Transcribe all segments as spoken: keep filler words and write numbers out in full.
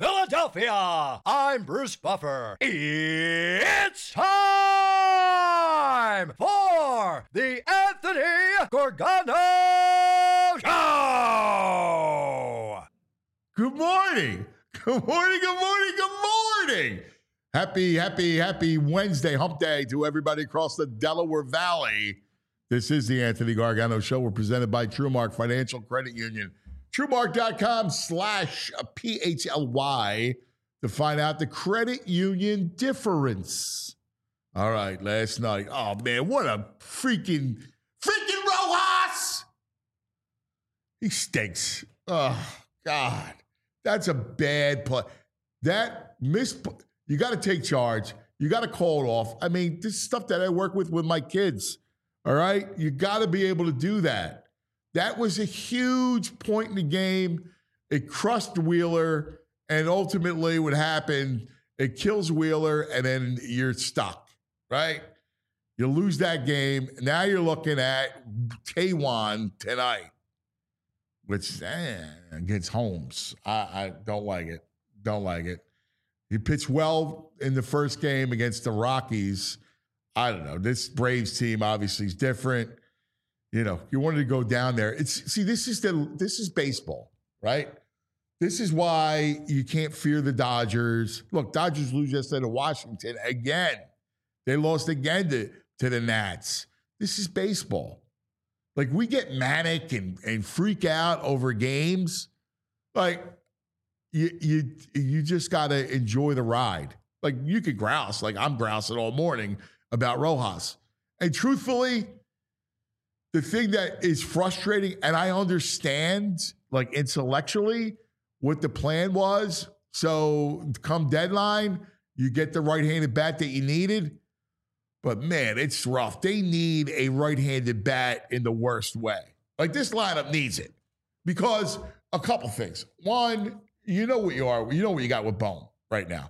Philadelphia, I'm Bruce Buffer. It's time for the Anthony Gargano Show. Good morning. Good morning, good morning, good morning. Happy, happy, happy Wednesday, hump day to everybody across the Delaware Valley. This is the Anthony Gargano Show. We're presented by TrueMark Financial Credit Union. TrueMark.com slash P H L Y to find out the credit union difference. All right, last night. Oh, man, what a freaking, freaking Rojas! He stinks. Oh, God. That's a bad play. That missed, you got to take charge. You got to call it off. I mean, this is stuff that I work with with my kids. All right? You got to be able to do that. That was a huge point in the game. It crushed Wheeler, and ultimately what happened, it kills Wheeler, and then you're stuck, right? You lose that game. Now you're looking at Taijuan tonight, which eh, against Holmes. I, I don't like it. Don't like it. He pitched well in the first game against the Rockies. I don't know. This Braves team obviously is different. You know, you wanted to go down there. It's see, this is the this is baseball, right? This is why you can't fear the Dodgers. Look, Dodgers lose yesterday to Washington again. They lost again to, to the Nats. This is baseball. Like, we get manic and, and freak out over games. Like, you you you just gotta enjoy the ride. Like, you could grouse, like I'm grousing all morning about Rojas. And truthfully, the thing that is frustrating, and I understand, like, intellectually what the plan was. So come deadline, you get the right-handed bat that you needed. But, man, it's rough. They need a right-handed bat in the worst way. Like, this lineup needs it. Because a couple things. One, you know what you are. You know what you got with Bone right now.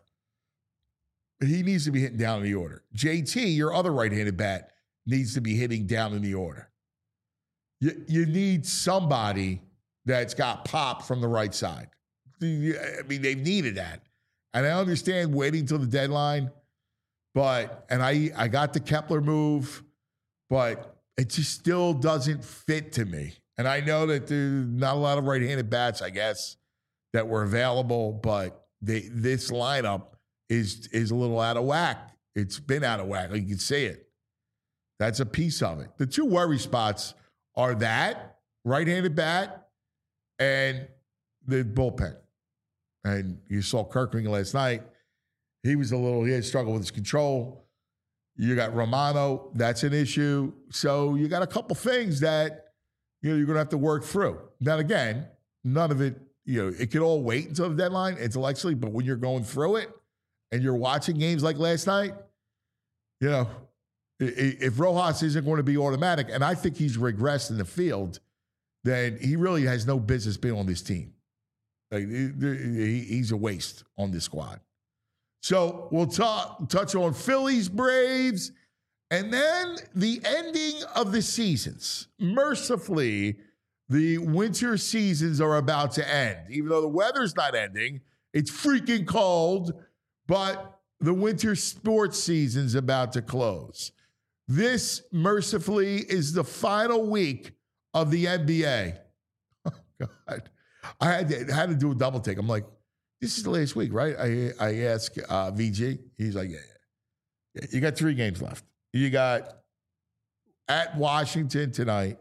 He needs to be hitting down in the order. J T, your other right-handed bat, needs to be hitting down in the order. You, you need somebody that's got pop from the right side. I mean, they've needed that. And I understand waiting till the deadline, but, and I, I got the Kepler move, but it just still doesn't fit to me. And I know that there's not a lot of right-handed bats, I guess, that were available, but they, this lineup is, is a little out of whack. It's been out of whack. You can see it. That's a piece of it. The two worry spots are that right-handed bat and the bullpen. And you saw Kirkring last night. He was a little, he had struggled with his control. You got Romano, that's an issue. So you got a couple things that, you know, you're going to have to work through. Now, again, none of it, you know, it could all wait until the deadline intellectually, but when you're going through it and you're watching games like last night, you know, if Rojas isn't going to be automatic, and I think he's regressed in the field, then he really has no business being on this team. Like, he's a waste on this squad. So we'll talk, touch on Phillies, Braves, and then the ending of the seasons. Mercifully, the winter seasons are about to end. Even though the weather's not ending, it's freaking cold, but the winter sports season's about to close. This, mercifully, is the final week of the N B A. Oh, God. I had to, had to do a double take. I'm like, this is the last week, right? I I asked uh, V G. He's like, yeah, yeah, yeah. You got three games left. You got at Washington tonight,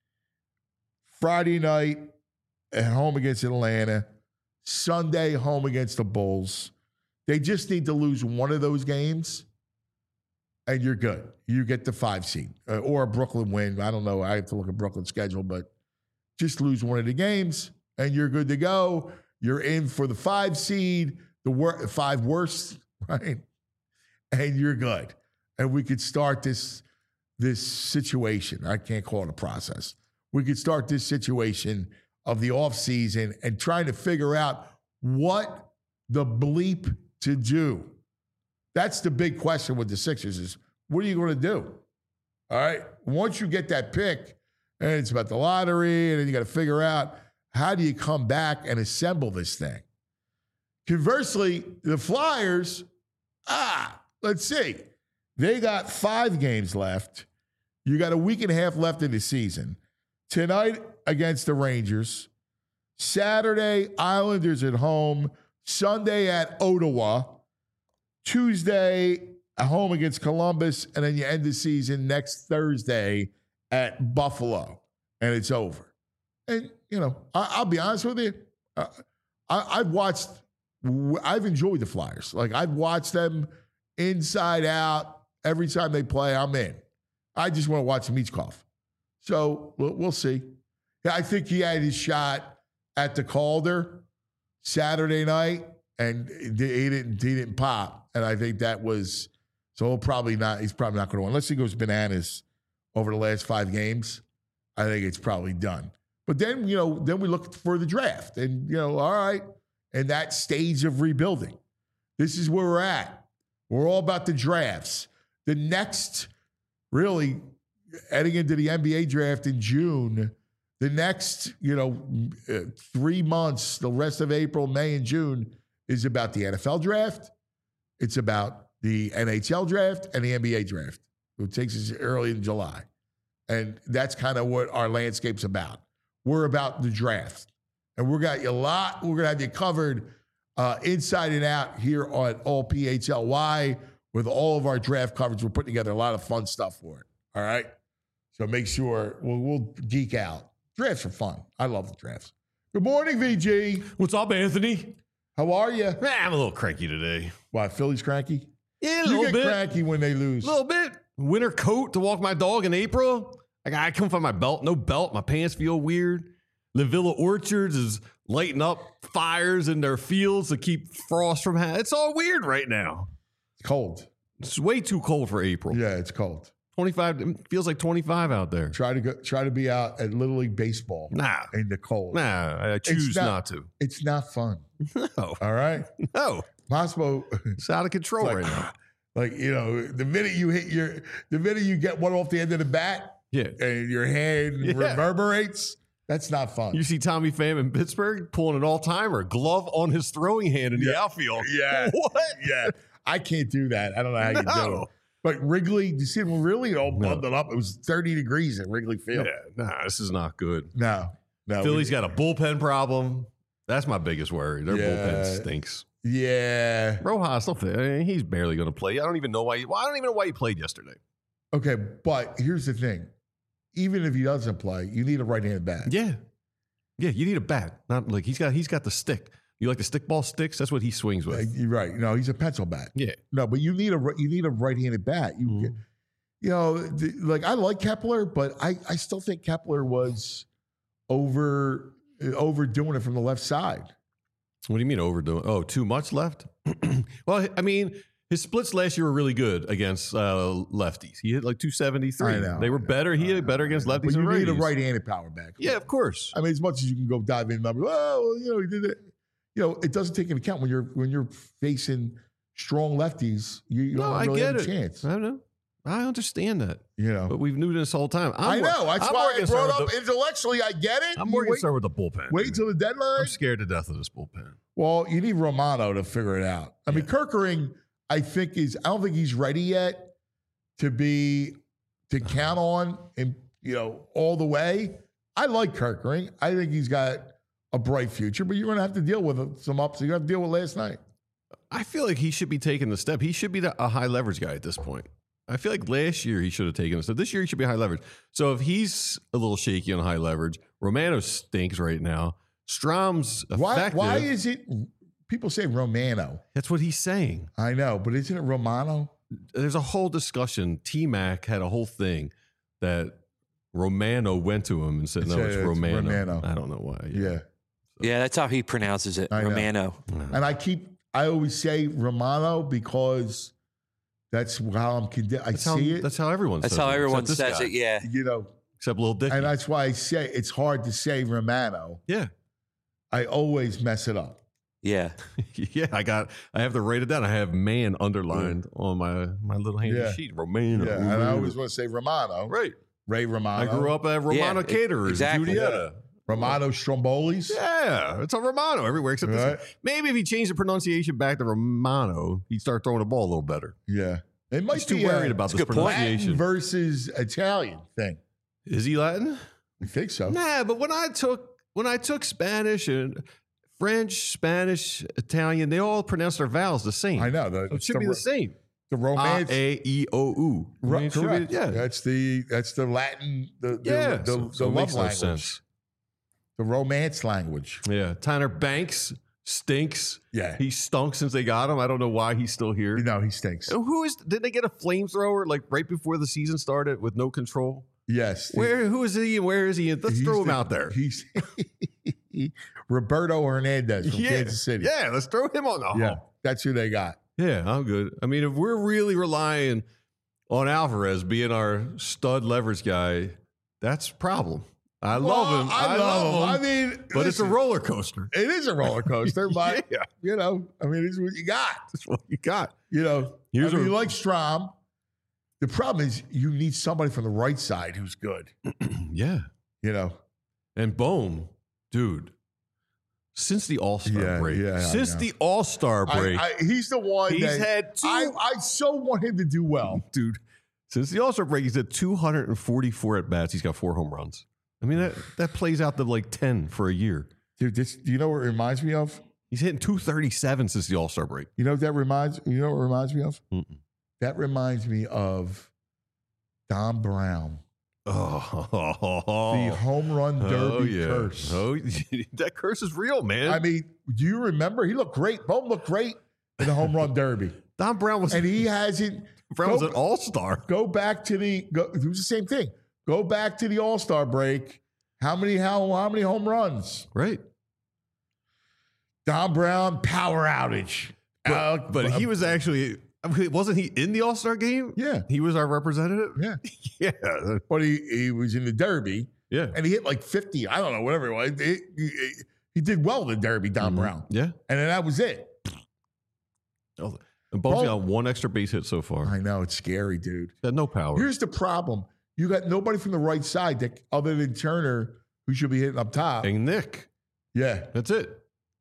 Friday night at home against Atlanta, Sunday home against the Bulls. They just need to lose one of those games, and you're good. You get the five seed uh, or a Brooklyn win. I don't know. I have to look at Brooklyn's schedule, but just lose one of the games, and you're good to go. You're in for the five seed, the wor- five worst, right? And you're good. And we could start this this situation. I can't call it a process. We could start this situation of the offseason and trying to figure out what the bleep to do. That's the big question with the Sixers is, what are you going to do? All right? Once you get that pick, and it's about the lottery, and then you got to figure out, how do you come back and assemble this thing? Conversely, the Flyers, ah, let's see. They got five games left. You got a week and a half left in the season. Tonight against the Rangers. Saturday, Islanders at home. Sunday at Ottawa. Tuesday, at home against Columbus. And then you end the season next Thursday at Buffalo. And it's over. And, you know, I, I'll be honest with you. Uh, I, I've watched, I've enjoyed the Flyers. Like, I've watched them inside out. Every time they play, I'm in. I just want to watch Michkov. So we'll, we'll see. Yeah, I think he had his shot at the Calder Saturday night, and he didn't, he didn't pop. And I think that was, so he'll probably not, he's probably not going to win. Unless he goes bananas over the last five games, I think it's probably done. But then, you know, then we look for the draft. And, you know, all right, in that stage of rebuilding, this is where we're at. We're all about the drafts. The next, really, heading into the N B A draft in June, the next, you know, uh, three months, the rest of April, May, and June is about the N F L draft. It's about the N H L draft and the N B A draft. It takes us early in July. And that's kind of what our landscape's about. We're about the draft. And we're got you a lot. We're going to have you covered uh, inside and out here on All P H L Y with all of our draft coverage. We're putting together a lot of fun stuff for it. All right? So make sure we'll, we'll geek out. Drafts are fun. I love the drafts. Good morning, V G. What's up, Anthony? How are you? Man, I'm a little cranky today. Why, Philly's cranky? Yeah, a you little get bit. cranky when they lose. A little bit. Winter coat to walk my dog in April. I got I couldn't find my belt. No belt. My pants feel weird. La Villa Orchards is lighting up fires in their fields to keep frost from happening. It's all weird right now. It's cold. It's way too cold for April. Yeah, it's cold. twenty-five, it feels like twenty-five out there. Try to go. Try to be out at Little League Baseball. Nah. In the cold. Nah, I choose not, not to. It's not fun. No. All right? No. Moscow. It's out of control like, right now. Like, you know, the minute you hit your, the minute you get one off the end of the bat, Yeah. and your hand Yeah. reverberates, that's not fun. You see Tommy Pham in Pittsburgh pulling an all-timer, glove on his throwing hand in Yeah. the outfield. Yeah. What? Yeah. I can't do that. I don't know how you do No. it. But Wrigley, you see him really all No. bundled up. It was thirty degrees at Wrigley Field. Yeah, nah, this is not good. No. No. Philly's we- got a bullpen problem. That's my biggest worry. Their Yeah. bullpen stinks. Yeah. Rojas, don't think, I mean, he's barely going to play. I don't even know why. He, well, I don't even know why he played yesterday. Okay, but here's the thing. Even if he doesn't play, you need a right-handed bat. Yeah, yeah. You need a bat. Not like he's got. He's got the stick. You like the stick ball sticks? That's what he swings Uh, with. You're right. No, he's a pencil bat. Yeah. No, but you need a ri- you need a right-handed bat. You Mhm. you know, the, like I like Kepler, but I I still think Kepler was over overdoing it from the left side. What do you mean overdoing? Oh, too much left? Well, I mean, his splits last year were really good against uh, lefties. He hit like two seventy-three. I know, They were I know, better. He I hit know, better I against know. lefties But you and need a righties. right-handed power back. Yeah, of course. I mean, as much as you can go dive in numbers, oh, well, you know, he did it. You know, it doesn't take into account when you're when you're facing strong lefties. You, you No, don't I really get have a it. chance. I know. I understand that. You know, But we've knew this whole time. I'm I more- know. That's I'm why more I concerned brought with up the- intellectually. I get it. I'm You more wait, concerned with the bullpen. wait dude. till the deadline. I'm scared to death of this bullpen. Well, you need Romano to figure it out. I mean, Kirkering, I think is. I don't think he's ready yet to be to count on, and you know, all the way. I like Kirkering. I think he's got a bright future, but you're going to have to deal with some ups. You have to deal with last night. I feel like he should be taking the step. He should be the, a high leverage guy at this point. I feel like last year he should have taken the step. This year he should be high leverage. So if he's a little shaky on high leverage, Romano stinks right now. Strom's Why? effective. Why is it? People say Romano. That's what he's saying. I know, but isn't it Romano? There's a whole discussion. T-Mac had a whole thing that Romano went to him and said, It's no, a- it's it's Romano. Romano. I don't know why. Yeah. Yeah, that's how he pronounces it, I know. Romano. And I keep, I always say Romano because that's how I'm conditioned. I That's how, see it, that's how everyone That's says how it, everyone except this says guy, it. Yeah, you know, Except Lil Dicky. and that's why I say it's hard to say Romano. yeah. I always mess it up. yeah. Yeah, I got. I have to write it down. I have man underlined on my my little handy Yeah. sheet. Romano. Yeah, and I always want to say Romano. right. Ray Romano. I grew up at Romano Yeah, Caterers, exactly. Julietta. Romano Strombolis. Yeah, it's a Romano everywhere except Right. this. Maybe if he changed the pronunciation back to Romano, he'd start throwing the ball a little better. Yeah. It might He's too be worried a about this good point. Latin pronunciation. versus Italian thing. Is he Latin? I think so. Nah, but when I took when I took Spanish and French, Spanish, Italian, they all pronounce their vowels the same. I know. The, So it should the, be the same. the A, romance. A, E, O, U. I Ro- mean, it should be- correct. yeah. That's the that's the Latin, the, the, Yeah. the, so, the so it love makes no language. sense. The romance language. Yeah. Tanner Banks stinks. Yeah. He stunk since they got him. I don't know why he's still here. No, he stinks. And Who is? Did they get a flamethrower like right before the season started with no control? Yes. Where? Who is he? And where is he? Let's He's throw him the- out there. He's Roberto Hernandez from yeah. Kansas City. Yeah. Let's throw him on the Yeah. hump. That's who they got. Yeah, I'm good. I mean, if we're really relying on Alvarez being our stud leverage guy, that's a problem. I love Well, him. I, love him. I mean, but it's a listen, roller coaster. It is a roller coaster, but Yeah, you know, I mean, it's what you got. that's what you got. You know, Here's I mean, a- you like Strom. The problem is you need somebody from the right side who's good. Yeah. You know, And boom, dude. Since the All Star Yeah, break, yeah, I since know. the All Star I, break, I, he's the one he's that had two. I, I so want him to do well. dude, since the All Star break, he's had two hundred forty-four at bats. He's got four home runs. I mean, that, that plays out to like ten for a year. Dude, this, do you know what it reminds me of? He's hitting two thirty-seven since the All Star break. You know what that reminds you know what it reminds me of? Mm-mm. That reminds me of Don Brown. Oh, The home run derby oh, yeah. curse. Oh, that curse is real, man. I mean, do you remember? He looked great. Bohm looked great in the home run derby. Don Brown was And he hasn't Brown was go- an all star. go back to the go, it was the same thing. Go back to the All-Star break. How many how how many home runs? Right. Don Brown power outage. But, Uh, but he was actually, I mean, wasn't he in the All Star game? yeah, He was our representative? yeah. Yeah. But he, he was in the Derby Yeah. and he hit like fifty. I don't know, whatever it was. He, he- he did well in the Derby, Don Mhm. Brown. Yeah. And then that was it. Oh, and Bo's Bo- got one extra base hit so far. I know, it's scary, dude. Had no power. Here's the problem. You got nobody from the right side that other than Turner who should be hitting up top. And Nick. Yeah. That's it.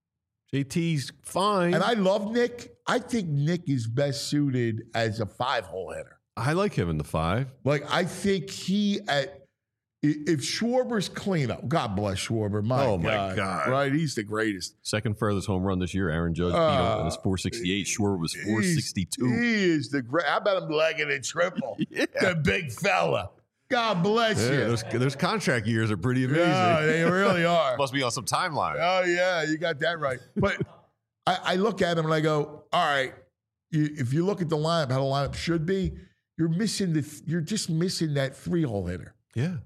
J T's fine. And I love Nick. I think Nick is best suited as a five-hole hitter. I like him in the five. Like, I think he at i- if Schwarber's cleanup, God bless Schwarber. My Oh, my God. God. Right? He's the greatest. Second furthest home run this year. Aaron Judge beat him. Uh, And it's four sixty-eight. Schwarber was four He's- sixty-two. He is the great. How about him legging it triple? Yeah. The big fella. God bless Yeah, you. those, those contract years are pretty amazing. Yeah, they really are. Must be on some timeline. Oh, yeah, you got that right. But I, I look at him and I go, all right, you, if you look at the lineup, how the lineup should be, you're missing the, you're just missing that three-hole hitter. Yeah,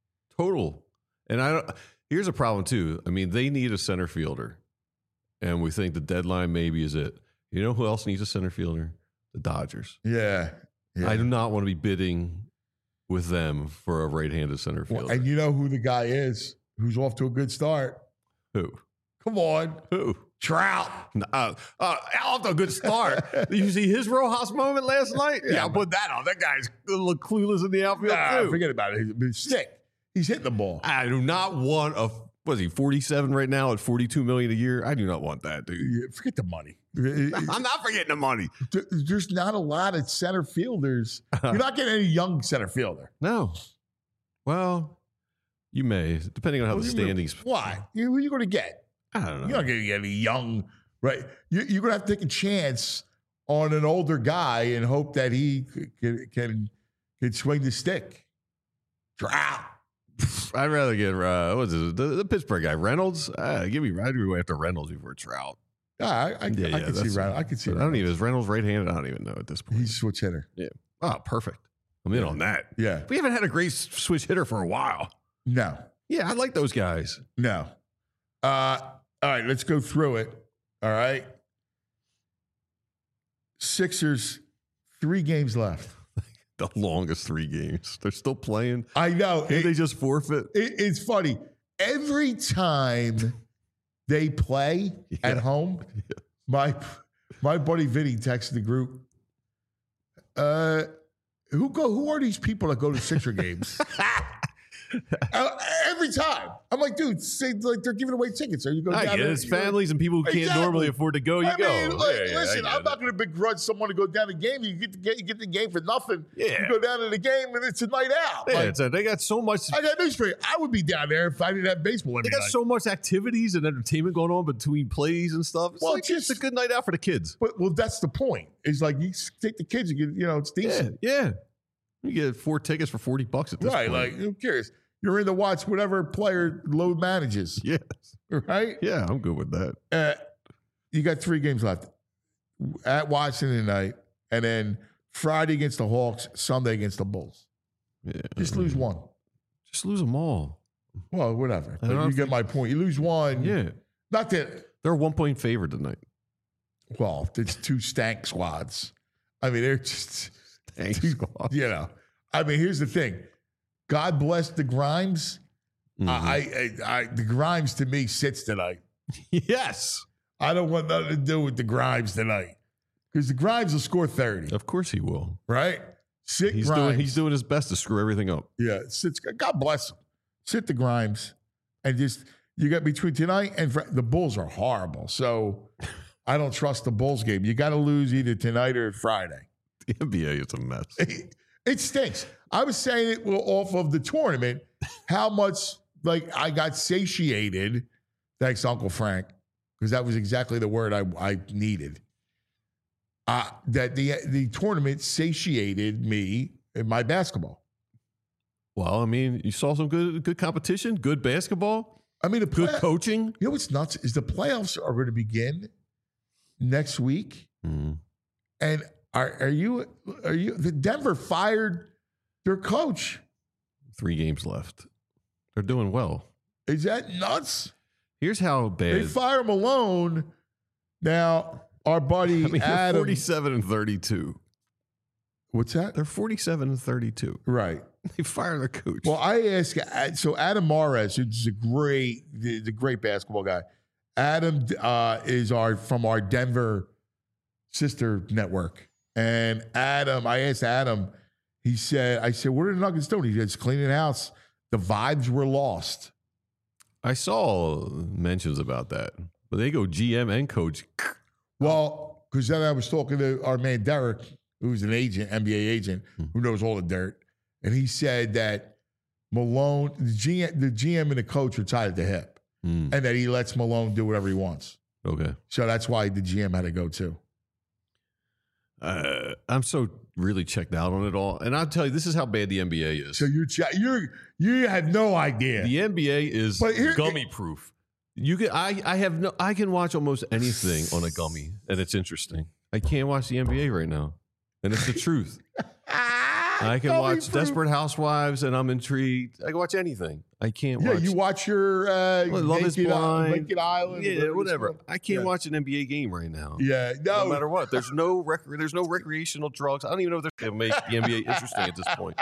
total. And I don't. Here's a problem too. I mean, they need a center fielder, and we think the deadline maybe is it. You know who else needs a center fielder? The Dodgers. Yeah. yeah. I do not want to be bidding with them for a right-handed center Well, fielder. and you know who the guy is who's off to a good start? who? Come on. Who? Trout. Uh, uh, off to a good start. Did you see his Rojas moment last night? Yeah, Yeah, I'll put that on. That guy's a little clueless in the outfield Nah, too. forget about it. He's sick. He's hitting the ball. I do not want a. Was he forty-seven right now at forty-two million a year? I do not want that, dude. Yeah, forget the money. I'm not forgetting the money. There- There's not a lot of center fielders. You're not getting any young center fielder. No. Well, you may, depending on how What the do you mean? standings. Why? You- Who are you going to get? I don't know. You're not going to get any young, right? You, you're going to have to take a chance on an older guy and hope that he c- can can, can swing the stick. Trout. I'd rather get uh, what's it, the, the Pittsburgh guy Reynolds. Uh, give me I'd go after Reynolds before Trout. Yeah, I, I, I can see that's- Reynolds. I can see I don't Reynolds. even is Reynolds right-handed. I don't even know at this point. He's a switch hitter. Oh, perfect. I'm in on that. Yeah. We haven't had a great s- switch hitter for a while. No. Yeah, I like those guys. No. Uh, all right, let's go through it. All right. Sixers, three games left. The longest three games. They're still playing. I know. Can't It- they just forfeit? It, it's funny. Every time they play at Yeah. home, my my buddy Vinny texted the group. Uh, who go? Who are these people that go to Sixer games? Uh, every time. I'm like, dude, say, like they're giving away tickets. Are you going I down get it. there? It's families and people who can't Exactly. normally afford to go. You I go. mean, like, Yeah, yeah, listen, I get I'm not it. going to begrudge someone to go down the game. You get the game, you get the game for nothing. Yeah. You go down to the game and it's a night out. Yeah, Like, it's a, they got so much. I got news for you. I would be down there if I didn't have baseball every They got night. so much activities and entertainment going on between plays and stuff. It's Well, like just- it's a good night out for the kids. but well, that's the point. It's like you take the kids, you get, you know, it's Yeah, decent. yeah. You get four tickets for forty bucks at this Right. point. Like, who cares? You're in to watch whatever player load manages. yes. Right? Yeah, I'm good with that. Uh, you got three games left at Washington tonight, and then Friday against the Hawks, Sunday against the Bulls. Yeah. Just lose one. Just lose them all. Well, whatever. I But don't you get think- my point. You lose one. Yeah. Not that, They're a one point favorite tonight. well, it's two stank squads. I mean, they're just, Thanks. you know. I mean, here's the thing. God bless the Grimes. Mhm. I, I, I, the Grimes to me sits tonight. yes. I don't want nothing to do with the Grimes tonight because the Grimes will score thirty, Of course he will. right? Sit He's Grimes. doing he's doing his best to screw everything up. Yeah, sit, God bless him. Sit the Grimes and just you got between tonight and Fri- the Bulls are horrible. So I don't trust the Bulls game. You got to lose either tonight or Friday. The N B A is a mess. It, it stinks. I was saying it well, off of the tournament, how much like I got satiated. Thanks, Uncle Frank, because that was exactly the word I, I needed. Uh, that the the tournament satiated me in my basketball. Well, I mean, you saw some good good competition, good basketball, I mean, the good play- coaching. You know what's nuts is the playoffs are going to begin next week, Mm. and are are you are you the Denver fired their coach? Three games left. They're doing well. Is that nuts? Here's how They bad. fire Malone. Now, our buddy I mean, they're Adam. forty-seven and thirty-two. What's that? They're forty-seven and thirty-two. Right. They fire their coach. Well, I ask. So Adam Mares, who's a great, the, the great basketball guy. Adam uh, is our from our Denver sister network, and Adam. I asked Adam. He said, "I said, what are the Nuggets doing?" He said, "It's cleaning house. The vibes were lost." I saw mentions about that, but they go G M and coach. Well, because then I was talking to our man Derek, who's an agent, N B A agent, who knows all the dirt, and he said that Malone, the G M, the G M and the coach are tied at the hip, Mm, and that he lets Malone do whatever he wants. okay. So that's why the G M had to go too. Uh, I'm so really checked out on it all, and I'll tell you, this is how bad the N B A is. So you're ch- you're you have no idea. The N B A is But here- gummy proof. You can I I have no I can watch almost anything on a gummy, and it's interesting. I can't watch the N B A right now, and it's the truth. I can Gummy watch fruit. Desperate Housewives, and I'm intrigued. I can watch anything. I can't Yeah, watch. you watch your uh, Well, Love is Naked, Blind. Naked Island, yeah, it's whatever. called. I can't Yeah. watch an N B A game right now. Yeah, No no, matter what, there's no rec- there's no recreational drugs. I don't even know if they make the N B A interesting at this point,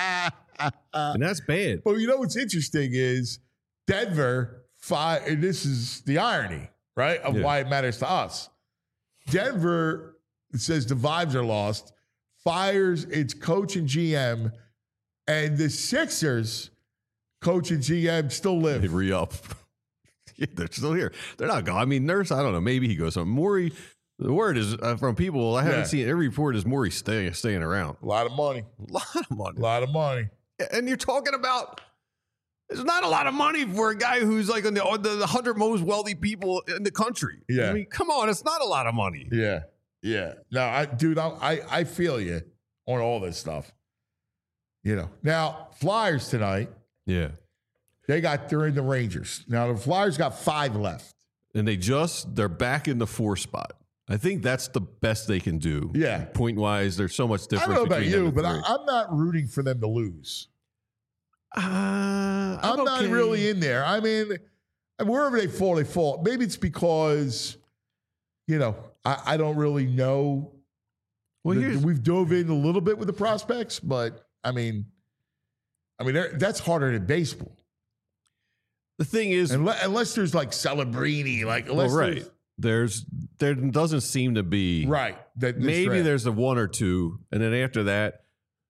and that's bad. But you know what's interesting is Denver fi and this is the irony, right, of Yeah. why it matters to us. Denver says the vibes are lost, fires its coach and G M, and the Sixers coach and G M still They live. re up. Yeah, they're still here. They're not gone. I mean, Nurse, I don't know. Maybe he goes on. Maury, the word is uh, from people I haven't Yeah. seen every report is Maury staying staying around. A lot of money, A lot of money. a lot of money. And you're talking about it's not a lot of money for a guy who's like on the, on the hundred most wealthy people in the country. Yeah. I mean, come on, it's not a lot of money. Yeah, yeah. No, I, dude, I, I, I feel you on all this stuff. You know, now Flyers tonight. Yeah. They got they're in the Rangers. Now the Flyers got five left. And they just they're back in the four spot. I think that's the best they can do. Yeah. Point wise, there's so much I difference. don't know about between them you, and but three. I, I'm not rooting for them to lose. Uh, I'm, I'm, not okay. really in there. I mean, wherever they fall, they fall. Maybe it's because, you know, I, I don't really know. Well, The- here's, we've dove in a little bit with the prospects, but I mean, I mean they're- that's harder than baseball. the thing is, Unless, unless there's like Celebrini, like well, unless right. There's there doesn't seem to be there's- right. That, this maybe draft. there's a one or two, and then after that,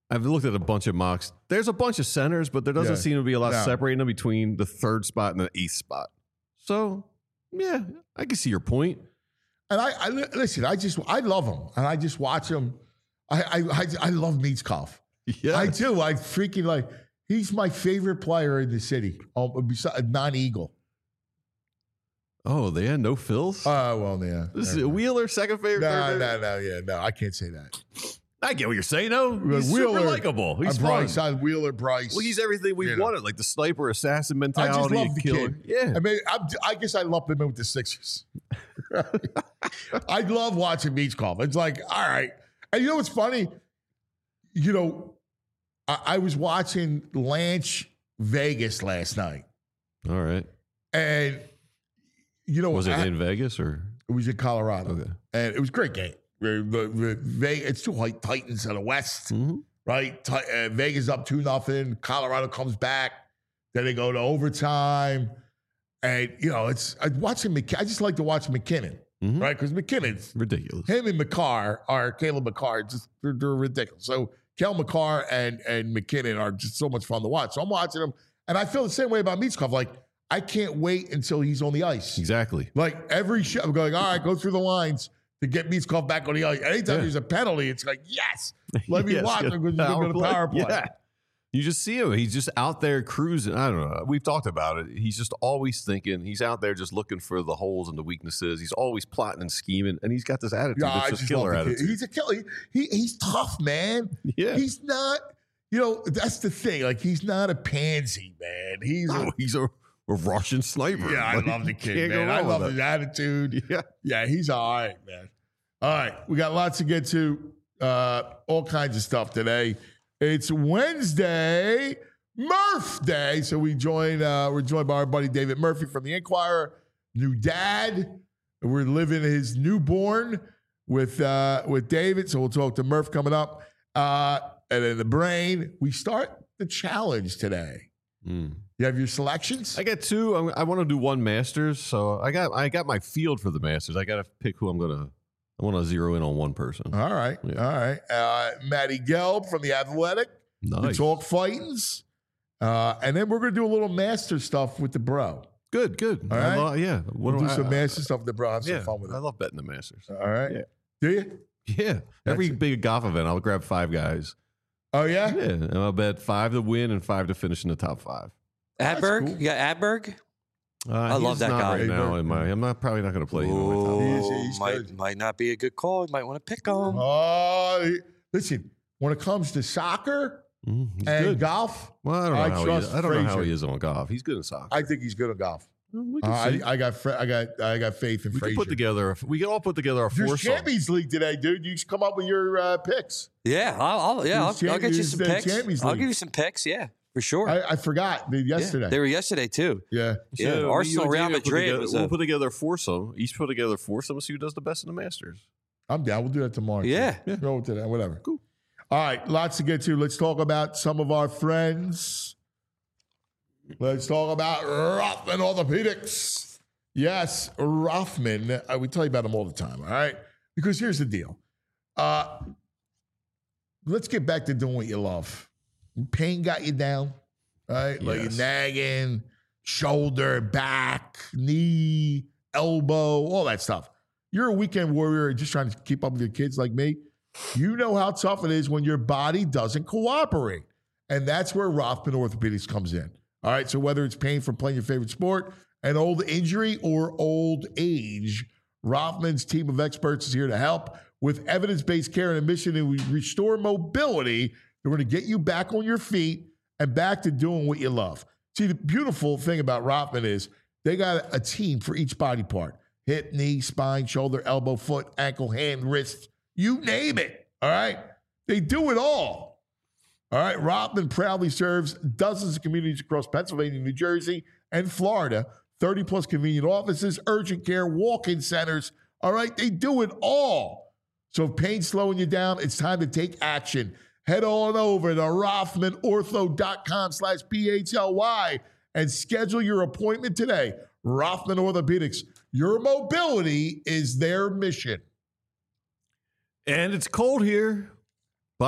I've looked at a bunch of mocks. There's a bunch of centers, but there doesn't Yeah. seem to be a lot No. separating them between the third spot and the eighth spot. So, yeah, I can see your point. And I, I listen. I just I love him, and I just watch him. I I I, I love Mitzkov. Yeah, I do. I freaking like. He's my favorite player in the city. Oh, besides non-Eagle. Oh, they had no fills. Oh well, yeah. this is Wheeler second favorite. No, third no, favorite? no, yeah, no. I can't say that. I get what you're saying. though. He's Wheeler, super likable. He's uh, fun. Bryce, on Wheeler, Bryce. Well, he's everything we You know. wanted, like the sniper assassin I mentality. just love the killer. kid. Yeah, I mean, I'm, I guess I lump him in with the Sixers. I love watching Mitzkov. It's like, all right. And you know what's funny? You know, I, I was watching Lance Vegas last night, all right. and you know, Was it I- in Vegas or? it was in Colorado, Okay. and it was a great game. The- the- the Ve- It's two white Titans of the West. Mm-hmm. Right? Ti- uh, Vegas up two nothing. Colorado comes back. Then they go to overtime, and you know it's I watching. McK- I just like to watch McKinnon, Mhm. right? Because McKinnon's Ridiculous. him and McCarr are Caleb McCarr. Just they're, they're ridiculous. So Kel McCarr and and McKinnon are just so much fun to watch. So I'm watching them, and I feel the same way about Mitzkov. Like I can't wait until he's on the ice. Exactly. Like every show, I'm going. All right, go through the lines to get Mitzkov back on the ice. Anytime Yeah. there's a penalty, it's like yes. Let me Yes, watch yeah. him because he's going to the power play. Yeah. You just see him. He's just out there cruising. I don't know. We've talked about it. He's just always thinking. He's out there just looking for the holes and the weaknesses. He's always plotting and scheming, and he's got this attitude. Yeah, I It's just just killer love the kid. attitude. He's a killer. He, he's tough, man. Yeah. He's not, you know, that's the thing. Like, he's not a pansy, man. He's a, Oh, he's a, a Russian sniper. yeah, I Like, love the you kid, can't go man. I wrong love with his that. attitude. Yeah. Yeah, he's all right, man. All right, we got lots to get to, uh, all kinds of stuff today. It's Wednesday, Murph Day. So we join, uh, we're joined by our buddy David Murphy from the Inquirer, new dad. We're living his newborn with uh, with David. So we'll talk to Murph coming up. Uh, and then the brain. We start the challenge today. Mm. You have your selections? I got two. I'm, I want to do one Masters, so I got I got my field for the Masters. I got to pick who I'm gonna. I want to zero in on one person. All right. Yeah. All right. Uh, Matty Gelb from The Athletic. The Nice. Talk Fightings. Uh, and then we're going to do a little master stuff with the bro. Good, good. All I right. lo- yeah. What We'll do I- some I- master stuff with the bro. Have some yeah, fun with I it. love betting the Masters. All right. Yeah. Do you? Yeah. Every That's it. big golf event, I'll grab five guys. Oh, yeah? Yeah. And I'll bet five to win and five to finish in the top five. That's Adberg? cool. You got Adberg? Uh, I love he's that not guy. right now. In my, I'm not probably not going to play him. in my top Ooh, five. He is- he's might, good. might not be a good call. You might want to pick him. Oh, he- listen, when it comes to soccer Mhm, he's and good. golf, Well, I don't know I how he trust is. I don't know how Frazier. he is on golf. He's good in soccer. I think he's good at golf. Well, we Uh, can see. I, I got fr- I got I got faith in we can Frazier. put together. We can all put together a There's foursome. Champions League today, dude. You should come up with your uh, picks. Yeah, I'll, I'll yeah, I'll, Champions- I'll get you some the picks. Champions I'll League. give you some picks. Yeah, for sure. I, I forgot dude, Yeah, yesterday. they were yesterday too. Yeah. Yeah, So, Arsenal, you and Real David put Madrid together- was We'll a- put together a foursome. Each put together a foursome. See who does the best in the Masters. I'm down. We'll do that tomorrow. Yeah. Yeah. Go to that. Whatever. Cool. All right. Lots to get to. Let's talk about some of our friends. Let's talk about Rothman Orthopedics. Yes, Rothman. Uh, we tell you about them all the time. All right. Because here's the deal. Uh, let's get back to doing what you love. Pain got you down. Right? Like Yes. nagging, shoulder, back, knee, elbow, all that stuff. You're a weekend warrior just trying to keep up with your kids like me. You know how tough it is when your body doesn't cooperate. And that's where Rothman Orthopedics comes in. All right. So whether it's pain from playing your favorite sport, an old injury, or old age, Rothman's team of experts is here to help with evidence-based care and a mission to restore mobility. They're going to get you back on your feet and back to doing what you love. See, the beautiful thing about Rothman is they got a team for each body part: hip, knee, spine, shoulder, elbow, foot, ankle, hand, wrist, you name it. All right. They do it all. All right. Rothman proudly serves dozens of communities across Pennsylvania, New Jersey, and Florida. thirty plus convenient offices, urgent care, walk-in centers. All right. They do it all. So if pain's slowing you down, it's time to take action. Head on over to rothmanortho.com slash P-H-L-Y and schedule your appointment today. Rothman Orthopedics. Your mobility is their mission. And it's cold here, but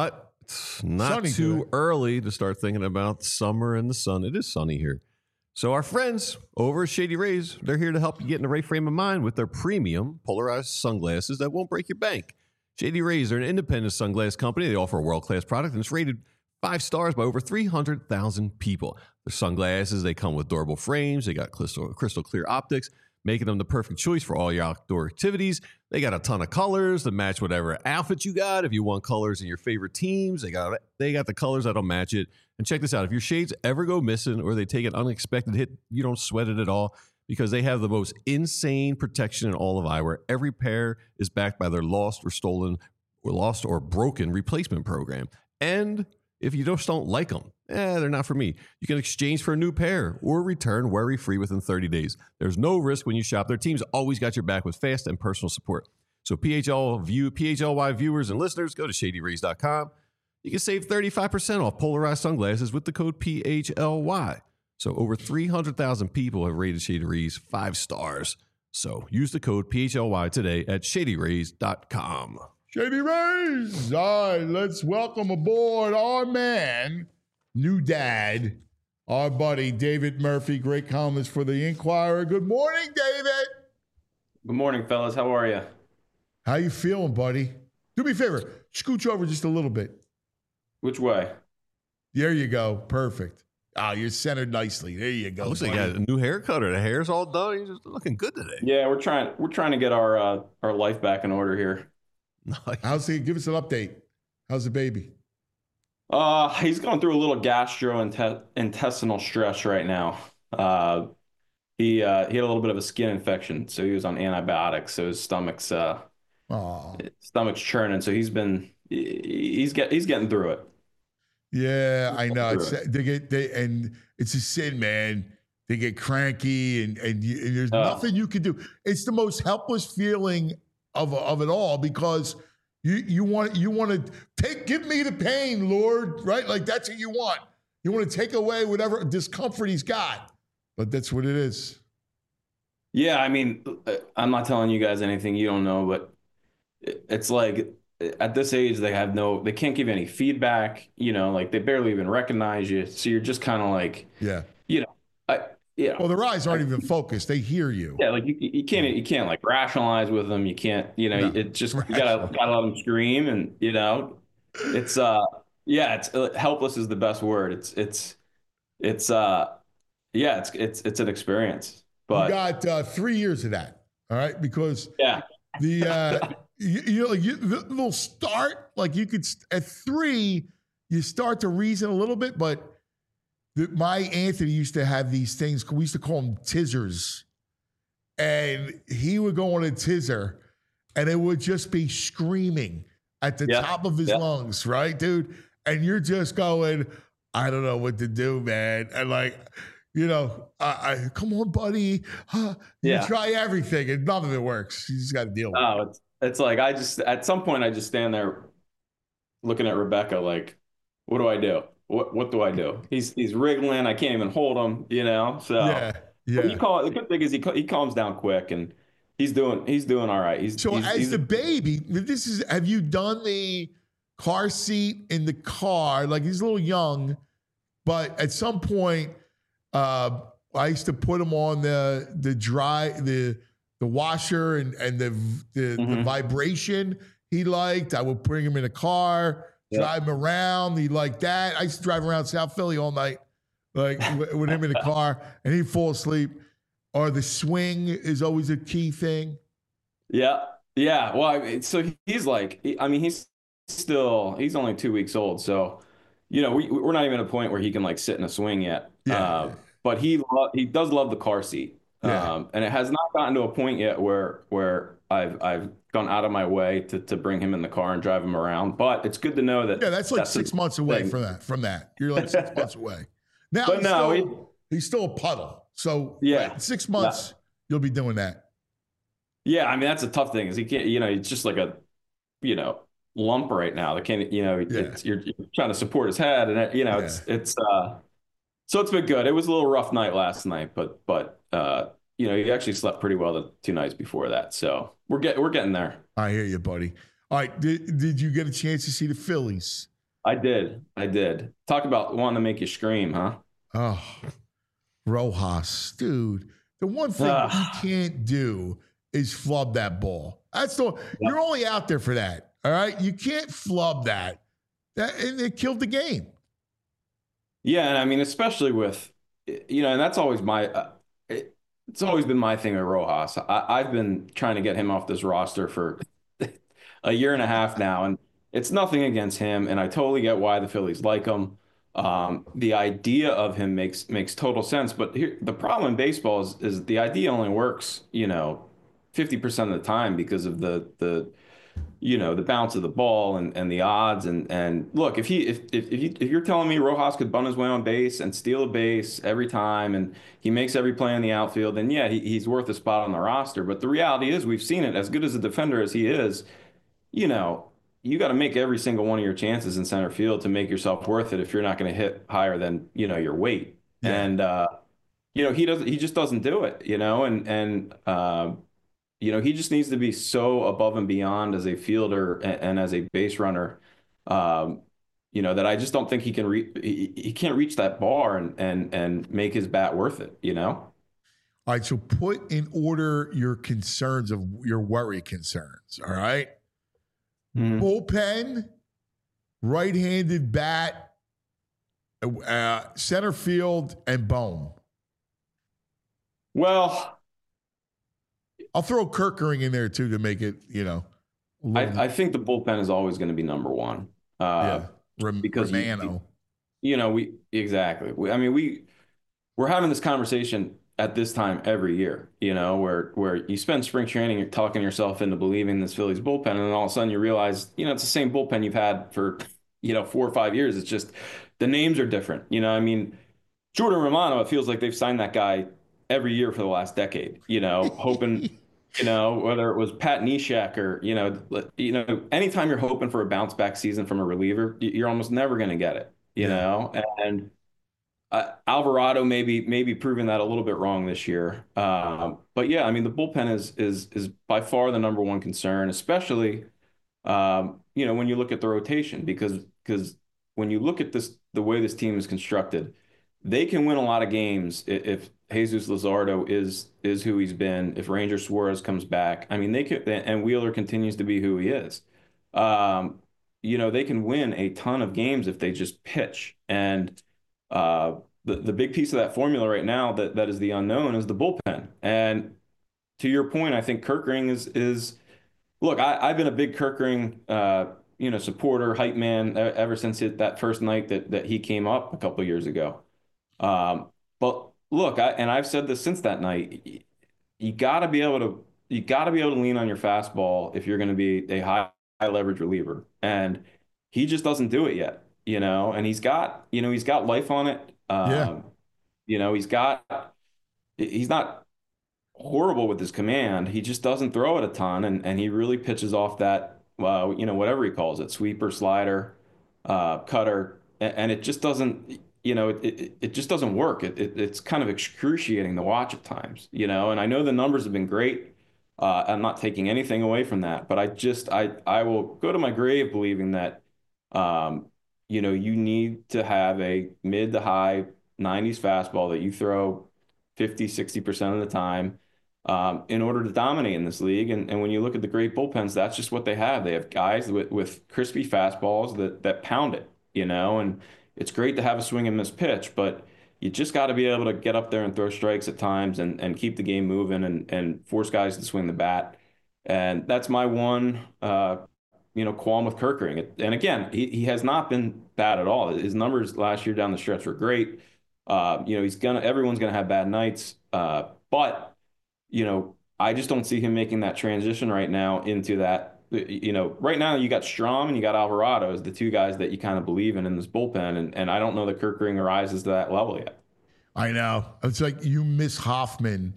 It's not Sunny too today. early to start thinking about summer and the sun. It is sunny here. So our friends over at Shady Rays, they're here to help you get in the right frame of mind with their premium polarized sunglasses that won't break your bank. Shady Rays are an independent sunglass company. They offer a world-class product, and it's rated five stars by over three hundred thousand people. Their sunglasses, they come with durable frames. They got crystal, crystal clear optics, making them the perfect choice for all your outdoor activities. They got a ton of colors that match whatever outfit you got. If you want colors in your favorite teams, they got they got the colors that'll match it. And check this out. If your shades ever go missing or they take an unexpected hit, you don't sweat it at all because they have the most insane protection in all of eyewear. Every pair is backed by their lost or stolen or lost or broken replacement program. And if you just don't like them, eh, they're not for me. You can exchange for a new pair or return worry-free within thirty days. There's no risk when you shop. Their team's always got your back with fast and personal support. So P H L view, P H L Y viewers and listeners, go to shady rays dot com. You can save thirty-five percent off polarized sunglasses with the code P H L Y. So over three hundred thousand people have rated Shady Rays five stars. So use the code P H L Y today at shady rays dot com. Shady Rays. All right, let's welcome aboard our man, new dad, our buddy, David Murphy, great columnist for the Inquirer. Good morning, David. Good morning, fellas. How are you? How you feeling, buddy? Do me a favor, scooch over just a little bit. Which way? There you go. Perfect. Ah, you're centered nicely. There you go. Looks like you got a new haircut or the hair's all done. You're just looking good today. Yeah, we're trying. We're trying to get our uh, our life back in order here. Nice. How's the, give us an update. How's the baby? Uh, he's going through a little gastrointestinal stress right now. Uh, he uh, he had a little bit of a skin infection, so he was on antibiotics. So his stomach's uh, Oh, stomach's churning. So he's been he's get he's getting through it. yeah, I know. It's, they get they and it's a sin, man. They get cranky, and and, you, and there's Oh. nothing you can do. It's the most helpless feeling of of it all because you you want you want to take give me the pain, Lord, right? Like that's what you want. You want to take away whatever discomfort he's got, but that's what it is. Yeah, I mean, I'm not telling you guys anything you don't know, but it's like at this age they have no, they can't give any feedback. You know, like they barely even recognize you, so you're just kind of like, Yeah. you know, I, yeah. Well, their eyes aren't even focused; they hear you. Yeah, like you, you can't you can't like rationalize with them. You can't, you know, No. it just you gotta gotta let them scream, and you know, it's uh yeah, it's uh, helpless is the best word. It's it's it's uh yeah, it's it's it's an experience. But You got uh, three years of that, all right? Because yeah, the uh, you, you know, like you, they'll start like you could at three, you start to reason a little bit, but. The, my Anthony used to have these things. We used to call them tizzers, and he would go on a tizzer, and it would just be screaming at the Yeah. top of his Yeah. lungs, right, dude? And you're just going, I don't know what to do, man. And like, you know, I, I come on, buddy. Huh? You Yeah. try everything, and none of it works. You just got to deal with it. oh, it's it's like I just at some point I just stand there looking at Rebecca like, what do I do? What what do I do? He's he's wriggling. I can't even hold him. You know. So Yeah, but you yeah. call the good thing is he he calms down quick and he's doing he's doing all right. He's So he's, as he's, the baby, this is have you done the car seat in the car? Like he's a little young, but at some point, uh, I used to put him on the the dry the the washer and and the the, the Mhm. vibration he liked. I would bring him in a car, Yeah. drive him around. He liked that. I used to drive around South Philly all night, like with, with him in the car, and he'd fall asleep. Or the swing is always a key thing. yeah yeah. Well, I mean, so he's like he- I mean he's still he's only two weeks old, so you know we we're not even at a point where he can like sit in a swing yet. Yeah. Uh, but he lo- he does love the car seat. Yeah. Um, and it has not gotten to a point yet where where I've I've gone out of my way to to bring him in the car and drive him around. But it's good to know that Yeah, that's like six the months away thing. from that. From that, you're like six months away. Now, But he's, no, still, he's still a puddle. So Yeah. right, six months you'll be doing that. Yeah, I mean that's a tough thing. Is he can't you know it's just like a you know lump right now. They can't you know it's, you're, you're trying to support his head and it, you know it's it's uh so it's been good. It was a little rough night last night, but but uh you know he actually slept pretty well the two nights before that. So we're getting we're getting there. I hear you, buddy. All right, did, did you get a chance to see the Phillies? I did. I did. Talk about wanting to make you scream, huh? Oh, Rojas, dude. The one thing Ugh. you can't do is flub that ball. That's the you're only out there for that. All right. You can't flub that. That and it killed the game. Yeah, and I mean, especially with, you know, and that's always my, uh, it, it's always been my thing with Rojas. I, I've been trying to get him off this roster for a year and a half now, and it's nothing against him, and I totally get why the Phillies like him. Um, the idea of him makes makes total sense, but here the problem in baseball is is the idea only works, you know, fifty percent of the time because of the the you know, the bounce of the ball and, and the odds. And, and look, if he if if if, you, if you're telling me Rojas could bunt his way on base and steal a base every time and he makes every play in the outfield, then yeah, he, he's worth a spot on the roster. But the reality is we've seen it. As good as a defender as he is, you know, you got to make every single one of your chances in center field to make yourself worth it if you're not going to hit higher than, you know, your weight. Yeah. And uh, you know, he doesn't he just doesn't do it, you know, and and uh you know, he just needs to be so above and beyond as a fielder and, and as a base runner, um, you know, that I just don't think he can re- he, he can't reach that bar and and and make his bat worth it, you know? All right, so put in order your concerns of your worry concerns, all right? Mm-hmm. Bullpen, right-handed bat, uh, center field, and Bohm. Well, I'll throw Kirkering in there too to make it, you know. I, I think the bullpen is always going to be number one. Uh, yeah, Rom- because Romano. You, you know, we exactly. We, I mean, we we're having this conversation at this time every year. You know, where where you spend spring training, you're talking yourself into believing this Phillies bullpen, and then all of a sudden you realize, you know, it's the same bullpen you've had for, you know, four or five years. It's just the names are different. You know, I mean, Jordan Romano. It feels like they've signed that guy every year for the last decade. You know, hoping. You know, whether it was Pat Neshek or, you know, you know, anytime you're hoping for a bounce back season from a reliever, you're almost never going to get it, you yeah. know, and uh, Alvarado maybe maybe proving that a little bit wrong this year. Um, but yeah, I mean, the bullpen is is is by far the number one concern, especially, um, you know, when you look at the rotation, because because when you look at this, the way this team is constructed, they can win a lot of games if Jesus Luzardo is is who he's been. If Ranger Suarez comes back, I mean, they could, and Wheeler continues to be who he is. Um, you know, they can win a ton of games if they just pitch. And uh, the the big piece of that formula right now that that is the unknown is the bullpen. And to your point, I think Kirkering is is look. I, I've been a big Kirkering, uh, you know, supporter, hype man ever since it, that first night that that he came up a couple of years ago. Um, but look, I, and I've said this since that night, you, you got to be able to, you got to be able to lean on your fastball if you're going to be a high, high leverage reliever. And he just doesn't do it yet, you know, and he's got, you know, he's got life on it. Um, yeah. You know, he's got, he's not horrible with his command. He just doesn't throw it a ton. And, and he really pitches off that, uh, you know, whatever he calls it, sweeper, slider, uh, cutter. And, and it just doesn't, you know, it, it, it just doesn't work. It, it It's kind of excruciating to watch at times, you know, and I know the numbers have been great. Uh, I'm not taking anything away from that, but I just, I, I will go to my grave believing that, um, you know, you need to have a mid to high nineties fastball that you throw fifty, sixty percent of the time um, in order to dominate in this league. And, and when you look at the great bullpens, that's just what they have. They have guys with, with crispy fastballs that, that pound it, you know, and it's great to have a swing and miss pitch, but you just got to be able to get up there and throw strikes at times and, and keep the game moving and, and force guys to swing the bat. And that's my one, uh, you know, qualm with Kirkering. And again, he, he has not been bad at all. His numbers last year down the stretch were great. Uh, you know, he's gonna, everyone's gonna have bad nights. Uh, but, you know, I just don't see him making that transition right now into that. You know, right now you got Strom and you got Alvarado as the two guys that you kind of believe in in this bullpen. And, and I don't know that Kirkering rises to that level yet. I know. It's like you miss Hoffman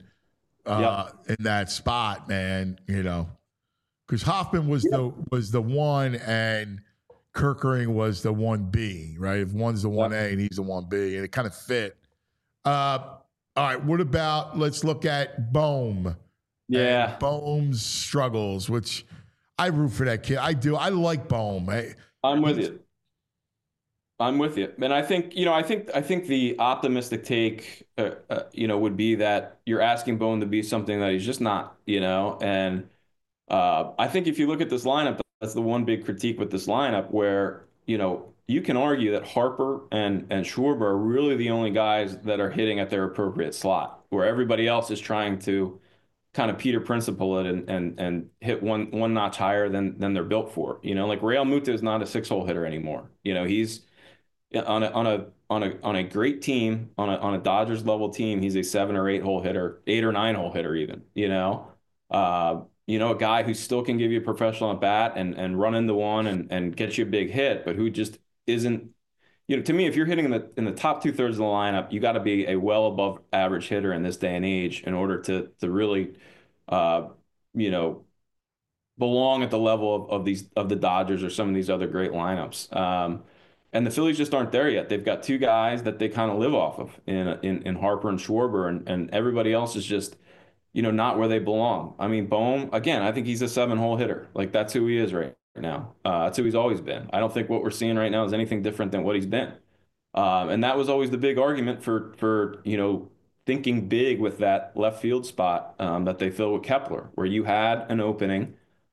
uh, yep. in that spot, man, you know, because Hoffman was yep. the was the one and Kirkering was the one B, right? If one's the one yep. A and he's the one B, and it kind of fit. Uh, all right, what about, let's look at Bohm. Yeah. Bohm's struggles, which I root for that kid. I do. I like Bohm. I, I'm with you. I'm with you. And I think, you know, I think I think the optimistic take, uh, uh, you know, would be that you're asking Bone to be something that he's just not, you know. And uh, I think if you look at this lineup, that's the one big critique with this lineup where, you know, you can argue that Harper and and Schwarber are really the only guys that are hitting at their appropriate slot, where everybody else is trying to kind of Peter Principle it and and and hit one one notch higher than than they're built for. You know, like Real Muto is not a six hole hitter anymore. You know, he's on a on a on a on a great team, on a on a Dodgers level team, he's a seven or eight hole hitter, eight or nine hole hitter even, you know. Uh, you know, a guy who still can give you a professional at bat and and run into one and and get you a big hit, but who just isn't, you know, to me, if you're hitting in the in the top two thirds of the lineup, you got to be a well above average hitter in this day and age in order to to really uh, you know, belong at the level of, of these of the Dodgers or some of these other great lineups. Um, and the Phillies just aren't there yet. They've got two guys that they kind of live off of in in, in Harper and Schwarber, and, and everybody else is just, you know, not where they belong. I mean, Bohm, again, I think he's a seven-hole hitter. Like, that's who he is right now. Uh, that's who he's always been. I don't think what we're seeing right now is anything different than what he's been. Um, and that was always the big argument for, for you know, thinking big with that left field spot um, that they filled with Kepler, where you had an opening.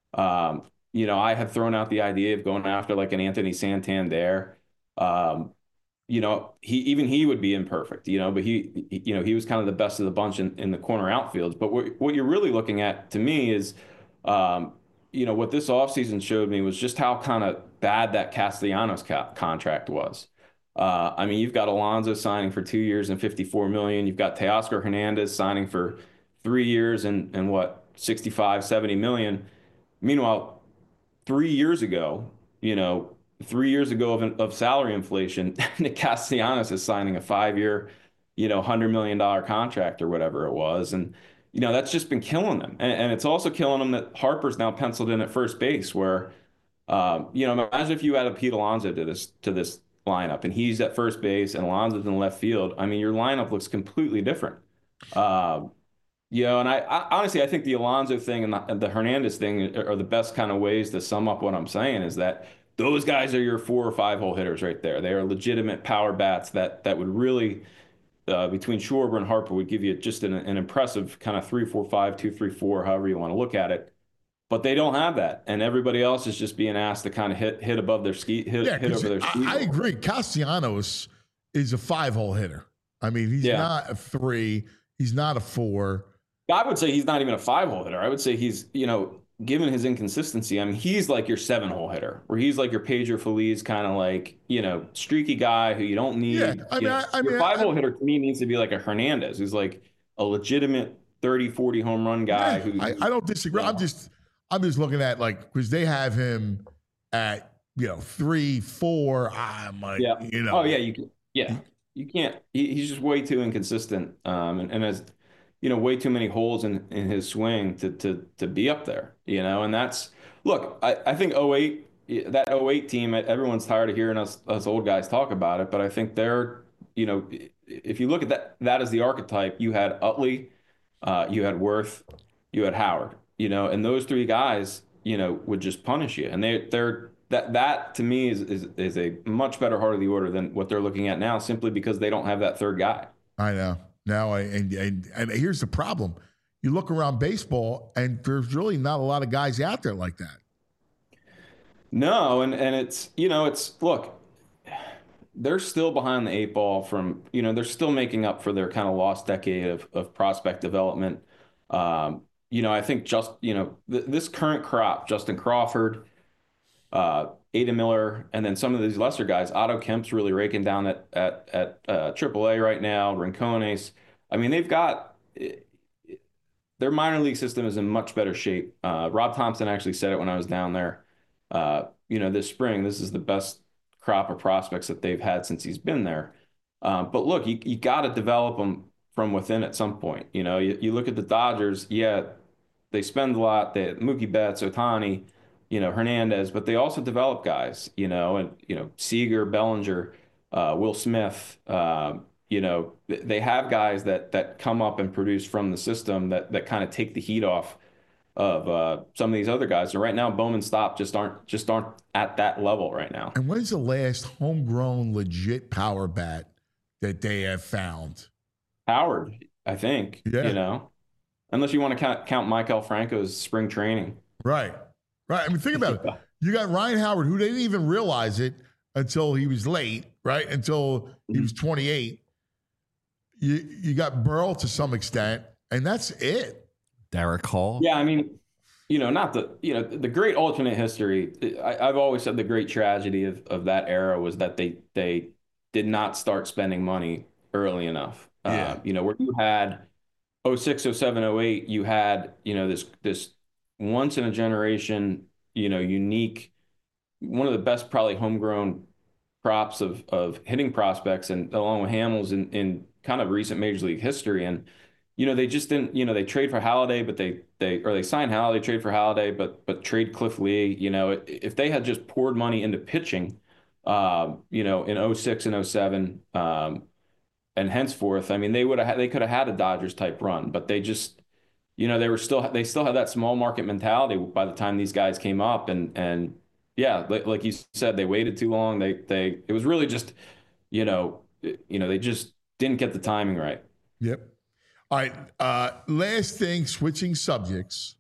Um, you know, I had thrown out the idea of going after like an Anthony Santander. Um, you know, he even he would be imperfect, you know, but he, he you know, he was kind of the best of the bunch in, in the corner outfields. But what, what you're really looking at to me is, um, you know, what this offseason showed me was just how kind of bad that Castellanos co- contract was. Uh, I mean, you've got Alonso signing for two years and fifty-four million dollars. You've got Teoscar Hernandez signing for three years and, and what, sixty-five, seventy million. Meanwhile, three years ago, you know, three years ago of, of salary inflation, Nick Castellanos is signing a five-year, you know, one hundred million dollars contract or whatever it was. And, you know, that's just been killing them. And, and it's also killing them that Harper's now penciled in at first base where, um, you know, imagine if you add a Pete Alonso to this, to this lineup and he's at first base and Alonso's in left field. I mean, your lineup looks completely different. Um, You know, and I, I honestly, I think the Alonso thing and the, and the Hernandez thing are the best kind of ways to sum up what I'm saying is that those guys are your four or five hole hitters right there. They are legitimate power bats that that would really, uh, between Schwarber and Harper, would give you just an, an impressive kind of three, four, five, two, three, four, however you want to look at it. But they don't have that, and everybody else is just being asked to kind of hit hit above their ski, hit, yeah, hit over their ski. I, I agree. Castellanos is a five hole hitter. I mean, he's yeah. not a three. He's not a four. I would say he's not even a five-hole hitter. I would say he's, you know, given his inconsistency, I mean, he's like your seven-hole hitter, where he's like your Pedro Feliz kind of like, you know, streaky guy who you don't need. Yeah, I mean, know, I, I your mean, five-hole I, hitter to me needs to be like a Hernandez, who's like a legitimate thirty, forty home run guy. Yeah, who I, I don't disagree. You know, I'm just, I'm just looking at like because they have him at you know three, four. I'm like, yeah. you know, oh yeah, you, yeah, you can't. He, he's just way too inconsistent, um, and, and as you know, way too many holes in, in his swing to, to, to be up there, you know, and that's, look, I, I think oh eight, that oh eight team, everyone's tired of hearing us, us old guys talk about it, but I think they're, you know, if you look at that, that as the archetype, you had Utley, uh, you had Worth, you had Howard, you know, and those three guys, you know, would just punish you. And they, they're, that, that to me is, is, is a much better heart of the order than what they're looking at now, simply because they don't have that third guy. I know. Now, I, and, and and here's the problem. You look around baseball, and there's really not a lot of guys out there like that. No, and, and it's, you know, it's, look, they're still behind the eight ball from, you know, they're still making up for their kind of lost decade of, of prospect development. Um, you know, I think just, you know, th- this current crop, Justin Crawford, uh, Ada Miller, and then some of these lesser guys. Otto Kemp's really raking down at at at uh, triple A right now. Rincones. I mean, they've got their minor league system is in much better shape. Uh, Rob Thompson actually said it when I was down there. Uh, you know, this spring, this is the best crop of prospects that they've had since he's been there. Um, but look, you you got to develop them from within at some point. You know, you, you look at the Dodgers. Yeah, they spend a lot. They Mookie Betts, Ohtani, you know, Hernandez, but they also develop guys, you know, and, you know, Seager, Bellinger, uh, Will Smith, uh, you know, they have guys that that come up and produce from the system that that kind of take the heat off of uh, some of these other guys. And right now, Bowman Stop just aren't just aren't at that level right now. And when's the last homegrown legit power bat that they have found? Howard, I think. Yeah. You know, unless you want to count, count Michael Franco's spring training. Right. Right. I mean, think about it. You got Ryan Howard, who didn't even realize it until he was late, right? Until he was twenty-eight. You you got Burrell to some extent, and that's it. Derek Hall. Yeah, I mean, you know, not the you know the great alternate history. I, I've always said the great tragedy of, of that era was that they they did not start spending money early enough. Yeah. Uh, you know, where you had oh six, oh seven, oh eight, you had you know this this once in a generation, you know, unique, one of the best probably homegrown props of of hitting prospects, and along with Hamels in in kind of recent major league history. And you know, they just didn't, you know, they trade for Halladay, but they, they, or they sign Halladay, trade for Halladay, but, but trade Cliff Lee. You know, if they had just poured money into pitching, uh, you know, in oh six and oh seven, um, and henceforth, I mean, they would have, they could have had a Dodgers type run, but they just, you know, they were still, they still had that small market mentality by the time these guys came up. And, and yeah, like, like you said, they waited too long. They, they, it was really just, you know, you know, they just didn't get the timing right. Yep. All right. Uh, last thing, switching subjects.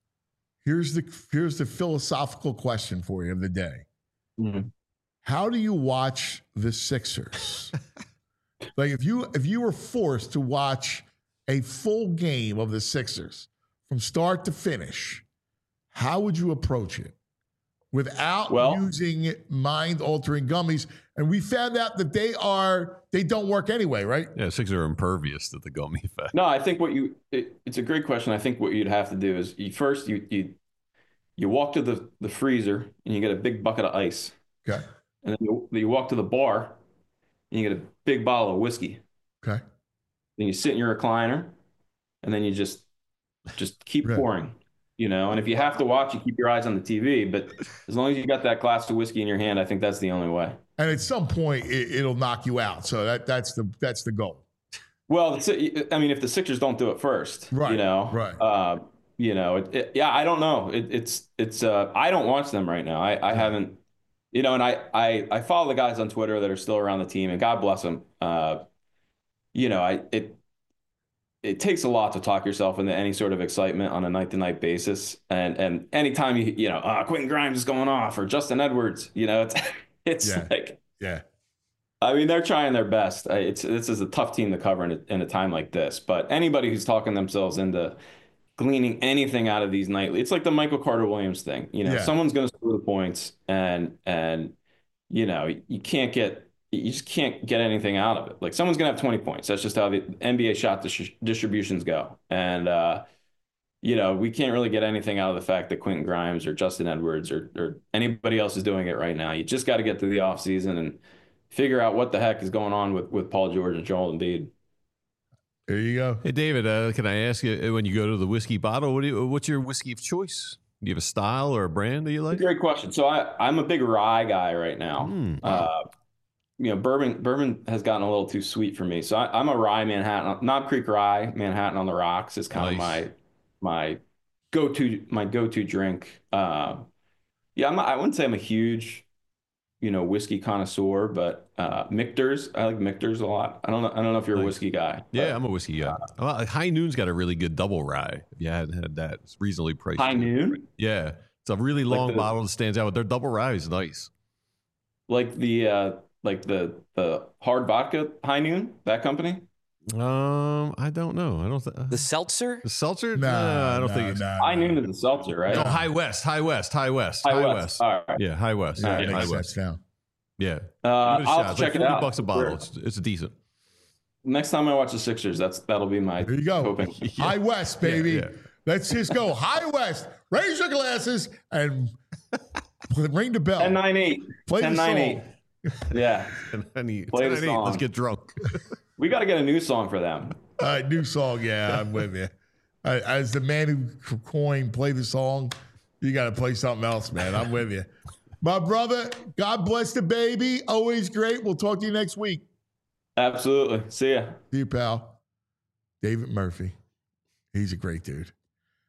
Here's the here's the philosophical question for you of the day. Mm-hmm. How do you watch the Sixers? Like if you if you were forced to watch a full game of the Sixers from start to finish, how would you approach it without well, using mind-altering gummies? And we found out that they are they don't work anyway, right? Yeah, Sixers are impervious to the gummy effect. No, I think what you it, it's a great question. I think what you'd have to do is you first you you you walk to the, the freezer and you get a big bucket of ice. Okay. And then you, you walk to the bar and you get a big bottle of whiskey. Okay. Then you sit in your recliner and then you just just keep Right. pouring. You know, and if you have to watch, you keep your eyes on the T V. But as long as you got that glass of whiskey in your hand, I think that's the only way. And at some point, it, it'll knock you out. So that that's the that's the goal. Well, I mean, if the Sixers don't do it first, Right, you know, right. Uh, you know, it, it, yeah, I don't know. It, it's it's uh, I don't watch them right now. I, I haven't, you know, and I, I I follow the guys on Twitter that are still around the team, and God bless them. Uh, you know, I it. It takes a lot to talk yourself into any sort of excitement on a night-to-night basis, and and anytime you you know, uh, Quentin Grimes is going off or Justin Edwards, you know, it's it's Yeah. like, Yeah. I mean, they're trying their best. It's this is a tough team to cover in a, in a time like this. But anybody who's talking themselves into gleaning anything out of these nightly, it's like the Michael Carter Williams thing. You know, Yeah. someone's going to score the points, and and you know, you can't get. You just can't get anything out of it. Like someone's going to have twenty points. That's just how the N B A shot dis- distributions go. And, uh, you know, we can't really get anything out of the fact that Quentin Grimes or Justin Edwards or, or anybody else is doing it right now. You just got to get to the offseason and figure out what the heck is going on with, with Paul George and Joel Embiid. There you go. Hey, David, uh, can I ask you, when you go to the whiskey bottle, what do you, what's your whiskey of choice? Do you have a style or a brand that you like? Great question. So I, I'm a big rye guy right now. Mm. Uh, you know, bourbon bourbon has gotten a little too sweet for me. So I, I'm a rye Manhattan, Knob Creek Rye, Manhattan on the Rocks is kind Nice. of my my go-to my go-to drink. Uh, yeah, I'm, I wouldn't say I'm a huge, you know, whiskey connoisseur, but uh, Michter's, I like Michter's a lot. I don't know. I don't know if you're a Nice. whiskey guy. Yeah, but I'm a whiskey guy. Well, High Noon's got a really good double rye. If you hadn't had that, it's reasonably priced. High Noon, Yeah, it's a really Like long the- bottle that stands out. But their double rye is nice. like the uh, like the the hard vodka High Noon, that company. Um, I don't know. I don't think The seltzer? the seltzer. No, no, I don't no, think it's. no, High no. Noon is a seltzer, right? No, High West, High West, High West, High, High West. West. All right. Yeah, High West. Yeah, Yeah, it High makes West. sense now. Yeah, Uh, Give it a I'll shot. have to It's check like it forty out. bucks a bottle. Sure. It's it's decent. Next time I watch the Sixers, that's that'll be my There you go. hoping. High West, baby. yeah. Let's just go. High West. Raise your glasses and ring the bell. ten nine eight. Play the ten nine eight. song. Yeah. And I need, Play the ten, eight, let's song. get drunk. We got to get a new song for them. All right, new song. Yeah, I'm with you. Uh, As the man who coined play the song, you got to play something else, man. I'm with you. My brother, God bless the baby. Always great. We'll talk to you next week. Absolutely. See ya. See you, pal. David Murphy. He's a great dude.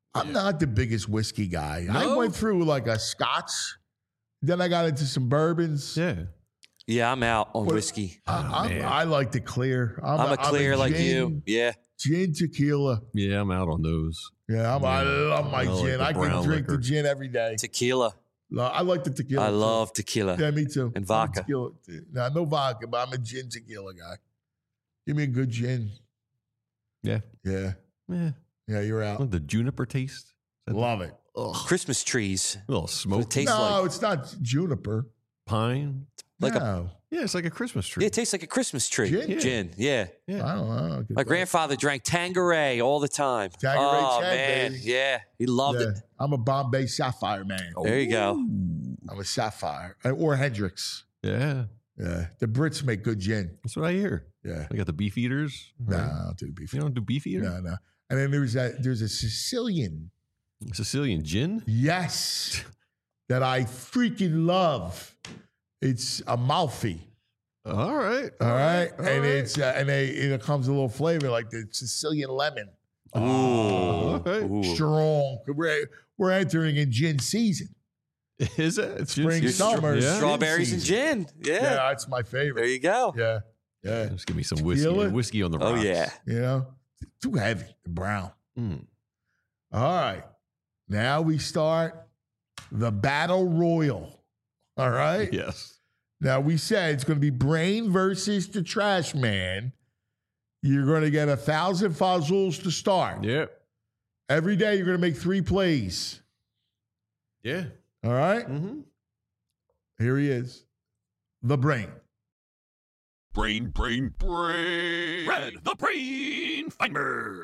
I'm Yeah. not the biggest whiskey guy. I No? went through like a Scotch, then I got into some bourbons. Yeah. Yeah, I'm out on What- whiskey. I, Oh, I'm- man. I like the clear. I'm, I'm a clear like gin, you. Yeah. Gin tequila. Yeah, I'm out on those. Yeah, I'm, I Yeah. love my I like gin. the I can brown drink the liquor. gin every day. Tequila. No, I like the tequila. I too. love tequila. Yeah, me too. And I'm a vodka. Tequila. No, no vodka, but I'm a gin tequila guy. Give me a good gin. Yeah. Yeah. Yeah. Yeah, you're out. The juniper taste. Love it. Ugh. Christmas trees. A little What smoke. it tastes no, like. it's not juniper. Pine. Like a- no. Yeah, it's like a Christmas tree. Yeah, it tastes like a Christmas tree. Gin? Yeah. Gin. Yeah. Yeah. I don't know. My grandfather drank Tanqueray all the time. Tanqueray oh, Chad, man. baby. Yeah. He loved Yeah, it. I'm a Bombay Sapphire man. There you go. I'm a Sapphire. Uh, Or Hendrix. Yeah. Yeah. The Brits make good gin. That's what I hear. Yeah. I got the beef eaters. No, right? I don't do beef. You don't do beef eater? No, no. And then there's that there's a Sicilian. Sicilian gin? Yes. That I freaking love. It's Amalfi. All right. All right. All and right. it's uh, and they, it comes a little flavor like the Sicilian lemon. Ooh. Okay. Ooh. Strong. We're, we're entering in gin season. Is it? It's Spring, just, summer. Yeah. Strawberries and season. gin. Yeah. Yeah, that's my There favorite. you go. Yeah. Yeah. Just give me some whiskey. Tequila? Whiskey on the Oh, rocks. yeah. You know, too heavy, brown. Mm. All right. Now we start the battle royal. All right. Yes. Now we said it's going to be Brain versus the Trash Man. You're going to get a thousand fuzzles to start. Yep. Every day you're going to make three plays. Yeah. All right. Mm-hmm. Here he is. The Brain. Brain, brain, brain. Red, the brain finder.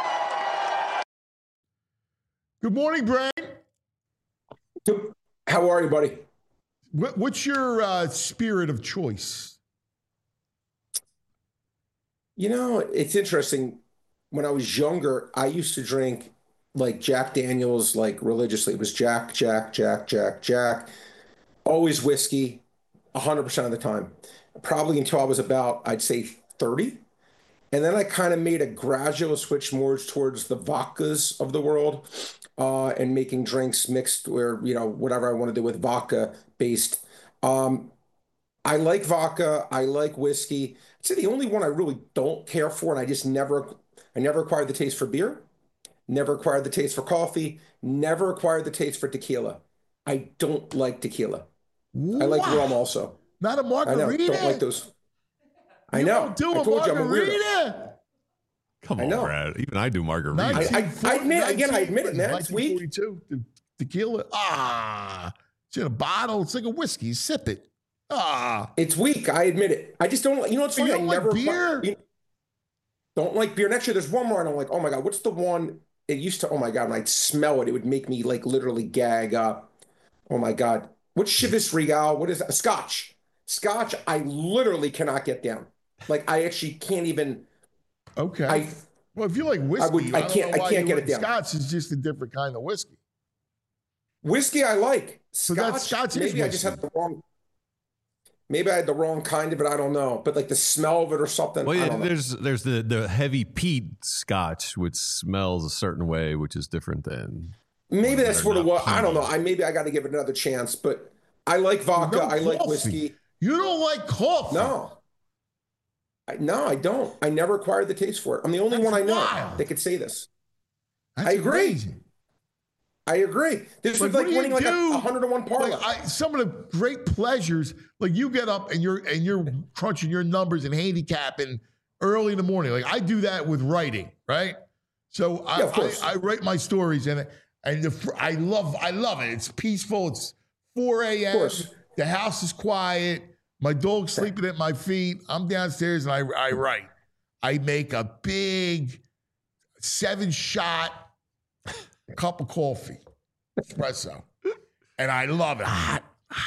Good morning, Brain. How are you, buddy? What, what's your uh, spirit of choice? You know, it's interesting. When I was younger, I used to drink like Jack Daniels, like religiously. It was Jack, Jack, Jack, Jack, Jack. Always whiskey, one hundred percent of the time. Probably until I was about, I'd say, thirty. And then I kind of made a gradual switch more towards the vodkas of the world uh, and making drinks mixed or, you know, whatever I want to do with vodka based. Um, I like vodka. I like whiskey. I'd say the only one I really don't care for, and I just never, I never acquired the taste for beer, never acquired the taste for coffee, never acquired the taste for tequila. I don't like tequila. I like Wow. rum also. Not a I know. margarita. Don't like those. I You know. don't do I a told you I'm a weirdo. margarita. Come I on, know. Brad. Even I do margarita. I- I admit- again, I admit it, man. It's weak. nineteen forty-two, the tequila. Ah, it's in a bottle. It's like a whiskey. Sip it. Ah, It's weak. I admit it. I just don't like, you know what's You funny? don't I like never beer? you don't like beer. And actually, there's one more and I'm like, oh my God, what's the one? It used to, oh my God, when I'd smell it, it would make me like literally gag up. Oh my God. What's Chivas Regal? What is that? Scotch. Scotch, I literally cannot get down. Like, I actually can't even, okay. I, well, if you like whiskey, would- I don't can't- know I why can't you get it wouldn't. down. Scotch is just a different kind of whiskey. whiskey I like. So Scotch, that's- Scotch is maybe I just whiskey. had the wrong, maybe I had the wrong kind of it. I don't know. But like the smell of it or something. Well, I yeah, don't know. there's there's the the heavy peat scotch, which smells a certain way, which is different than. Maybe Well, that's they're what it not was. I don't know. peaty. I maybe I got to give it another chance, but I like vodka. No I like coffee. whiskey. You don't like coffee. No, I, no, I don't. I never acquired the taste for it. I'm the only That's one I know wild. that could say this. That's I agree. amazing. I agree. This Like, was what like do you winning like a, do? a hundred to one parlay. Like I, some of the great pleasures, like you get up and you're and you're crunching your numbers and handicapping early in the morning. Like I do that with writing, right? So I, Yeah, of course. I, I write my stories and and the, fr- I love I love it. It's peaceful. It's four Of a.m. course. The house is quiet. My dog's sleeping at my feet. I'm downstairs and I I write. I make a big seven shot cup of coffee, espresso, and I love it. Hot.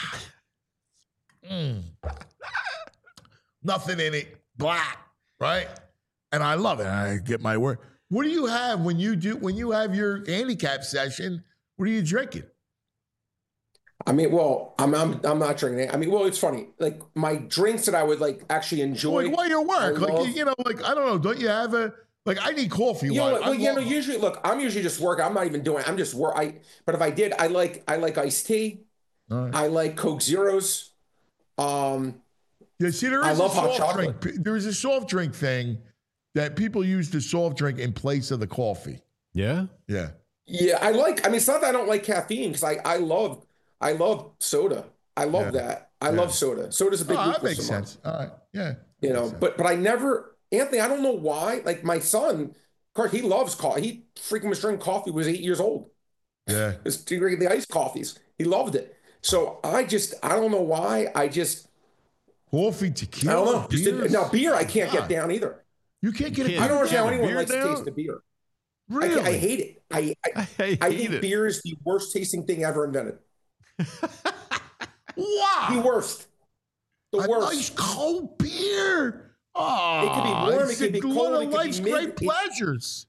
Mm. Nothing in it, black, right? And I love it. I get my word. What do you have when you do when you have your handicap session? What are you drinking? I mean, well, I'm I'm I'm not drinking it. I mean, well, it's funny. Like my drinks that I would like actually enjoy. Like while you're at work, I like love- you know, like I don't know. Don't you have a Like I need coffee. You know, Like, what, well, I you know, love- usually, look, I'm usually just working. I'm not even doing. I'm just work. I, but if I did, I like, I like iced tea. All right. I like Coke Zeros. Um, Yeah, see, there I is love a hot soft chocolate. drink. There is a soft drink thing that people use the soft drink in place of the coffee. Yeah. Yeah. yeah, I like. I mean, it's not that I don't like caffeine because I, I love, I love soda. I love Yeah. that. I Yeah. love soda. Soda's a big Oh, that weakness makes of mine. sense. All right. Yeah. You That know, makes sense. but but I never, Anthony. I don't know why. Like my son, of course, he loves coffee. He freaking was drinking coffee. When he was eight years old. yeah. It's the iced coffees. He loved it. So I just, I don't know why. I just, Coffee, I tequila. don't know. Just didn't- beers? now beer, I can't God. get down either. You can't get You it. can't I don't understand how get anyone beer likes the down? taste of beer. I, Really? can't- I hate it. I I, I hate I think it. beer is the worst tasting thing ever invented. Wow. The worst. The a worst. nice cold beer. Oh, It could be warm, it it's could be one cold, of it could be life's mid- great it- pleasures.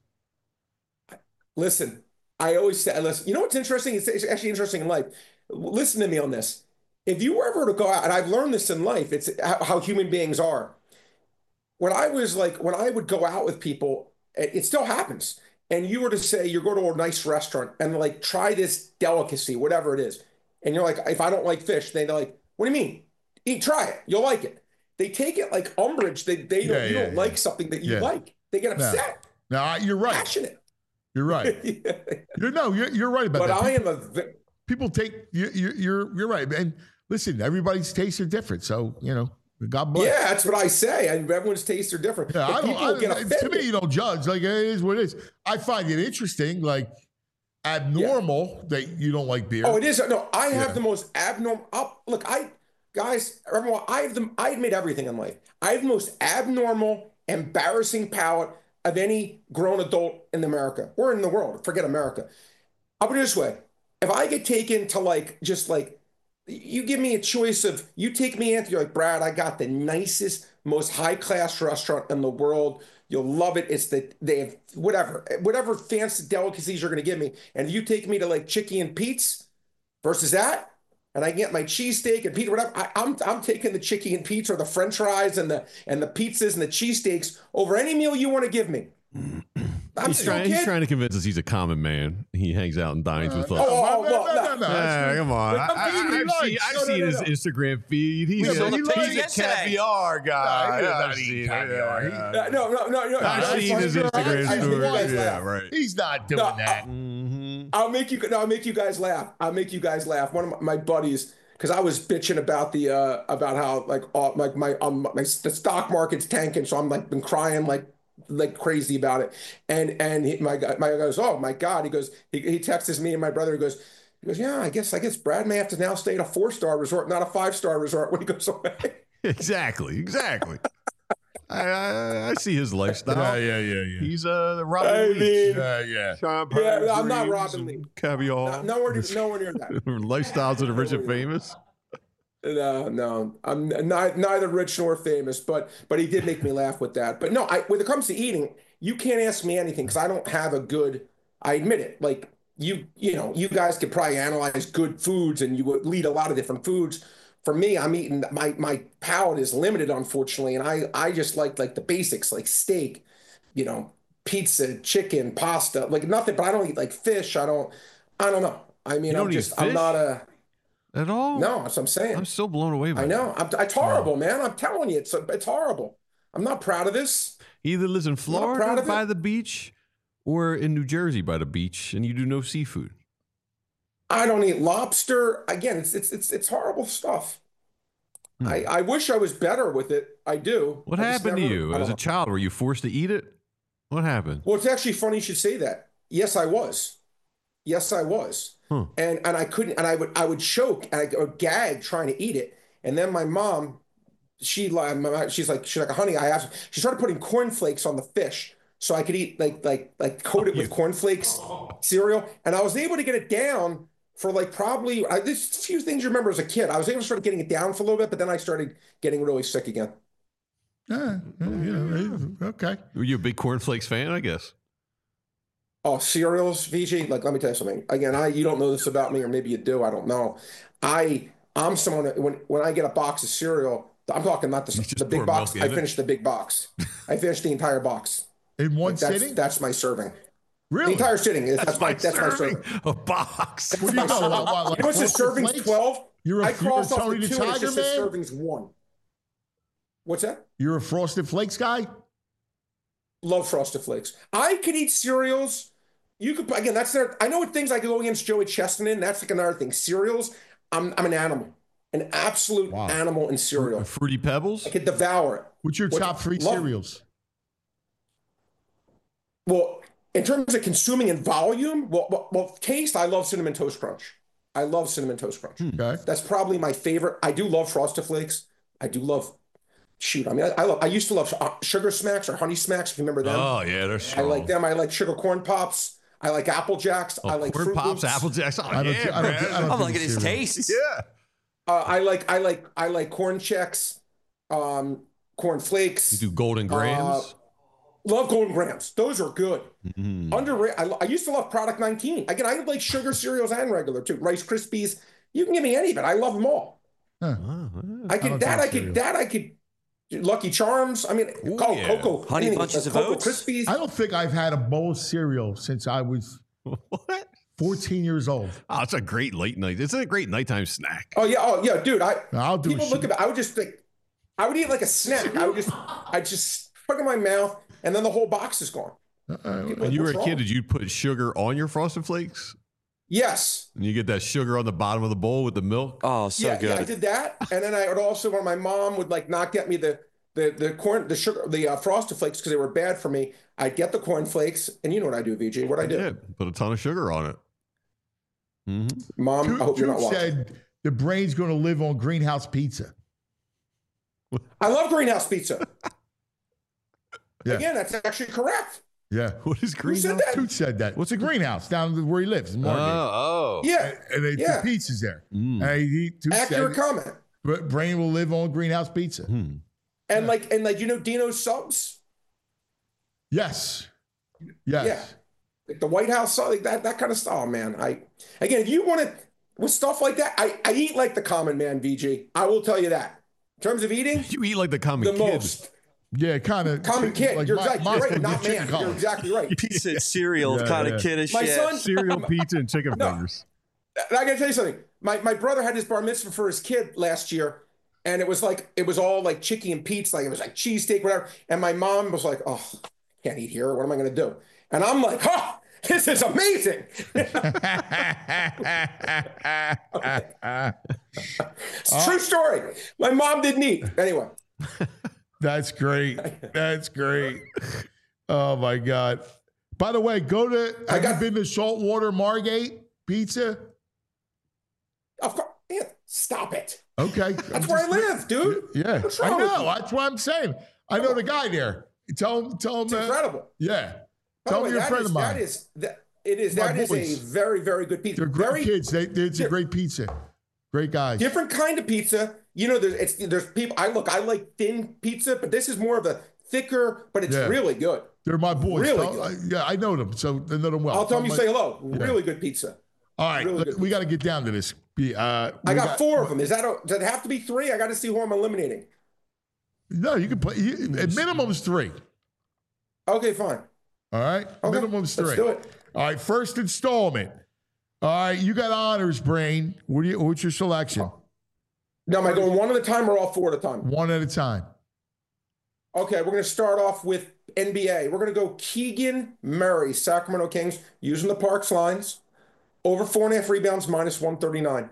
Listen, I always say, listen, you know what's interesting? It's, it's actually interesting in life. Listen to me on this. If you were ever to go out, and I've learned this in life, it's how, how human beings are. When I was like, when I would go out with people, it, it still happens. And you were to say, you go to a nice restaurant and like, try this delicacy, whatever it is. And you're like, if I don't like fish, they're like, what do you mean? Eat, try it. You'll like it. They take it like umbrage. They, they don't, Yeah, you yeah, don't yeah. like something that you Yeah. like. They get No. upset, No, I- you're right. passionate. You're right. You're no, you're, you're right about But that. I People, am a, ve- people take you, you, you're you're right. And listen, everybody's tastes are different. So you know, God bless. yeah, that's what I say. I, everyone's tastes are different. Yeah, But I don't. people I, get to offended. me, you don't judge. Like it is what it is. I find it interesting, like abnormal that you don't like beer. Oh, it is. No, I have Yeah. the most abnormal. I'll, look, I guys, everyone, I have the. I admit everything in life. I have the most abnormal, embarrassing palate of any grown adult in America or in the world. Forget America. I'll put it this way: if I get taken to like, just like, you give me a choice of, you take me, Anthony, you're like, Brad, I got the nicest, most high class restaurant in the world. You'll love it. It's the, they have whatever, whatever fancy delicacies you're going to give me. And if you take me to like Chicky and Pete's versus that, and I get my cheesesteak and pizza, whatever, I, I'm I'm taking the Chicky and Pete's or the French fries and the and the pizzas and the cheesesteaks over any meal you want to give me. I'm He's just trying, he's okay. trying to convince us he's a common man. He hangs out and dines with us. Oh, oh, no, well, no, no. no, no. Yeah, come on. I, But I, he I've likes- seen, I've no, no, seen no, his no. Instagram feed. He's, Yeah, a, but he likes he's a yesterday. caviar guy. No, he doesn't I've eat seen it. caviar. He- Yeah. Uh, no, no, no, no. I've no, seen I'm his sorry, Instagram I- I- story. you guys Yeah, laugh. right. He's not doing No, that. Mm-hmm. I'll make you. No, I'll make you guys laugh. I'll make you guys laugh. One of my, my buddies, because I was bitching about the uh about how like all like my um my the stock market's tanking, so I'm like been crying like like crazy about it. And and he, my guy my guy goes, oh my God. He goes, he, he texts me and my brother. He goes, he goes, yeah, I guess I guess Brad may have to now stay at a four star resort, not a five star resort when he goes away. Exactly, exactly. I, I, I see his lifestyle. Yeah, yeah, yeah, yeah. He's uh, the Robin I Leach. mean, Yeah, yeah. Champagne Yeah, I'm not dreams Robin and Leach. Caviar. No, nowhere near, nowhere near that. Lifestyles of the rich and famous. No, no, I'm not, neither rich nor famous, but but he did make me laugh with that. But no, I, when it comes to eating, you can't ask me anything because I don't have a good. I admit it. Like you, you know, you guys could probably analyze good foods, and you would lead a lot of different foods. For me, I'm eating my my palate is limited, unfortunately, and I I just like like the basics, like steak, you know, pizza, chicken, pasta, like nothing. But I don't eat like fish. I don't. I don't know. I mean, You don't I'm eat just. I'm fish? not a. At all? No, that's what I'm saying. I'm so blown away by I that. know. I'm, it's horrible, man. I'm telling you, it's it's horrible. I'm not proud of this. He either lives in proud Florida of by it. the beach or in New Jersey by the beach, and you do no seafood. I don't eat lobster. Again, it's it's it's it's horrible stuff. Hmm. I, I wish I was better with it. I do. What I just happened to never- you I as don't a know. child? Were you forced to eat it? What happened? Well, it's actually funny you should say that. Yes, I was. Yes, I was. Huh. And and I couldn't. And I would I would choke and I would gag trying to eat it. And then my mom, she like my mom- she's like she's like honey, I have. She started putting cornflakes on the fish so I could eat like like like coat it with cornflakes cereal. And I was able to get it down for like probably. I, there's a few things you remember as a kid. I was able to start getting it down for a little bit, but then I started getting really sick again. Yeah, you know, okay. Were you a big cornflakes fan? I guess. Oh, cereals, V G. Like, let me tell you something. Again, I you don't know this about me, or maybe you do. I don't know. I I'm someone that when when I get a box of cereal, I'm talking not the, You just the big pour box. milk I in it? finish the big box. I finish the entire box. In one Like, that's, sitting? That's my serving. Really? The entire sitting. That's, that's my that's my serving. serving. A box. What do you know? What, what, like You know what's the Frosted serving's Flakes? twelve? You're a, I you're a crossed off Tony the the two and it Tiger just says man? servings one. What's that? You're a Frosted Flakes guy? Love Frosted Flakes. I could eat cereals. You could again. That's there. I know what things I could go against Joey Chestnut in. That's like another thing. Cereals. I'm I'm an animal, an absolute Wow. animal in cereal. Fruity Pebbles? I could devour it. What's your What- top three love- cereals? Well, in terms of consuming in volume, well, well, well, taste. I love Cinnamon Toast Crunch. I love Cinnamon Toast Crunch. Okay. That's probably my favorite. I do love Frosted Flakes. I do love. Shoot, I mean, I, I love. I used to love uh, Sugar Smacks or Honey Smacks. If you remember them. Oh, yeah, they're I strong. like them. I like Sugar Corn Pops. I like Apple Jacks. Oh, I like Corn Fruit Pops, Loops. Apple Jacks. Oh, I don't, yeah, I don't, man. I don't I'm do liking his cereal. taste. Yeah. Uh, I like. I like. I like Corn Checks. Um, Corn Flakes. You do Golden Grams? Love Golden Grams. Those are good. Mm-hmm. Underrated. I, I used to love Product nineteen. Again, I like sugar cereals and regular too. Rice Krispies. You can give me any of it. I love them all. Huh. Oh, I I could don't that. do I could cereal. that. I could. Lucky Charms. I mean, Ooh, oh, yeah. Cocoa. Honey anything, Bunches uh, of Cocoa Oats? Krispies. I don't think I've had a bowl of cereal since I was what? fourteen years old. Oh, it's a great late night. It's a great nighttime snack. Oh yeah. Oh yeah, dude. I I'll do people a look shit- at it. I would just think. I would eat like a snack. I would just. I just put it in my mouth, and then the whole box is gone. Uh-uh. People are When you were like, a "What's kid, wrong?" did you put sugar on your Frosted Flakes? Yes. And you get that sugar on the bottom of the bowl with the milk? Oh, so yeah, good. yeah, I did that, and then I would also when my mom would like not get me the the the corn the sugar the uh, Frosted Flakes because they were bad for me. I'd get the corn flakes, and you know what I do, V J? What I do, Yeah, put a ton of sugar on it. Mm-hmm. Mom? Dude, I hope you're Dude not watching. said the brain's going to live on greenhouse pizza. I love Greenhouse Pizza. Yeah. Again, that's actually correct. Yeah. What is Who green? said that? Dude said that. What's a greenhouse down where he lives in Margate? Oh, oh. Yeah, and they yeah. the pizza's there. Mm. And he, Dude accurate said, comment. Bra- brain will live on greenhouse pizza. Hmm. And like and like you know Dino's subs. Yes. Yes. Yeah. Like the White House, like that, that kind of style, man. I again, if you want to with stuff like that, I, I eat like the common man, V G. I will tell you that. In terms of eating, You eat like the common the kid. most Yeah, kind of. common kid. Like you're my- exactly my right, thing, not chicken man. collar. You're exactly right. Pizza and cereal Yeah, kind yeah. of kid and My shit. son, Cereal, pizza, and chicken No. fingers. I gotta tell you something. My my brother had his bar mitzvah for his kid last year, and it was like it was all like chicken and pizza, like it was like cheesesteak, whatever. And my mom was like, "Oh, can't eat here. What am I gonna do?" And I'm like, "Oh, this is amazing." It's a true story. My mom didn't eat. Anyway, That's great. That's great. Oh my God. By the way, go to I have got- you been to Saltwater Margate Pizza? of course, yeah, stop it. Okay. That's where I live, dude. Yeah. What's I wrong with know. you? That's what I'm saying. I know the guy there. Tell him, tell him It's uh, incredible. yeah. By Tell the him way, you're a that friend is- of mine. That is that it is My that is boys. a very very good pizza. They're great Very kids. They, they, it's a They're- great pizza. Great guys. different kind of pizza. You know, there's it's there's people. I look, I like thin pizza, but this is more of a thicker, but it's Yeah. really good. They're my boys. Really Tell- good. I- yeah, I know them, so they know them well. I'll tell them you my- say hello. Really good pizza. All right, really look, good we got to get down to this. Be- Uh, I we got, four of them. Is that a, does it have to be three? I got to see who I'm eliminating. No, you can play. You, at minimum is three. Okay, fine. All right, Okay, minimum's three. let's do it. All right, first installment. All right, you got honors, brain. What do you? What's your selection? Now, am I going one at a time or all four at a time? One at a time. Okay, we're going to start off with N B A. We're going to go Keegan Murray, Sacramento Kings, using the Parks lines. Over four and a half rebounds, minus one thirty-nine.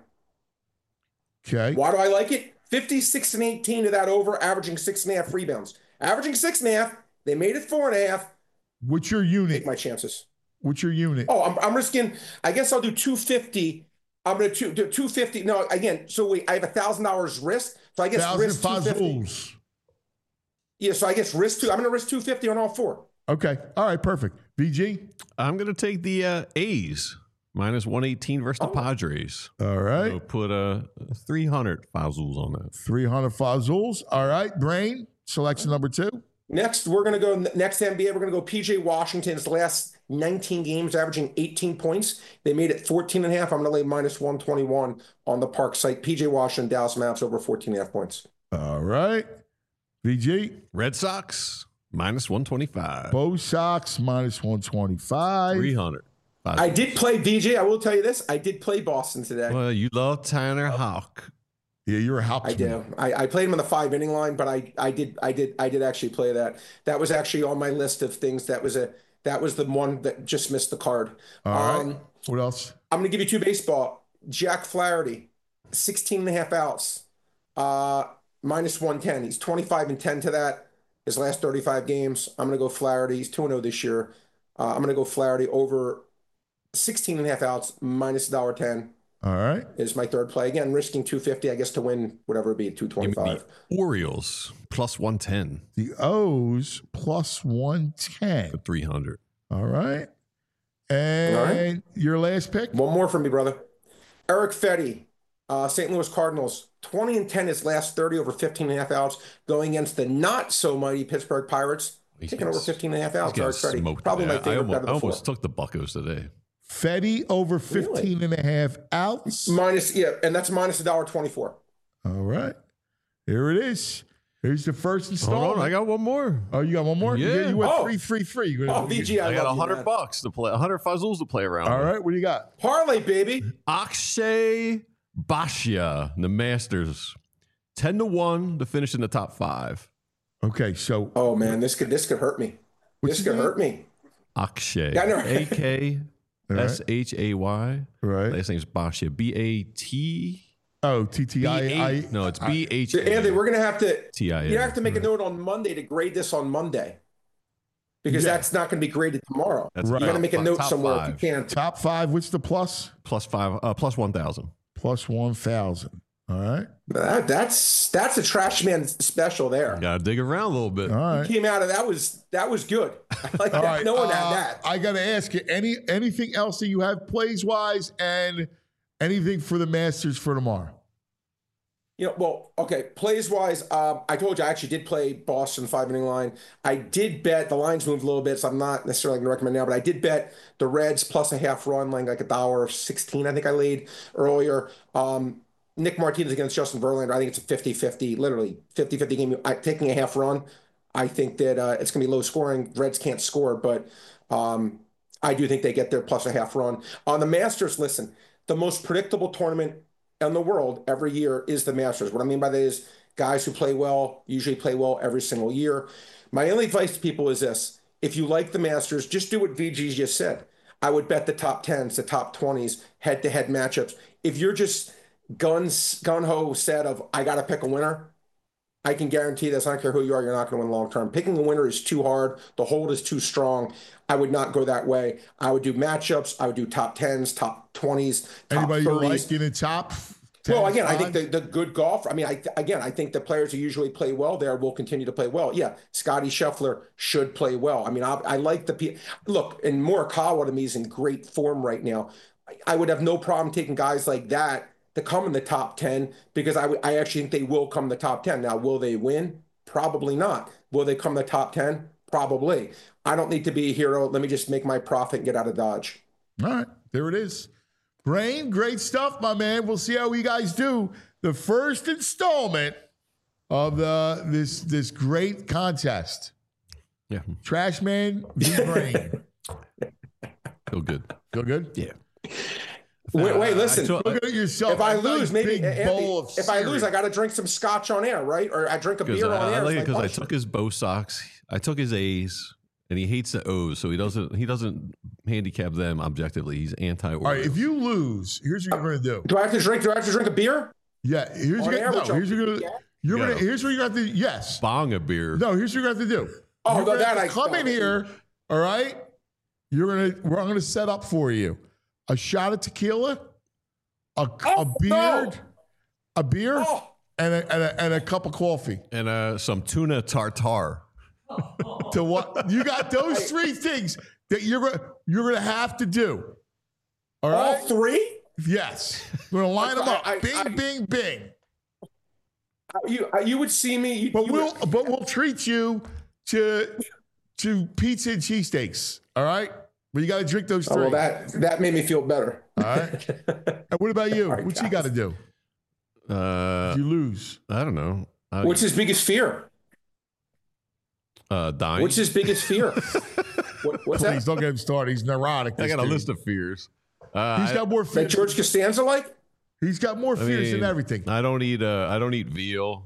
Okay. Why do I like it? fifty-six and eighteen to that over, averaging six and a half rebounds. Averaging six and a half. They made it four and a half. What's your unit? Take my chances. What's your unit? Oh, I'm, I'm risking, I guess I'll do two fifty. I'm going to do two fifty. No, again, so wait, I have a one thousand dollars risk. So I guess Thousand risk two fifty. Fazools. Yeah, so I guess risk two. I'm going to risk two fifty on all four. Okay. All right. Perfect. V G. I'm going to take the uh, A's. Minus one eighteen versus the Oh. Padres. All right. So put a uh, three hundred Fazools on that. three hundred Fazools. All right. Brain. Selection number two. Next, we're going to go next N B A. We're going to go P J Washington's last nineteen games, averaging eighteen points. They made it fourteen and a half. I'm going to lay minus one twenty-one on the Park site. P J Washington, Dallas Mavericks over fourteen and a half points. All right. V G. Red Sox Minus one twenty-five. Bo Sox minus one twenty-five. three hundred. I did play V J. I will tell you this. I did play Boston today. Well, you love Tanner Houck. Yeah, you're a Houck. I do. I, I played him on the five inning line, but I, I did I did I did actually play that. That was actually on my list of things. That was a that was the one that just missed the card. All um, right. What else? I'm gonna give you two baseball. Jack Flaherty, sixteen and a half outs, uh, minus one ten. He's twenty-five and ten to that. His last thirty-five games. I'm gonna go Flaherty. He's two and oh this year. Uh, I'm gonna go Flaherty over sixteen and a half outs, minus one dollar ten. All right. Is my third play. Again, risking two fifty, I guess, to win whatever it be, two twenty-five. Orioles plus one ten. The O's plus one ten. For three hundred. All right. And All right. your last pick? One more from me, brother. Eric Fetty, uh, Saint Louis Cardinals, twenty and ten his last thirty over fifteen and a half outs, going against the not so mighty Pittsburgh Pirates, He's taking over fifteen and a half outs. He's Eric getting Fetty, smoked probably today. my favorite I almost, bet I of the almost four. took the Buccos today. Fetty over fifteen Really? and a half outs. Minus, yeah, and that's minus a dollar twenty-four. All right. Here it is. Here's the first Hold installment. on, I got one more. Oh, you got one more? You- Yeah. You went Oh. three, three, three. You're gonna- Oh, V G, I, I got love a you, hundred man. bucks to play, a hundred fuzzles to play around. All with. right. What do you got? Parlay, baby. Akshay Bhatia, the Masters, ten to one to finish in the top five. Okay. So Oh man, this could this could hurt me. What's this his could name? hurt me. Akshay, Yeah, I know. A K All right. S H A Y. Right. Last name's Bhatia, B A T. Oh, T T I I. No, it's B H Anthony, we're gonna have to T I A. you have to make a note on Monday to grade this on Monday. Because Yeah. that's not going to be graded tomorrow. That's Right. You got to make a top- note top somewhere five. if you can. Top five. What's the plus? Plus five, uh, plus one thousand. Plus one thousand. All right. That, that's that's a trash man special there. Got to dig around a little bit. All right. Came out of that was that was good. I like All that. right. No one uh, had that. I got to ask you, any anything else that you have plays wise and anything for the Masters for tomorrow? You know, well, okay. Plays wise, um, I told you I actually did play Boston five inning line. I did bet the lines moved a little bit, so I'm not necessarily going to recommend now, but I did bet the Reds plus a half run, like like a dollar sixteen. I think I laid earlier. Um, Nick Martinez against Justin Verlander. I think it's a fifty-fifty, literally fifty-fifty game. I, taking a half run, I think that uh, it's going to be low scoring. Reds can't score, but um, I do think they get there plus a half run. On the Masters, listen, the most predictable tournament in the world every year is the Masters. What I mean by that is guys who play well usually play well every single year. My only advice to people is this. If you like the Masters, just do what V G just said. I would bet the top tens, the top twenties, head-to-head matchups. If you're just guns, gun-ho set of, I got to pick a winner, I can guarantee this. I don't care who you are, you're not going to win long-term. Picking a winner is too hard. The hold is too strong. I would not go that way. I would do matchups. I would do top tens, top twenties, top Anybody you thirties. like in the top? Well, ten, again, I think five? the, the good golf. I mean, I again, I think the players who usually play well there will continue to play well. Yeah, Scotty Scheffler should play well. I mean, I, I like the pe- look, and Morikawa to me is in great form right now. I, I would have no problem taking guys like that to come in the top ten because I, w- I actually think they will come in the top ten. Now, will they win? Probably not. Will they come in the top ten? Probably. I don't need to be a hero. Let me just make my profit and get out of Dodge. All right, there it is. Brain, great stuff, my man. We'll see how you guys do. The first installment of the this this great contest. Yeah. Trash Man v Brain. Feel good. Feel good? Yeah. Wait, wait, listen. I took- Look at it yourself. If I A nice lose, maybe big Anthony, bowl of if I lose, cereal. I got to drink some scotch on air, right? Or I drink a Because beer on I, I air. like it It's my because I punishment. took his Bo Sox. I took his A's, and he hates the O's, so he doesn't he doesn't handicap them objectively. He's anti. All right, if you lose, here's what you're gonna do. Do I have to drink? Do I have to drink a beer? Yeah, here's On what air, you're which no, I'll here's what you're do, gonna yeah. you're Yeah. gonna here's what you're gonna have to yes. bong a beer. No, here's what you're gonna have to do. Oh, you're no, gonna that have to I come in here, all right? You're gonna we're I'm gonna set up for you a shot of tequila, a, a Oh, beer, no. a beer, Oh. and a, and a and a cup of coffee. And uh, some tuna tartare. To what you got those three things that you're gonna you're gonna have to do. All All right? three? Yes. We're gonna line them up. I- I- Bing, I- bing, bing. You uh, you would see me. You, But you we'll would, but we'll treat you to to pizza and cheesesteaks. All right. But you got to drink those oh, three. well, that that made me feel better. All right. And what about you? All right, what you got to do Uh, if you lose? I don't know. I, What's his biggest fear? Uh, dying. What's his biggest fear? what, what's Please that? don't get him started. He's neurotic. I got a dude. list of fears. Uh, He's got more That fears. George Costanza like? He's got more I fears mean, than everything. I don't eat. Uh, I don't eat veal.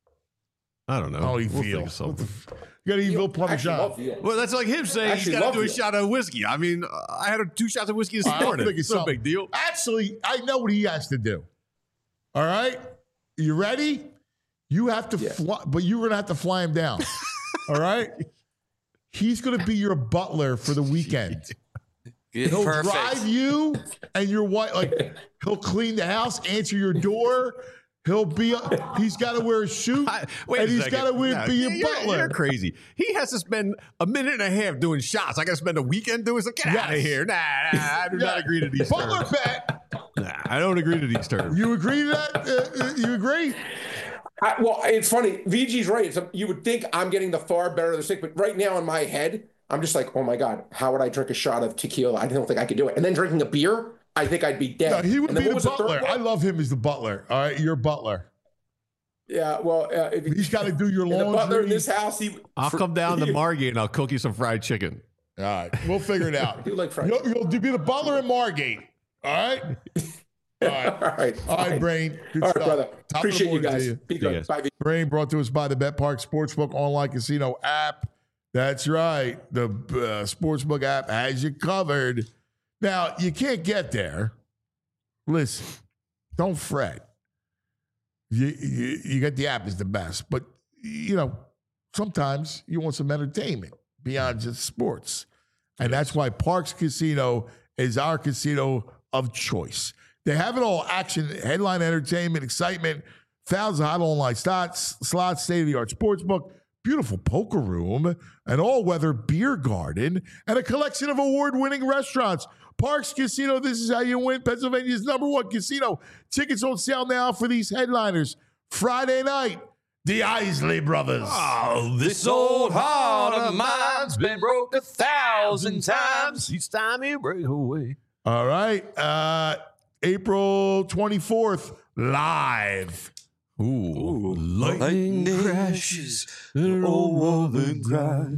I don't know. Oh, he We'll feels. think of something. You got to eat You Bill Plummer actually shot. love veal. Well, that's like him saying he's Actually got to love do a veal. shot of whiskey. I mean, I had a, two shots of whiskey this I'll morning. think of It's no something. big deal. Actually, I know what he has to do. All right? You ready? You have to Yeah. fly, but you're going to have to fly him down. All right? He's going to be your butler for the weekend. Yeah, He'll perfect. drive you and your wife. Like, he'll clean the house, answer your door. He'll be. He's got to wear a suit, I, wait and a he's second. got to No, be your you're, butler. You're crazy. He has to spend a minute and a half doing shots. I got to spend a weekend doing something. Get out of Yes. here. Nah, nah, I do not Yeah. agree to these Butler terms. bet. Nah, I don't agree to these terms. You agree to that? Uh, uh, you agree? I, well, it's funny. V G's right. It's a, you would think I'm getting the far better of the stick, but right now in my head, I'm just like, oh my God, how would I drink a shot of tequila? I don't think I could do it. And then drinking a beer, I think I'd be No, dead. he would and then be what the was third butler. one? I love him as the butler. All right, your butler. Yeah, well, uh, if He's got to do your and the laundry. butler in this house, he I'll come down to Margate and I'll cook you some fried chicken. All right, we'll figure it out. do like fried. You'll, you'll be the butler in Margate. All right. All right. All right, All right, fine. Brain. Good All right, stuff. brother. Top of the Appreciate you morning to guys. you. Be you good. guys. Bye. V. Brain brought to us by the Bet Park Sportsbook online casino app. That's right. The uh, Sportsbook app has you covered. Now, you can't get there. Listen, don't fret. You, you, you get the app is the best. But, you know, sometimes you want some entertainment beyond just sports. And that's why Parks Casino is our casino of choice. They have it all: action, headline entertainment, excitement, thousands of hot online slots, slots, state-of-the-art sportsbook, beautiful poker room, an all-weather beer garden, and a collection of award-winning restaurants. Parks Casino, this is how you win. Pennsylvania's number one casino. Tickets on sale now for these headliners. Friday night, the Isley Brothers. Oh, this old heart of mine's been broke a thousand times. Each time you break away. All right. Uh, April twenty-fourth, live. Ooh, Lightning crashes, and old woman cries.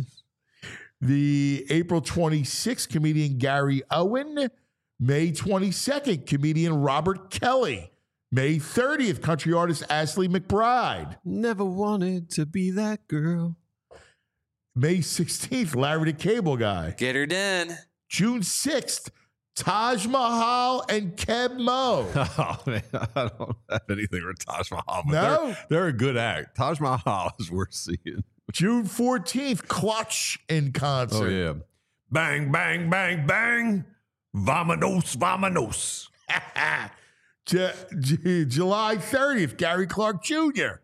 The April twenty-sixth, comedian Gary Owen. May twenty-second, comedian Robert Kelly. May thirtieth, country artist Ashley McBride. Never wanted to be that girl. May sixteenth, Larry the Cable Guy. Get her done. June sixth, Taj Mahal and Keb Mo. Oh, man, I don't have anything with Taj Mahal. But No? they're, they're a good act. Taj Mahal is worth seeing. June fourteenth, Clutch in concert. Oh, yeah. Bang, bang, bang, bang. Vamonos, vamonos. J- J- July thirtieth, Gary Clark Junior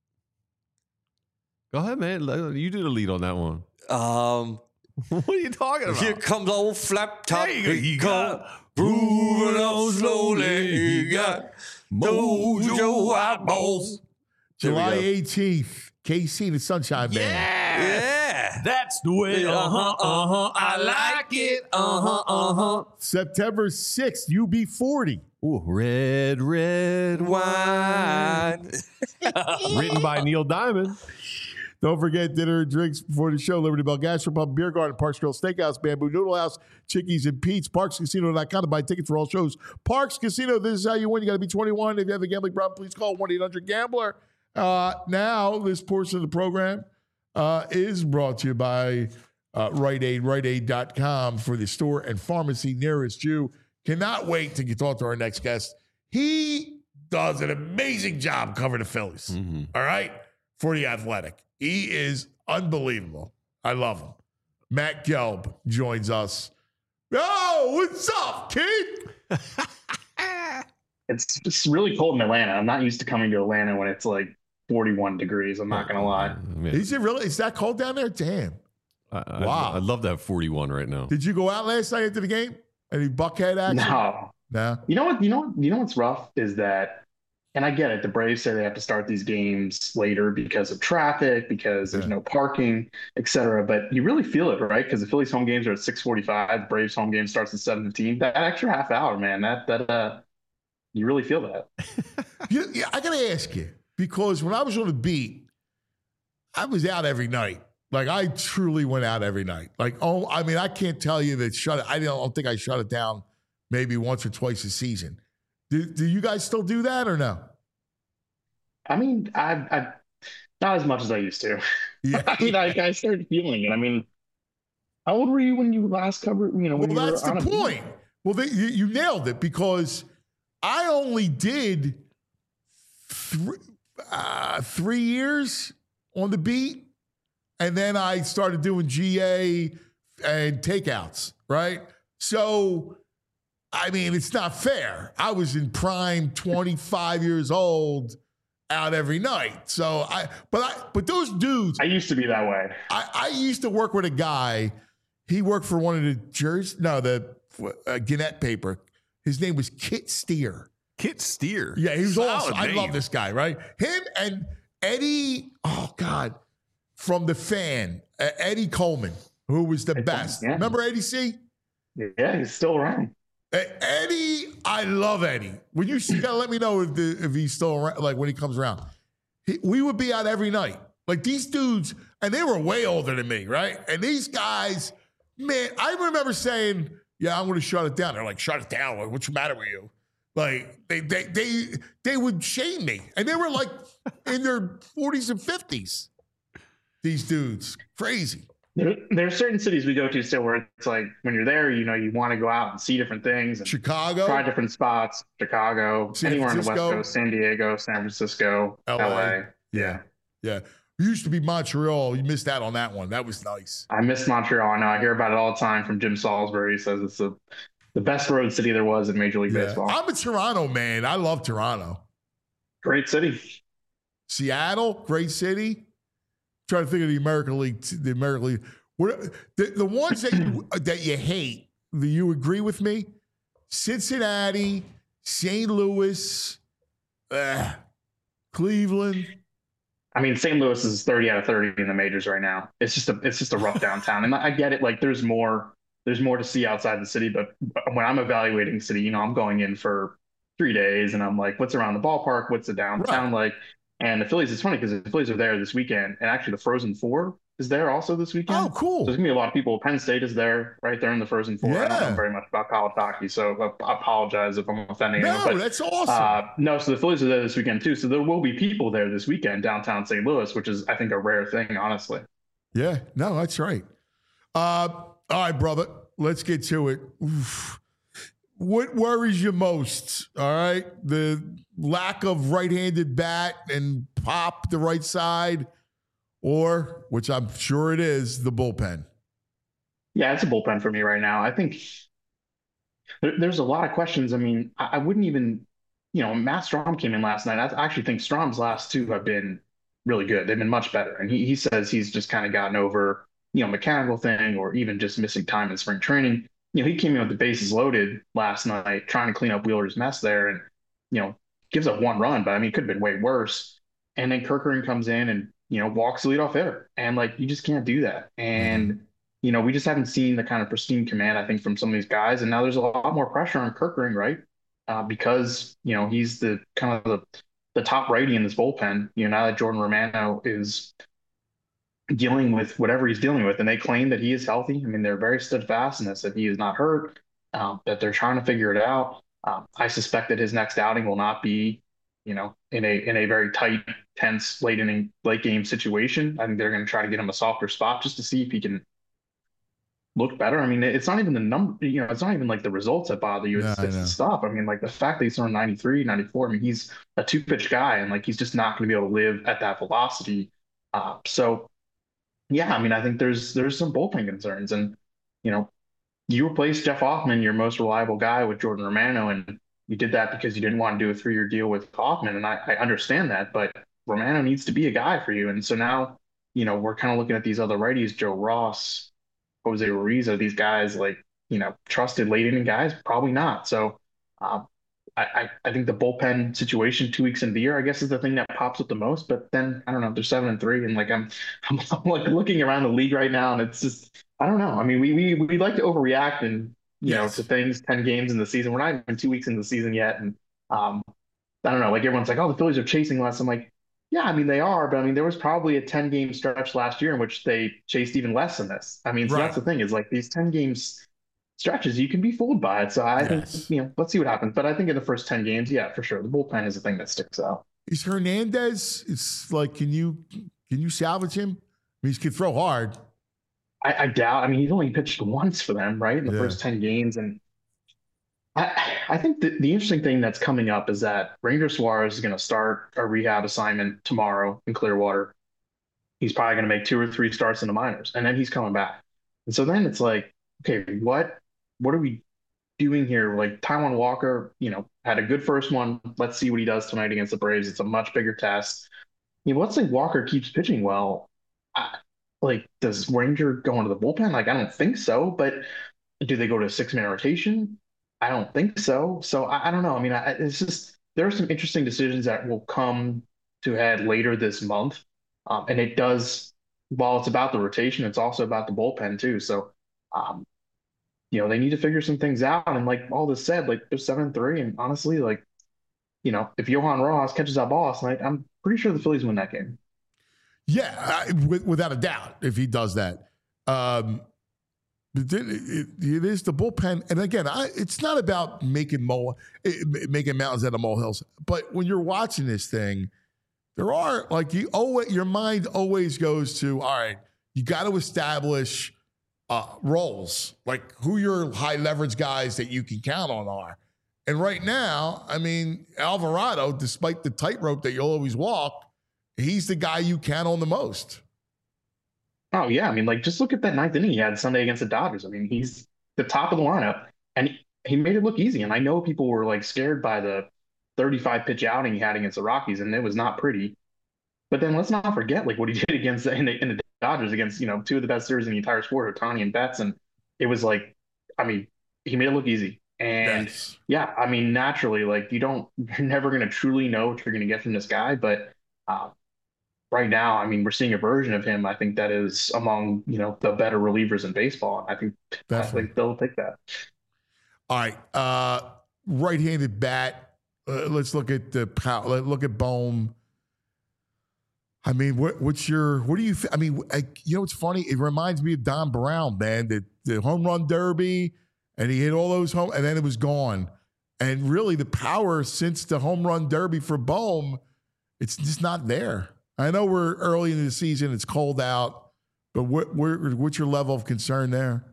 Go ahead, man. Let- You do the lead on that one. Um, What are you talking about? here comes old flap top. There you go. He You come got- moving on slowly. He got mojo eyeballs. July There we go. eighteenth, K C and the Sunshine Band. Yeah. That's the way. Uh huh. Uh huh. I like it. Uh huh. Uh huh. September sixth, U B forty. Ooh, red, red Wine. Written by Neil Diamond. Don't forget dinner and drinks before the show. Liberty Bell Gastropub, Beer Garden, Parks Grill Steakhouse, Bamboo Noodle House, Chickies and Pete's, parks casino dot com to buy tickets for all shows. Parks Casino, this is how you win. You got to be twenty-one. If you have a gambling problem, please call one eight hundred gambler. Uh, now, this portion of the program uh, is brought to you by uh, Rite Aid, Rite Aid dot com for the store and pharmacy nearest you. Cannot wait to talk to our next guest. He does an amazing job covering the Phillies. Mm-hmm. All right, for the Athletic. He is unbelievable. I love him. Matt Gelb joins us. Oh, what's up, kid? It's it's really cold in Atlanta. I'm not used to coming to Atlanta when it's like forty-one degrees. I'm not gonna lie. Yeah. Is it really? Is that cold down there? Damn. I, I, Wow. I'd love to have forty-one right now. Did you go out last night after the game? Any Buckhead action? No. No. You know what? You know what? You know what's rough is that, and I get it. The Braves say they have to start these games later because of traffic, because there's Yeah. no parking, et cetera. But you really feel it, right? Because the Phillies home games are at six forty-five. Braves home game starts at seven fifteen. That extra half hour, man. That that uh, you really feel that. You, yeah, I got to ask you, because when I was on the beat, I was out every night. Like I truly went out every night. Like, oh, I mean, I can't tell you that shut it. I don't think I shut it down maybe once or twice a season. Do, do you guys still do that or no? I mean, I, I not as much as I used to. Yeah. I mean, I, I started feeling it. I mean, how old were you when you last covered? You know, when well, you that's were the on a point. beat? Well, they, you, you nailed it because I only did three, uh, three years on the beat, and then I started doing G A and takeouts, right? So, I mean, it's not fair. I was in prime twenty-five years old out every night. So I, but I, but those dudes, I used to be that way. I, I used to work with a guy. He worked for one of the Jersey, no, the uh, Gannett paper. His name was Kit Steer. Kit Steer. Yeah, he was Solid awesome. I name. love this guy, right? Him and Eddie, oh God, from The Fan, uh, Eddie Coleman, who was the best. Yeah. Remember Eddie C? Yeah, he's still around. Uh, Eddie, I love Eddie. When you see, you gotta let me know if, the, if he's still around, like when he comes around. He, we would be out every night. Like these dudes, and they were way older than me, right? And these guys, man, I remember saying, yeah, I'm going to shut it down. They're like, shut it down. Like, what's the matter with you? Like, they they they they would shame me. And they were like in their forties and fifties. These dudes. Crazy. There, there are certain cities we go to still where it's like when you're there, you know, you want to go out and see different things. And Chicago. try different spots. Chicago. San anywhere on the West Francisco. Coast. San Diego, San Francisco, L A. L A. Yeah. Yeah. It used to be Montreal. You missed out on that one. That was nice. I miss Montreal. I know. I hear about it all the time from Jim Salisbury. He says it's the, the best road city there was in Major League Yeah. Baseball. I'm a Toronto man. I love Toronto. Great city. Seattle, great city. Trying to think of the American League. The American League. What, the, the ones that you, that you hate, do you agree with me? Cincinnati, Saint Louis, uh, Cleveland. I mean, Saint Louis is thirty out of thirty in the majors right now. It's just a it's just a rough downtown, and I get it. Like, there's more there's more to see outside the city. But when I'm evaluating city, you know, I'm going in for three days, and I'm like, what's around the ballpark? What's the downtown Right. like? And the Phillies. It's funny because the Phillies are there this weekend, and actually the Frozen Four is there also this weekend. Oh, So cool. there's gonna be a lot of people. Penn State is there, right there in the Frozen Four. I don't Yeah. know very much about college hockey, so I apologize if I'm offending No, anyone. But that's awesome. uh, no, so the Phillies are there this weekend too. So there will be people there this weekend downtown Saint Louis, which is, I think, a rare thing, honestly. Yeah, no, that's right. Uh, all right, brother, let's get to it. Oof. What worries you most? All right, the lack of right-handed bat and pop the right side, or, which I'm sure it is, the bullpen. Yeah, it's a bullpen for me right now. I think there, there's a lot of questions. I mean, I, I wouldn't even, you know, Matt Strom came in last night. I actually think Strom's last two have been really good. They've been much better. And he, he says he's just kind of gotten over, you know, mechanical thing or even just missing time in spring training. You know, he came in with the bases loaded last night, trying to clean up Wheeler's mess there and, you know, gives up one run, but I mean, it could have been way worse. And then Kirkering comes in and, you know, walks the leadoff hitter. And like, you just can't do that. And, you know, we just haven't seen the kind of pristine command, I think, from some of these guys. And now there's a lot more pressure on Kirkering, right? Uh, because, you know, he's the kind of the, the top righty in this bullpen. You know, now that Jordan Romano is dealing with whatever he's dealing with, and they claim that he is healthy. I mean, they're very steadfast in this, that he is not hurt, um, that they're trying to figure it out. Um, I suspect that his next outing will not be, you know, in a in a very tight, tense, late inning, late game situation. I think they're going to try to get him a softer spot just to see if he can look better. I mean, it's not even the number, you know, it's not even like the results that bother you. It's, Yeah, I it's know. the stuff. I mean, like the fact that he's throwing ninety-three, ninety-four, I mean, he's a two pitch guy and like he's just not going to be able to live at that velocity. Uh, so, yeah, I mean, I think there's there's some bullpen concerns. And, you know, you replaced Jeff Hoffman, your most reliable guy, with Jordan Romano, and you did that because you didn't want to do a three-year deal with Hoffman. And I, I understand that, but Romano needs to be a guy for you. And so now, you know, we're kind of looking at these other righties, Joe Ross, Jose Ruiz, are these guys like, you know, trusted late inning guys? Probably not. So uh, I, I, I think the bullpen situation two weeks into the year, I guess, is the thing that pops up the most. But then I don't know, they're seven and three, and like I'm, I'm, I'm like looking around the league right now, and it's just I don't know. I mean, we we we like to overreact and you Yes. know to things ten games in the season. We're not even two weeks into the season yet, and um, I don't know. Like everyone's like, oh, the Phillies are chasing less. I'm like, Yeah, I mean they are, but I mean there was probably a ten game stretch last year in which they chased even less than this. I mean, so Right. that's the thing is like these ten games stretches, you can be fooled by it. So I Yes. think, you know, let's see what happens. But I think in the first ten games, yeah, for sure, the bullpen is the thing that sticks out. Is Hernandez? It's like, can you can you salvage him? I mean, he can throw hard. I, I doubt. I mean, he's only pitched once for them, right, in the Yeah. first ten games, and I I think the, the interesting thing that's coming up is that Ranger Suarez is going to start a rehab assignment tomorrow in Clearwater. He's probably going to make two or three starts in the minors, and then he's coming back. And so then it's like, okay, what what are we doing here? Like Taijuan Walker, you know, had a good first one. Let's see what he does tonight against the Braves. It's a much bigger test. You know, let's say Walker keeps pitching well. I, like, does Ranger go into the bullpen? Like, I don't think so. But do they go to a six-man rotation? I don't think so. So I, I don't know. I mean, I, it's just there are some interesting decisions that will come to head later this month, um, and it does. While it's about the rotation, it's also about the bullpen too. So, um, you know, they need to figure some things out. And like all this said, like they're seven three, and honestly, like, you know, if Johan Rojas catches that ball last night, I'm pretty sure the Phillies win that game. Yeah, I, with, without a doubt, if he does that. Um, it, it, it is the bullpen, and again, I, it's not about making mole, making mountains out of molehills. But when you're watching this thing, there are like you always, your mind always goes to, all right, you got to establish uh, roles, like who your high leverage guys that you can count on are. And right now, I mean, Alvarado, despite the tightrope that you'll always walk, he's the guy you count on the most. Oh yeah, I mean, like just look at that ninth inning he had Sunday against the Dodgers. I mean, he's the top of the lineup, and he, he made it look easy. And I know people were like scared by the thirty-five pitch outing he had against the Rockies, and it was not pretty. But then let's not forget like what he did against the, in, the, in the Dodgers against, you know, two of the best series in the entire sport, Ohtani and Betts, and it was like, I mean, he made it look easy. And Yes. yeah, I mean, naturally, like you don't, you're never going to truly know what you're going to get from this guy, but. Uh, Right now, I mean, we're seeing a version of him. I think that is among you know the better relievers in baseball. I think Definitely. I think they'll take that. All right, uh, right-handed bat. Uh, let's look at the power. Let's look at Bohm. I mean, what, what's your? What do you? I mean, I, you know, what's funny? It reminds me of Don Brown, man. The the home run derby, and he hit all those home, and then it was gone. And really, the power since the home run derby for Bohm, it's just not there. I know we're early in the season; it's cold out, but what, what what's your level of concern there?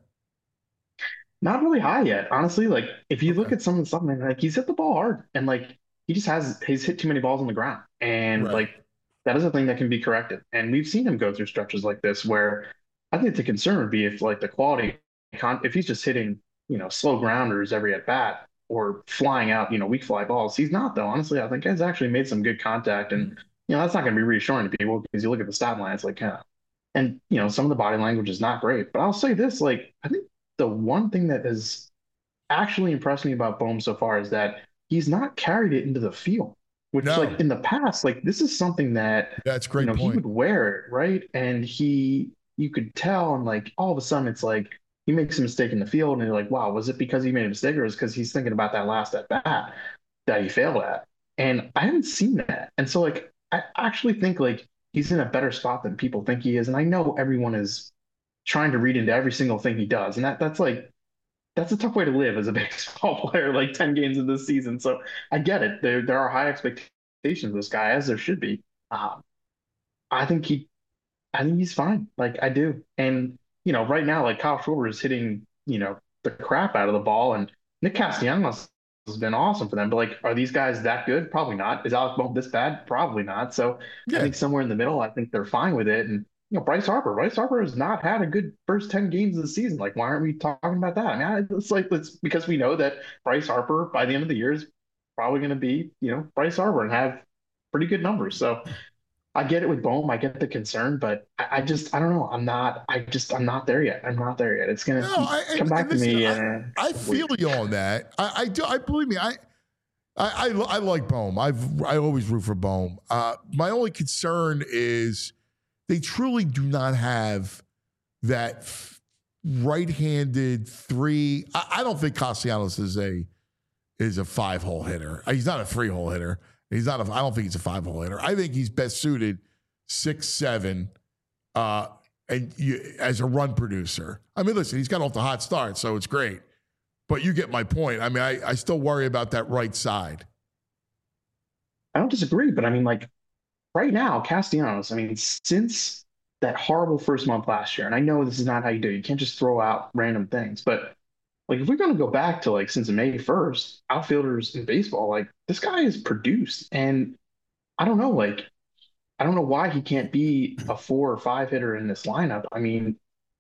Not really high yet, honestly. Like if you look at some of the stuff, man, like he's hit the ball hard, and like he just has he's hit too many balls on the ground, and Right. like that is a thing that can be corrected. And we've seen him go through stretches like this where I think the concern would be if like the quality, if he's just hitting you know slow grounders every at bat or flying out you know weak fly balls. He's not though. Honestly, I think he's actually made some good contact, and you know that's not going to be reassuring to people because you look at the stat line, it's like yeah, and you know some of the body language is not great. But I'll say this, like I think. The one thing that has actually impressed me about Bohm so far is that he's not carried it into the field, which No. like in the past, like this is something that That's a great you know point. he would wear it, right? And he you could tell, and like all of a sudden it's like he makes a mistake in the field, and you're like, wow, was it because he made a mistake, or is it because he's thinking about that last at bat that he failed at? And I haven't seen that. And so like I actually think like he's in a better spot than people think he is. And I know everyone is trying to read into every single thing he does. And that that's like that's a tough way to live as a baseball player, like ten games in this season. So I get it. There there are high expectations of this guy, as there should be. Um, I think he I think he's fine. Like I do. And you know, right now, like Kyle Schwarber is hitting, you know, the crap out of the ball, and Nick Castellanos has been awesome for them. But like, are these guys that good? Probably not. Is Alex Bohm this bad? Probably not. So Yeah. I think somewhere in the middle, I think they're fine with it. And you know, Bryce Harper. Bryce Harper has not had a good first ten games of the season. Like, why aren't we talking about that? I mean, it's like it's because we know that Bryce Harper by the end of the year is probably going to be, you know, Bryce Harper and have pretty good numbers. So I get it with Bohm. I get the concern, but I, I just I don't know. I'm not. I just I'm not there yet. I'm not there yet. It's gonna No, I- come and- back and to listen, me. I- and I feel you on that. I, I do. I believe me. I, I, I, I like Bohm. I've I always root for Bohm. Uh, my only concern is they truly do not have that f- right-handed three. I, I don't think Castellanos is a is a five-hole hitter. He's not a three-hole hitter. He's not a, I don't think he's a five-hole hitter. I think he's best suited six, seven, uh, and you, as a run producer. I mean, listen, he's got off the hot start, so it's great. But you get my point. I mean, I, I still worry about that right side. I don't disagree, but I mean, like, right now, Castellanos, I mean, since that horrible first month last year, and I know this is not how you do it. You can't just throw out random things, but like if we're going to go back to like since May first, outfielders in baseball, like this guy is produced, and I don't know, like I don't know why he can't be a four or five hitter in this lineup. I mean,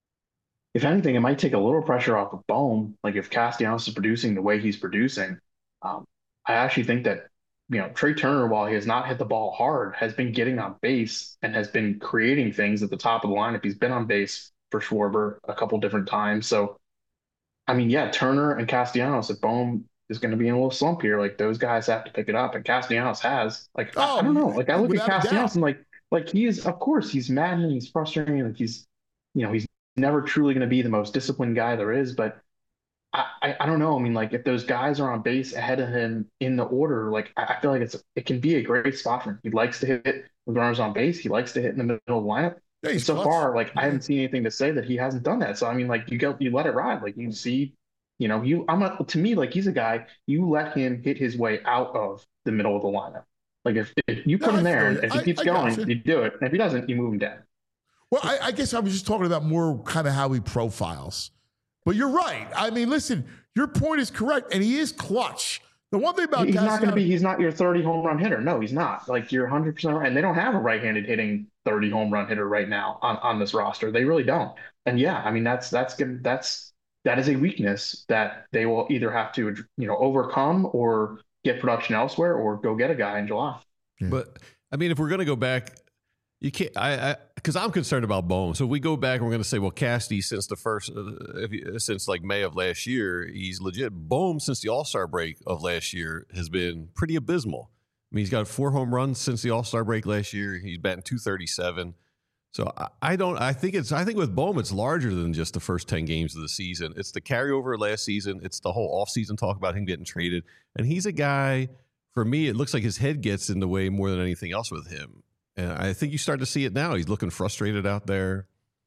if anything, it might take a little pressure off of Bohm. Like if Castellanos is producing the way he's producing, um, I actually think that you know, Trey Turner, while he has not hit the ball hard, has been getting on base and has been creating things at the top of the lineup. He's been on base for Schwarber a couple different times. So, I mean, yeah, Turner and Castellanos, if Bohm is going to be in a little slump here, like those guys have to pick it up. And Castellanos has. Like, oh, I, I don't know. Like, I look at Castellanos and like, like he is, of course, he's maddening, he's frustrating. Like he's, you know, he's never truly going to be the most disciplined guy there is, but I, I, I don't know. I mean, like if those guys are on base ahead of him in the order, like I, I feel like it's it can be a great spot for him. He likes to hit with runners on base. He likes to hit in the middle of the lineup. Yeah, so clutch. far, like yeah. I haven't seen anything to say that he hasn't done that. So I mean, like you go, you let it ride. Like you see, you know, you I'm a, to me like he's a guy you let him hit his way out of the middle of the lineup. Like if, if you put no, him there and if he I, keeps I going, you. you do it. And if he doesn't, you move him down. Well, I, I guess I was just talking about more kind of how he profiles. But you're right. I mean, listen, your point is correct, and he is clutch. The one thing about he's Castellanos, not going to be he's not your thirty home run hitter. No, he's not. Like you're one hundred percent right. And they don't have a right-handed hitting thirty home run hitter right now on, on this roster. They really don't. And yeah, I mean that's that's good. That's that is a weakness that they will either have to you know overcome or get production elsewhere or go get a guy in July. Yeah. But I mean, if we're going to go back, you can't. I because I'm concerned about Bohm. So if we go back and we're going to say, well, Casty since the first, uh, if you, since like May of last year, he's legit. Bohm since the All Star break of last year has been pretty abysmal. I mean, he's got four home runs since the All Star break last year. He's batting two thirty-seven. So I, I don't. I think it's. I think with Bohm, it's larger than just the first ten games of the season. It's the carryover last season. It's the whole offseason talk about him getting traded. And he's a guy. For me, it looks like his head gets in the way more than anything else with him. And I think you start to see it now. He's looking frustrated out there.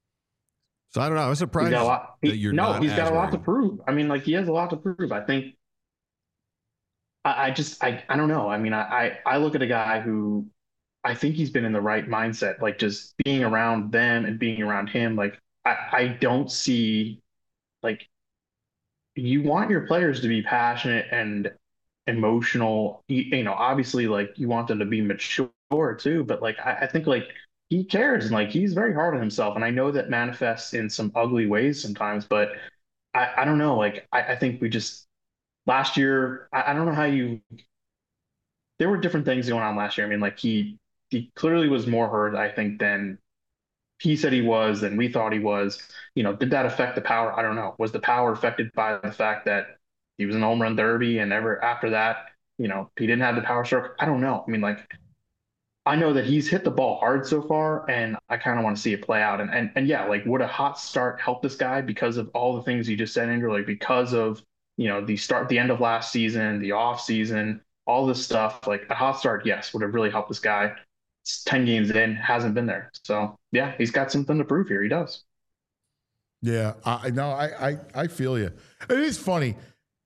So I don't know. I was surprised he's got a lot, he, that you're no, not. he's got a lot worried. to prove. I mean, like he has a lot to prove. I think. I, I just I I don't know. I mean, I, I I look at a guy who I think he's been in the right mindset. Like just being around them and being around him. Like I I don't see like you want your players to be passionate and emotional. You, you know, obviously, like you want them to be mature too, but like I, I think like he cares and like he's very hard on himself, and I know that manifests in some ugly ways sometimes, but I, I don't know, like I, I think we just last year I, I don't know how you there were different things going on last year. I mean, like he he clearly was more hurt, I think, than he said he was, than we thought he was. You know, did that affect the power? I don't know. Was the power affected by the fact that he was in home run derby and ever after that, you know, he didn't have the power stroke? I don't know. I mean, like I know that he's hit the ball hard so far, and I kind of want to see it play out. And, and and yeah, like would a hot start help this guy because of all the things you just said, Andrew? Like because of, you know, the start, the end of last season, the off season, all this stuff, like a hot start, yes, would have really helped this guy. It's ten games in, hasn't been there. So yeah, he's got something to prove here. He does. Yeah, I no, I I, I feel you. It is funny.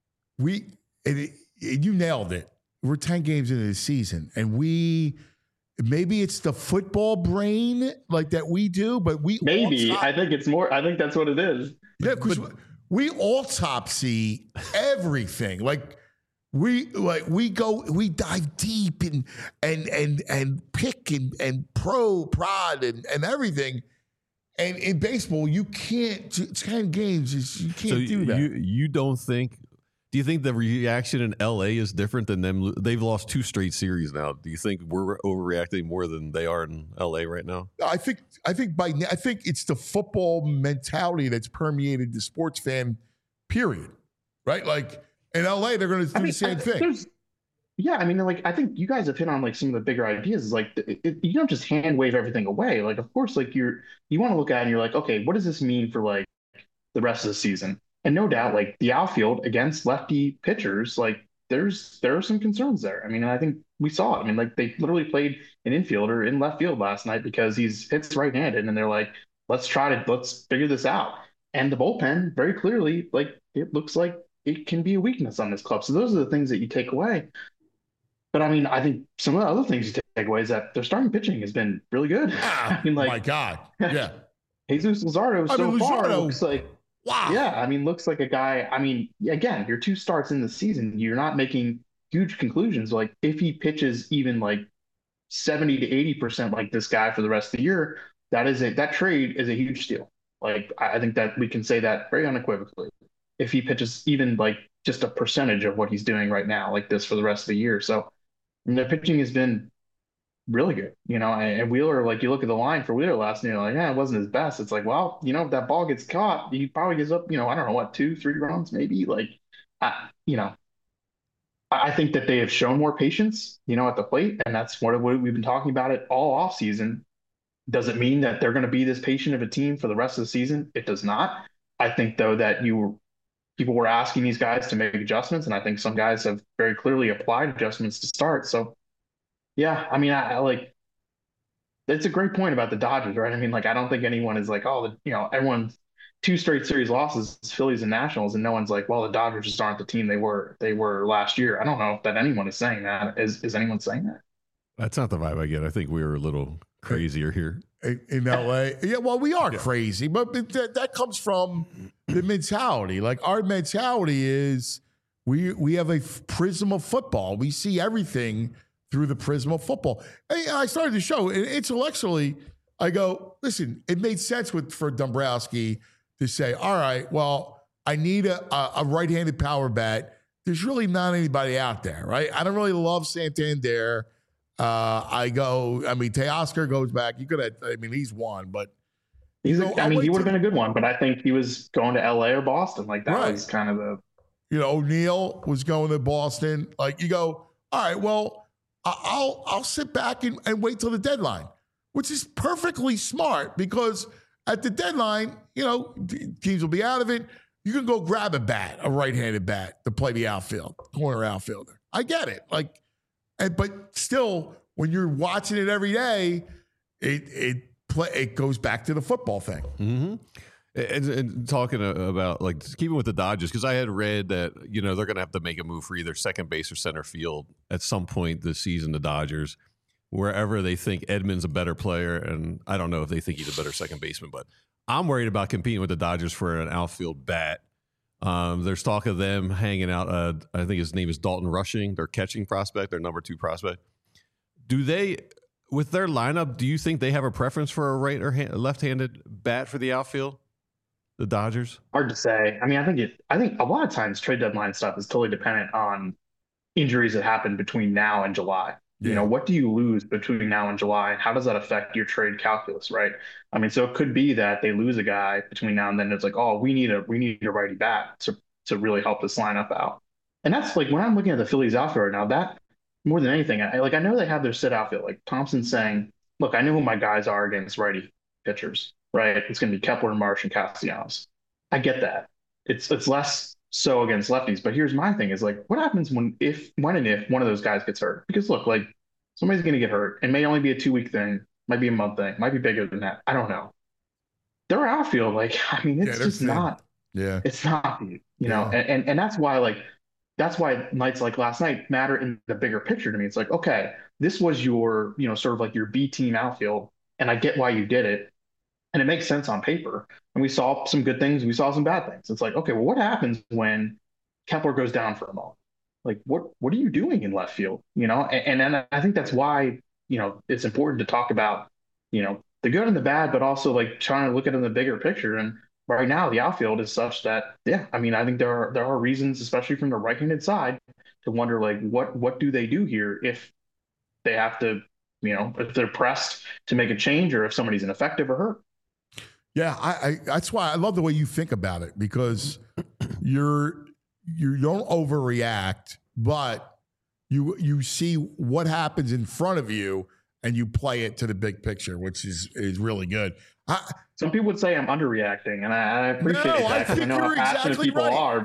We it, it, you nailed it. We're ten games into the season, and we maybe it's the football brain like that we do, but we maybe autop- I think it's more. I think that's what it is. Yeah, because we autopsy everything. Like we like we go we dive deep and and and and pick and and pro prod and and everything. And in baseball, you can't. Ten games is you can't so do that. You you don't think? Do you think the reaction in L A is different than them? They've lost two straight series now. Do you think we're overreacting more than they are in L A right now? I think I think by I think it's the football mentality that's permeated the sports fan. Period. Right? Like in L A, they're going to do I mean, the same I, thing. Yeah, I mean, like I think you guys have hit on like some of the bigger ideas. Is like it, it, you don't just hand wave everything away. Like, of course, like you're you want to look at it and you're like, okay, what does this mean for like the rest of the season? And no doubt, like the outfield against lefty pitchers, like there's there are some concerns there. I mean, I think we saw it. I mean, like they literally played an infielder in left field last night because he's hits right-handed, and they're like, let's try to let's figure this out. And the bullpen, very clearly, like it looks like it can be a weakness on this club. So those are the things that you take away. But I mean, I think some of the other things you take away is that their starting pitching has been really good. Ah, I mean, like, my God, yeah. Jesus Luzardo I so mean, far Luzardo- looks like, Wow. yeah, I mean, looks like a guy. I mean, again, your two starts in the season, you're not making huge conclusions. Like if he pitches even like seventy to eighty percent like this guy for the rest of the year, that is a that trade is a huge steal. Like I I think that we can say that very unequivocally. If he pitches even like just a percentage of what he's doing right now, like this for the rest of the year. So I mean, their pitching has been really good, you know, and, and Wheeler, like you look at the line for Wheeler last year, like, yeah, it wasn't his best. It's like, well, you know, if that ball gets caught, he probably gives up, you know, I don't know what, two, three runs, maybe. Like, I, you know, I, I think that they have shown more patience, you know, at the plate, and that's what, what we've been talking about it all off season. Does it mean that they're going to be this patient of a team for the rest of the season? It does not. I think though that you people were asking these guys to make adjustments, and I think some guys have very clearly applied adjustments to start. So. Yeah, I mean, I, I like. It's a great point about the Dodgers, right? I mean, like, I don't think anyone is like, oh, the, you know, everyone's two straight series losses, Phillies and Nationals, and no one's like, well, the Dodgers just aren't the team they were they were last year. I don't know that anyone is saying that. Is is anyone saying that? That's not the vibe I get. I think we were a little crazier here in, in L A. Yeah, well, we are yeah. crazy, but that, that comes from the mentality. Like our mentality is we we have a prism of football. We see everything through the prism of football. And I started the show, and intellectually, I go, listen, it made sense with for Dombrowski to say, all right, well, I need a, a, a right-handed power bat. There's really not anybody out there, right? I don't really love Santander. Uh, I go, I mean, Teoscar goes back. You could have, I mean, he's one, but. He's, you know, I mean, he would have to, been a good one, but I think he was going to L A or Boston. Like, that right. was kind of the. You know, O'Neill was going to Boston. Like, you go, all right, well, I'll I'll sit back and, and wait till the deadline, which is perfectly smart because at the deadline, you know, teams will be out of it. You can go grab a bat, a right-handed bat to play the outfield, corner outfielder. I get it. Like, and, but still, when you're watching it every day, it it play it goes back to the football thing. Mm-hmm. And, and talking about, like, keeping with the Dodgers, because I had read that, you know, they're going to have to make a move for either second base or center field at some point this season, the Dodgers, wherever they think Edman's a better player. And I don't know if they think he's a better second baseman, but I'm worried about competing with the Dodgers for an outfield bat. Um, there's talk of them hanging out. Uh, I think his name is Dalton Rushing, their catching prospect, their number two prospect. Do they, with their lineup, do you think they have a preference for a right or hand, left-handed bat for the outfield? The Dodgers? Hard to say. I mean, I think it. I think a lot of times trade deadline stuff is totally dependent on injuries that happen between now and July. Yeah. You know, what do you lose between now and July, and how does that affect your trade calculus, right? I mean, so it could be that they lose a guy between now and then. It's like, oh, we need a we need a righty bat to to really help this lineup out. And that's like when I'm looking at the Phillies outfield right now. That more than anything, I like I know they have their sit outfield. Like Thompson's saying, look, I know who my guys are against righty pitchers. Right, it's going to be Kepler, Marsh, and Castellanos. I get that. It's it's less so against lefties, but here's my thing: is like, what happens when if when and if one of those guys gets hurt? Because look, like somebody's going to get hurt. It may only be a two week thing, might be a month thing, might be bigger than that. I don't know. Their outfield, like, I mean, it's yeah, just thin. not. Yeah, it's not. You yeah. know, and, and and that's why like that's why nights like last night matter in the bigger picture to me. It's like, okay, this was your you know sort of like your B team outfield, and I get why you did it. And it makes sense on paper. And we saw some good things. We saw some bad things. It's like, okay, well, what happens when Kepler goes down for a moment? Like, what what are you doing in left field? You know, and, and I think that's why, you know, it's important to talk about, you know, the good and the bad, but also like trying to look at it in the bigger picture. And right now, the outfield is such that, yeah, I mean, I think there are there are reasons, especially from the right-handed side, to wonder like what what do they do here if they have to, you know, if they're pressed to make a change or if somebody's ineffective or hurt. Yeah, I, I that's why I love the way you think about it because you're you don't overreact, but you you see what happens in front of you and you play it to the big picture, which is is really good. I, Some people would say I'm underreacting, and I, I appreciate no, that because I, I know how passionate exactly people right. are. But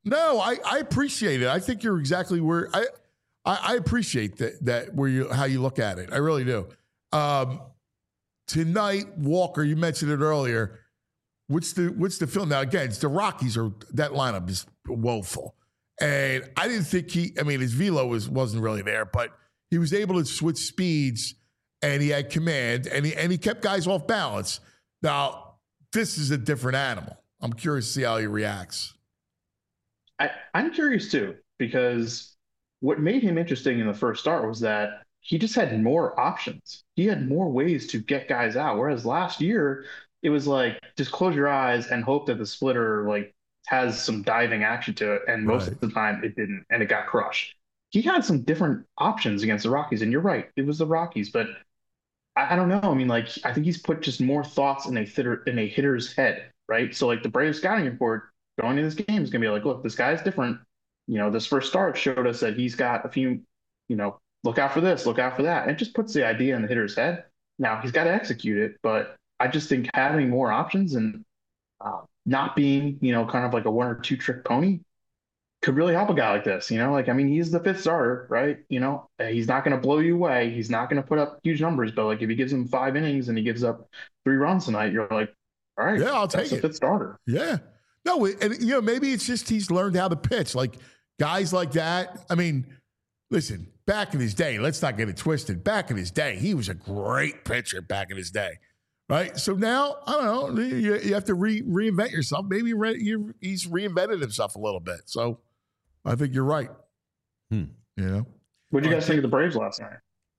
No, I, I appreciate it. I think you're exactly where I I, I appreciate that that where you how you look at it. I really do. Um, tonight, Walker, you mentioned it earlier. What's the what's the film now? Again, it's the Rockies are that lineup is woeful, and I didn't think he. I mean, his velo was wasn't really there, but he was able to switch speeds, and he had command, and he and he kept guys off balance. Now, this is a different animal. I'm curious to see how he reacts. I, I'm curious too, because what made him interesting in the first start was that he just had more options. He had more ways to get guys out. Whereas last year, it was like, just close your eyes and hope that the splitter like has some diving action to it. And most Right. of the time it didn't, and it got crushed. He had some different options against the Rockies. And you're right, it was the Rockies, but I, I don't know. I mean, like, I think he's put just more thoughts in a hitter, in a hitter's head, right? So like the Braves scouting report going into this game is going to be like, look, this guy's different. You know, this first start showed us that he's got a few, you know, look out for this, look out for that. And it just puts the idea in the hitter's head. Now he's got to execute it, but I just think having more options and uh, not being, you know, kind of like a one or two trick pony could really help a guy like this. You know, like, I mean, he's the fifth starter, right? You know, he's not going to blow you away. He's not going to put up huge numbers, but like if he gives him five innings and he gives up three runs tonight, you're like, all right, Yeah, I'll that's take a it. fifth starter. Yeah. No, and you know, maybe it's just he's learned how to pitch. Like guys like that. I mean, listen, back in his day, let's not get it twisted. Back in his day, he was a great pitcher back in his day. Right. So now, I don't know, you, you have to re, reinvent yourself. Maybe re, you, he's reinvented himself a little bit. So I think you're right. Hmm. You know, What did you All guys think of the Braves last night?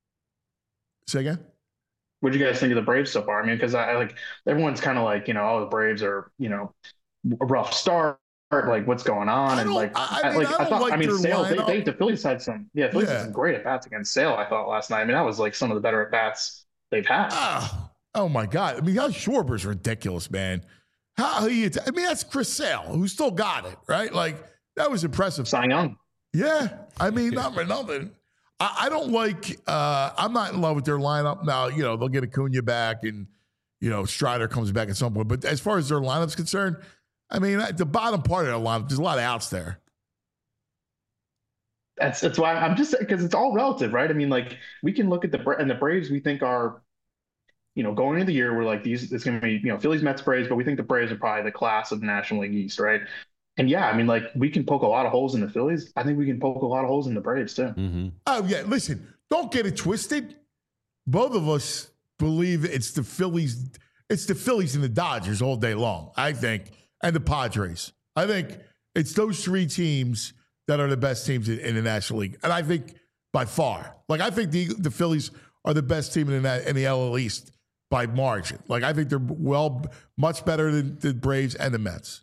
say again. What did you guys think of the Braves so far? I mean, because I, I like everyone's kind of like, you know, oh, the Braves are, you know, a rough start. Like, what's going on? I And don't- like, I- I I, mean, like, I I, don't thought, like I mean, their Sale, they, lineup. they, the Phillies had some, yeah, Phillies Yeah. had some great at bats against Sale, I thought last night. I mean, that was like some of the better at bats they've had. Oh, oh my God. I mean, how Schwarber's ridiculous, man. How he, I mean, that's Chris Sale, who still got it, right? Like, that was impressive. Cy Young. Yeah. I mean, not for nothing. I, I don't like, uh, I'm not in love with their lineup. Now, you know, they'll get Acuna back and, you know, Strider comes back at some point. But as far as their lineup's concerned, I mean, at the bottom part of their lineup, there's a lot of outs there. That's that's why I'm just because it's all relative, right? I mean, like we can look at the Bra- and the Braves we think are, you know, going into the year we're like these it's going to be you know Phillies, Mets, Braves, but we think the Braves are probably the class of the National League East, right? And yeah, I mean, like we can poke a lot of holes in the Phillies. I think we can poke a lot of holes in the Braves too. Mm-hmm. Oh, yeah. Listen, don't get it twisted. Both of us believe it's the Phillies. It's the Phillies and the Dodgers all day long, I think, and the Padres. I think it's those three teams that are the best teams in, in the National League. And I think by far, like I think the, the Phillies are the best team in the, in the L L East by margin. Like I think they're well, much better than the Braves and the Mets.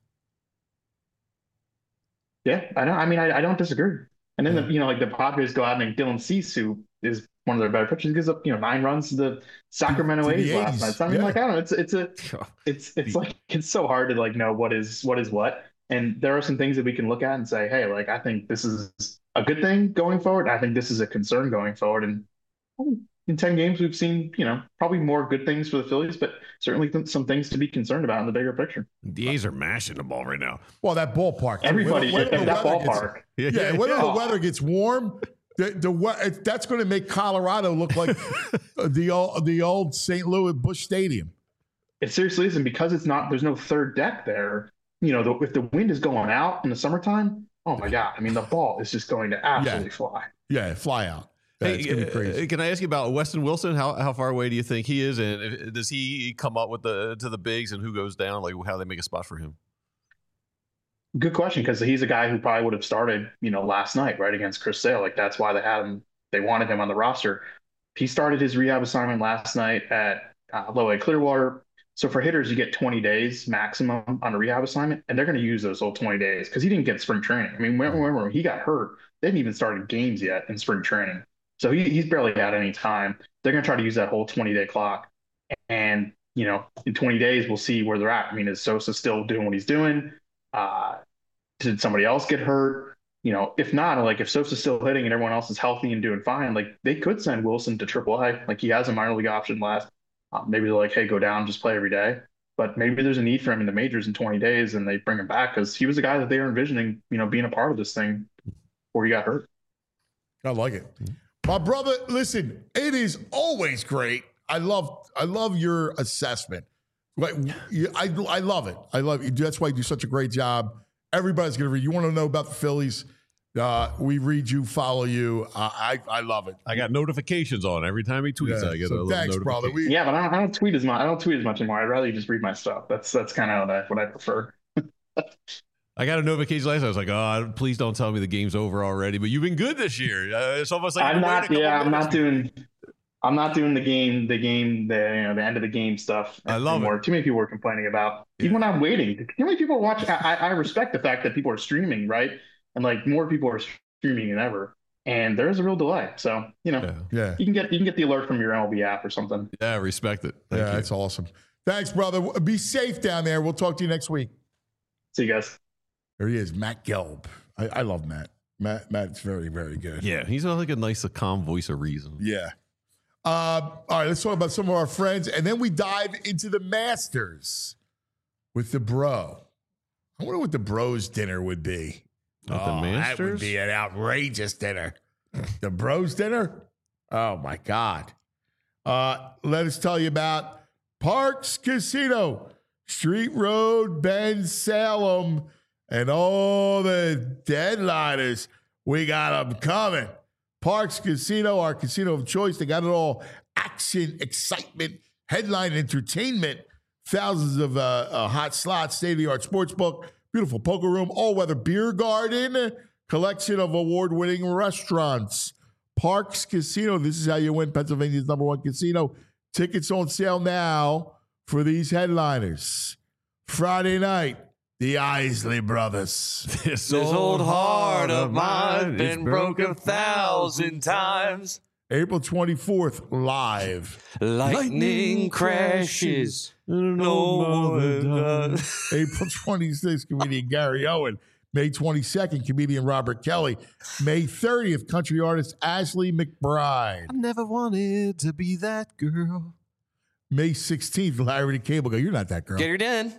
Yeah, I don't. I mean, I, I don't disagree. And then the, you know, like the Padres go out and Dylan Cease, who is one of their better pitchers, gives up you know nine runs to the Sacramento To the A's last A's, night. So I mean, yeah. like I don't know, it's it's a it's it's like it's so hard to like know what is what is what. And there are some things that we can look at and say, hey, like I think this is a good thing going forward. I think this is a concern going forward. And in ten games, we've seen you know probably more good things for the Phillies, but certainly th- some things to be concerned about in the bigger picture. The A's are mashing the ball right now. Well, that ballpark. too. Everybody When- when at the that weather gets- ballpark. Yeah, whether yeah. the weather gets warm, the the we- it- that's going to make Colorado look like the old the old Saint Louis Busch Stadium. It seriously is, and because it's not, there's no third deck there. You know, the, if the wind is going out in the summertime, oh my god! I mean, the ball is just going to absolutely Yeah. fly. Yeah, fly out. Yeah, Hey, it's gonna be uh, crazy. can I ask you about Weston Wilson? How how far away do you think he is, and if- does he come up with the to the bigs, and who goes down? Like how they make a spot for him? Good question, because he's a guy who probably would have started, you know, last night right against Chris Sale. Like that's why they had him. They wanted him on the roster. He started his rehab assignment last night at uh, Low A Clearwater. So for hitters, you get twenty days maximum on a rehab assignment, and they're going to use those whole twenty days because he didn't get spring training. I mean, remember when he got hurt, they hadn't even started games yet in spring training. So he, he's barely had any time. They're going to try to use that whole twenty-day clock. And, you know, in twenty days, we'll see where they're at. I mean, is Sosa still doing what he's doing? Uh, did somebody else get hurt? You know, if not, like if Sosa's still hitting and everyone else is healthy and doing fine, like they could send Wilson to triple A. Like he has a minor league option left. Uh, maybe they're like, hey, go down, just play every day. but maybe there's a need for him in the majors in twenty days, and they bring him back because he was a guy that they were envisioning, you know, being a part of this thing before he got hurt. I like it. My brother, listen, it is always great. I love I love your assessment. Like, I, I love it. I love it. That's why you do such a great job. Everybody's going to read. You want to know about the Phillies? Uh, we read you, follow you. Uh, I I love it. I got notifications on every time he tweets. Yeah. I get So a little thanks, brother. We, Yeah, but I don't, I don't tweet as much. I don't tweet as much anymore. I'd rather you just read my stuff. That's that's kind of what I, what I prefer. I got a notification last night. I was like, oh, please don't tell me the game's over already. But you've been good this year. Uh, it's almost like I'm you've been not. waiting a Yeah, couple I'm minutes. not doing. I'm not doing the game, the game, the you know, the end of the game stuff I love anymore. it. Too many people are complaining about. Yeah. Even when I'm waiting, too many people are watching. I, I respect the fact that people are streaming, right? And like more people are streaming than ever. And there is a real delay. So you know, Yeah. yeah. you can get you can get the alert from your M L B app or something. Yeah, respect it. Thank yeah, you. that's awesome. Thanks, brother. Be safe down there. We'll talk to you next week. See you guys. There he is, Matt Gelb. I, I love Matt. Matt. Matt's very, very good. Yeah, he's got like a nice, calm voice of reason. Yeah. Uh, all right, let's talk about some of our friends, and then we dive into the Masters with the bro. I wonder what the bros dinner would be. At the That would Masters? be an outrageous dinner. The bros dinner? Oh my God. Uh, let us tell you about Parks Casino, Street Road, Bend, Salem, and all the deadliners. We got them coming. Parks Casino, our casino of choice. They got it all. Action, excitement, headline entertainment, thousands of uh, uh, hot slots, state-of-the-art sports book, beautiful poker room, all-weather beer garden, collection of award-winning restaurants. Parks Casino, this is how you win Pennsylvania's number one casino. Tickets on sale now for these headliners. Friday night, the Isley Brothers. This, This old heart of mine been broke a thousand times. April twenty-fourth, live. Lightning crashes. No more. April twenty-sixth, comedian Gary Owen. May twenty-second, comedian Robert Kelly. May thirtieth, country artist Ashley McBride. I never wanted to be that girl. May sixteenth, Larry the Cable Guy. You're not that girl. Get her done.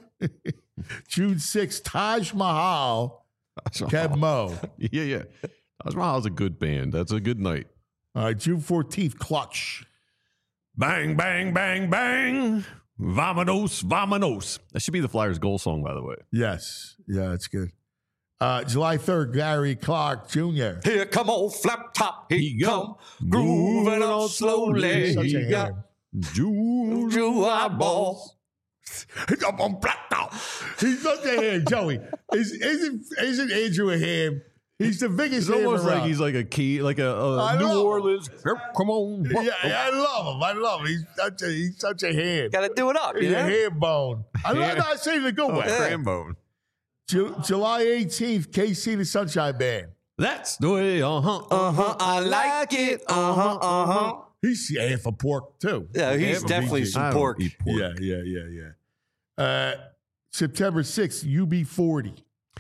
June sixth, Taj Mahal, Kev Mo. Yeah, yeah. Taj Mahal's a good band. That's a good night. All right, June fourteenth, Clutch. Bang, bang, bang, bang. Vamonos, vamonos. That should be the Flyers' goal song, by the way. Yes. Yeah, that's good. Uh, July third, Gary Clark Junior Here come old flap top. Here He he come. Grooving on slowly. Such a Yeah. ham. June. Drew eyeballs. He's up on black top. He's such a ham, Joey. Is, isn't, isn't Andrew a ham? He's the biggest It's ham almost around. like he's like a key, like a, a I New know. Orleans. Yep, come on. Yeah, yeah, I love him. I love him. He's such a he's such a ham. Gotta do it up, He's you a know? ham bone. I'm Yeah. not saying the good Oh, way. Cranbone. Ju- July eighteenth, K C the Sunshine Band. That's the way, uh-huh. Uh-huh, I like it. Uh-huh, uh-huh. He's yeah, for pork too. Yeah, he's Ham definitely B G. I some don't pork. eat pork. Yeah, yeah, yeah, yeah. Uh, September sixth, U B forty.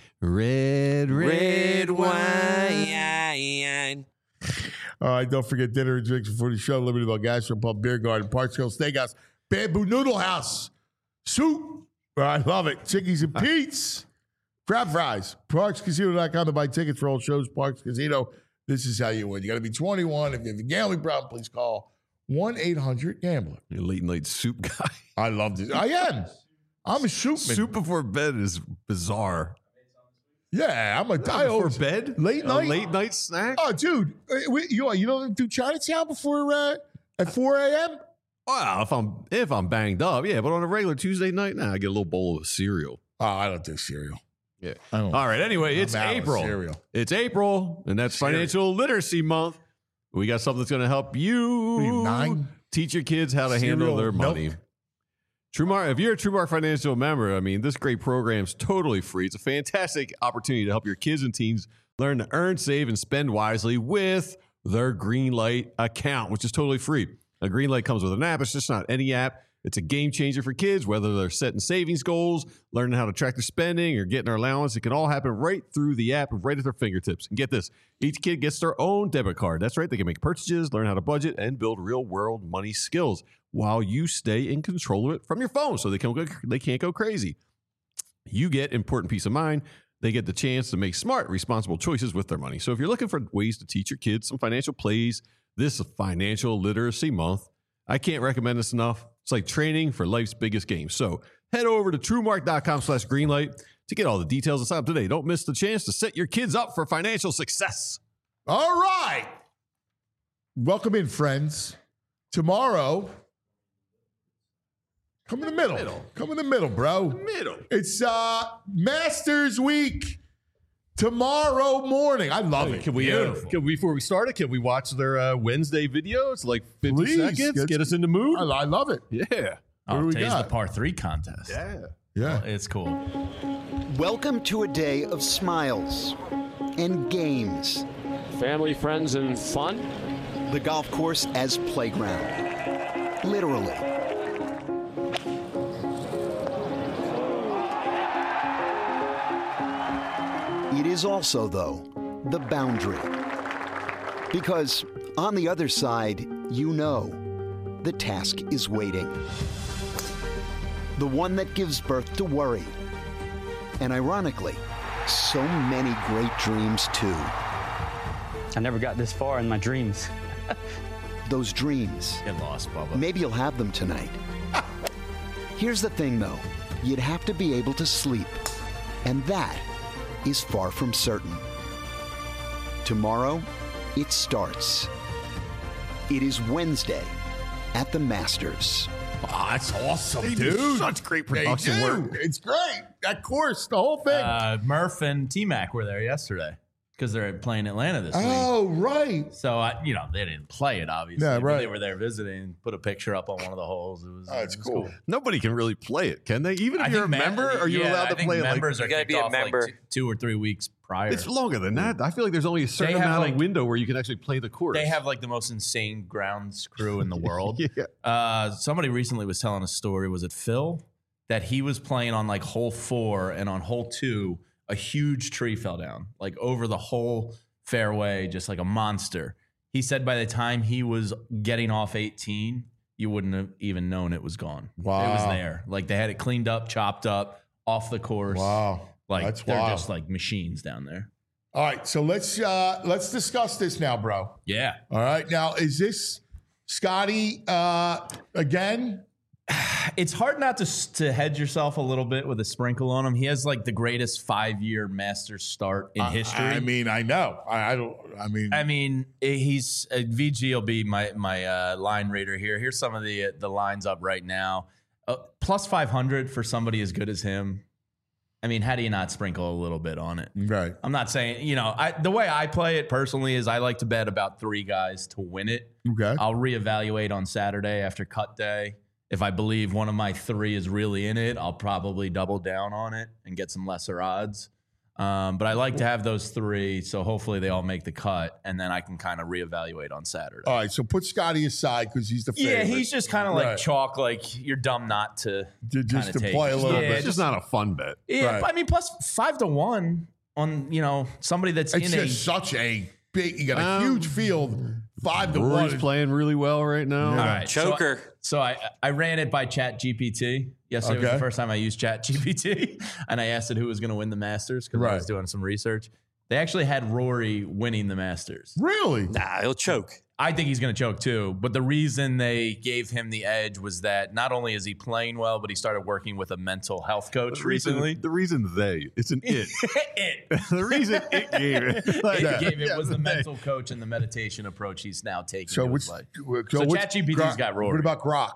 Red, red, Red wine. wine. All right, don't forget dinner and drinks before the show. Liberty Bell Gastro Pub, Beer Garden, Parks Hill Steakhouse, Bamboo Noodle House, Soup. I love it. Chickies and Pete's, crab fries. Parks Casino dot com to buy tickets for all shows. Parks Casino. This is how you win. You got to be twenty-one. If you have a gambling problem, please call one eight hundred gambler. You're a late night soup guy. I love this. I am. I'm a shootman. Soup before bed is bizarre. Yeah, I'm a. I Before always, bed? Late A night? late night snack? Oh, dude, uh, we, you you don't do Chinatown before uh, at four a.m. Well, if I'm if I'm banged up, yeah. But on a regular Tuesday night, now nah, I get a little bowl of cereal. Oh, I don't do cereal. Yeah. I don't. All right. Anyway, I'm it's out of April. cereal. It's April, and that's Cereal. Financial Literacy Month. We got something that's going to help you, What are you, nine? teach your kids how to handle Cereal their milk? money. TrueMark, if you're a TrueMark Financial member, I mean, this great program's totally free. It's a fantastic opportunity to help your kids and teens learn to earn, save, and spend wisely with their Greenlight account, which is totally free. A Greenlight comes with an app. It's just not any app. It's a game changer for kids, whether they're setting savings goals, learning how to track their spending, or getting their allowance. It can all happen right through the app, right at their fingertips. And get this, each kid gets their own debit card. That's right. They can make purchases, learn how to budget, and build real-world money skills while you stay in control of it from your phone so they, can go, they can't go crazy. You get important peace of mind. They get the chance to make smart, responsible choices with their money. So if you're looking for ways to teach your kids some financial plays this Financial Literacy Month, I can't recommend this enough. It's like training for life's biggest game. So head over to truemark.com slash greenlight to get all the details and sign up today. Don't miss the chance to set your kids up for financial success. All right. Welcome in, friends. Tomorrow, come in the middle. middle. Come in the middle, bro. Middle. It's uh, Masters Week tomorrow morning. I love Hey, it. Can we, uh, can we, before we start it, can we watch their uh, Wednesday video? It's like fifty Please, seconds. get- Get us in the mood. I, I love it. Yeah. What do Oh, we today's got? the par three contest. Yeah. Yeah. It's cool. Welcome to a day of smiles and games. Family, friends, and fun. The golf course as playground. Literally. It is also, though, the boundary. Because on the other side, you know, the task is waiting. The one that gives birth to worry. And ironically, so many great dreams, too. I never got this far in my dreams. Those dreams. Get lost, Bubba. Maybe you'll have them tonight. Here's the thing, though. You'd have to be able to sleep. And that is far from certain. Tomorrow, it starts. It is Wednesday at the Masters. Oh, that's awesome, They dude. do such great production They do. work. It's great. That course, the whole thing. Uh, Murph and T-Mac were there yesterday because they're playing Atlanta this week. oh, right. So, I, you know, they didn't play it, obviously. Yeah, but right. They were there visiting, put a picture up on one of the holes. It was, Oh, it's it was cool. Nobody can really play it, can they? Even if I you're a think member, mem- are you yeah, allowed I to think play it? members Like, are You gotta kicked be a off like member. two, two or three weeks prior. it's longer than that. I feel like there's only a certain have, amount like- of window where you can actually play the course. They have like the most insane grounds crew in the world. Yeah. Uh, somebody recently was telling a story. Was it Phil? That he was playing on like hole four, and on hole two, a huge tree fell down, like over the whole fairway, just like a monster. He said by the time he was getting off eighteen, you wouldn't have even known it was gone. Wow. It was there. Like they had it cleaned up, chopped up, off the course. Wow. Like That's they're wild. just like machines down there. All right, so let's uh let's discuss this now, bro. Yeah. All right. Now, is this Scotty uh again? It's hard not to to hedge yourself a little bit with a sprinkle on him. He has like the greatest five year Masters start in I- history. I, mean, I know. I, I don't I mean I mean, he's uh, V G will be my my uh, line reader here. Here's some of the the lines up right now. Uh, plus five hundred for somebody as good as him. I mean, how do you not sprinkle a little bit on it? right. I'm not saying, you know, I, the way I play it personally is I like to bet about three guys to win it. Okay. I'll reevaluate on Saturday after cut day. If I believe one of my three is really in it, I'll probably double down on it and get some lesser odds. Um, but I like to have those three, so hopefully they all make the cut, and then I can kind of reevaluate on Saturday. All right, so put Scotty aside because he's the favorite. Yeah, he's just kind of like Right. chalk, like you're dumb not to Ju- just kinda to take play a it. little Yeah, bit. It's just not a fun bet. Yeah, Right. I mean, plus five to one on you know somebody that's It's in a just such a big. You got a Um, huge field, five to Rory's one. playing really well right now. All right, Choker. So, so I I ran it by Chat G P T. Yesterday was Okay. the first time I used Chat G P T, and I asked it who was going to win the Masters because I Right. was doing some research. They actually had Rory winning the Masters. Really? Nah, he'll choke. I think he's going to choke too. But the reason they gave him the edge was that not only is he playing well, but he started working with a mental health coach The reason, recently. the reason they, it's an it. it. the reason it gave it. Like, It gave it yeah, was the they. mental coach and the meditation approach he's now taking. So to which? his life. So, So which ChatGPT's Grok- got Rory. What about Grok?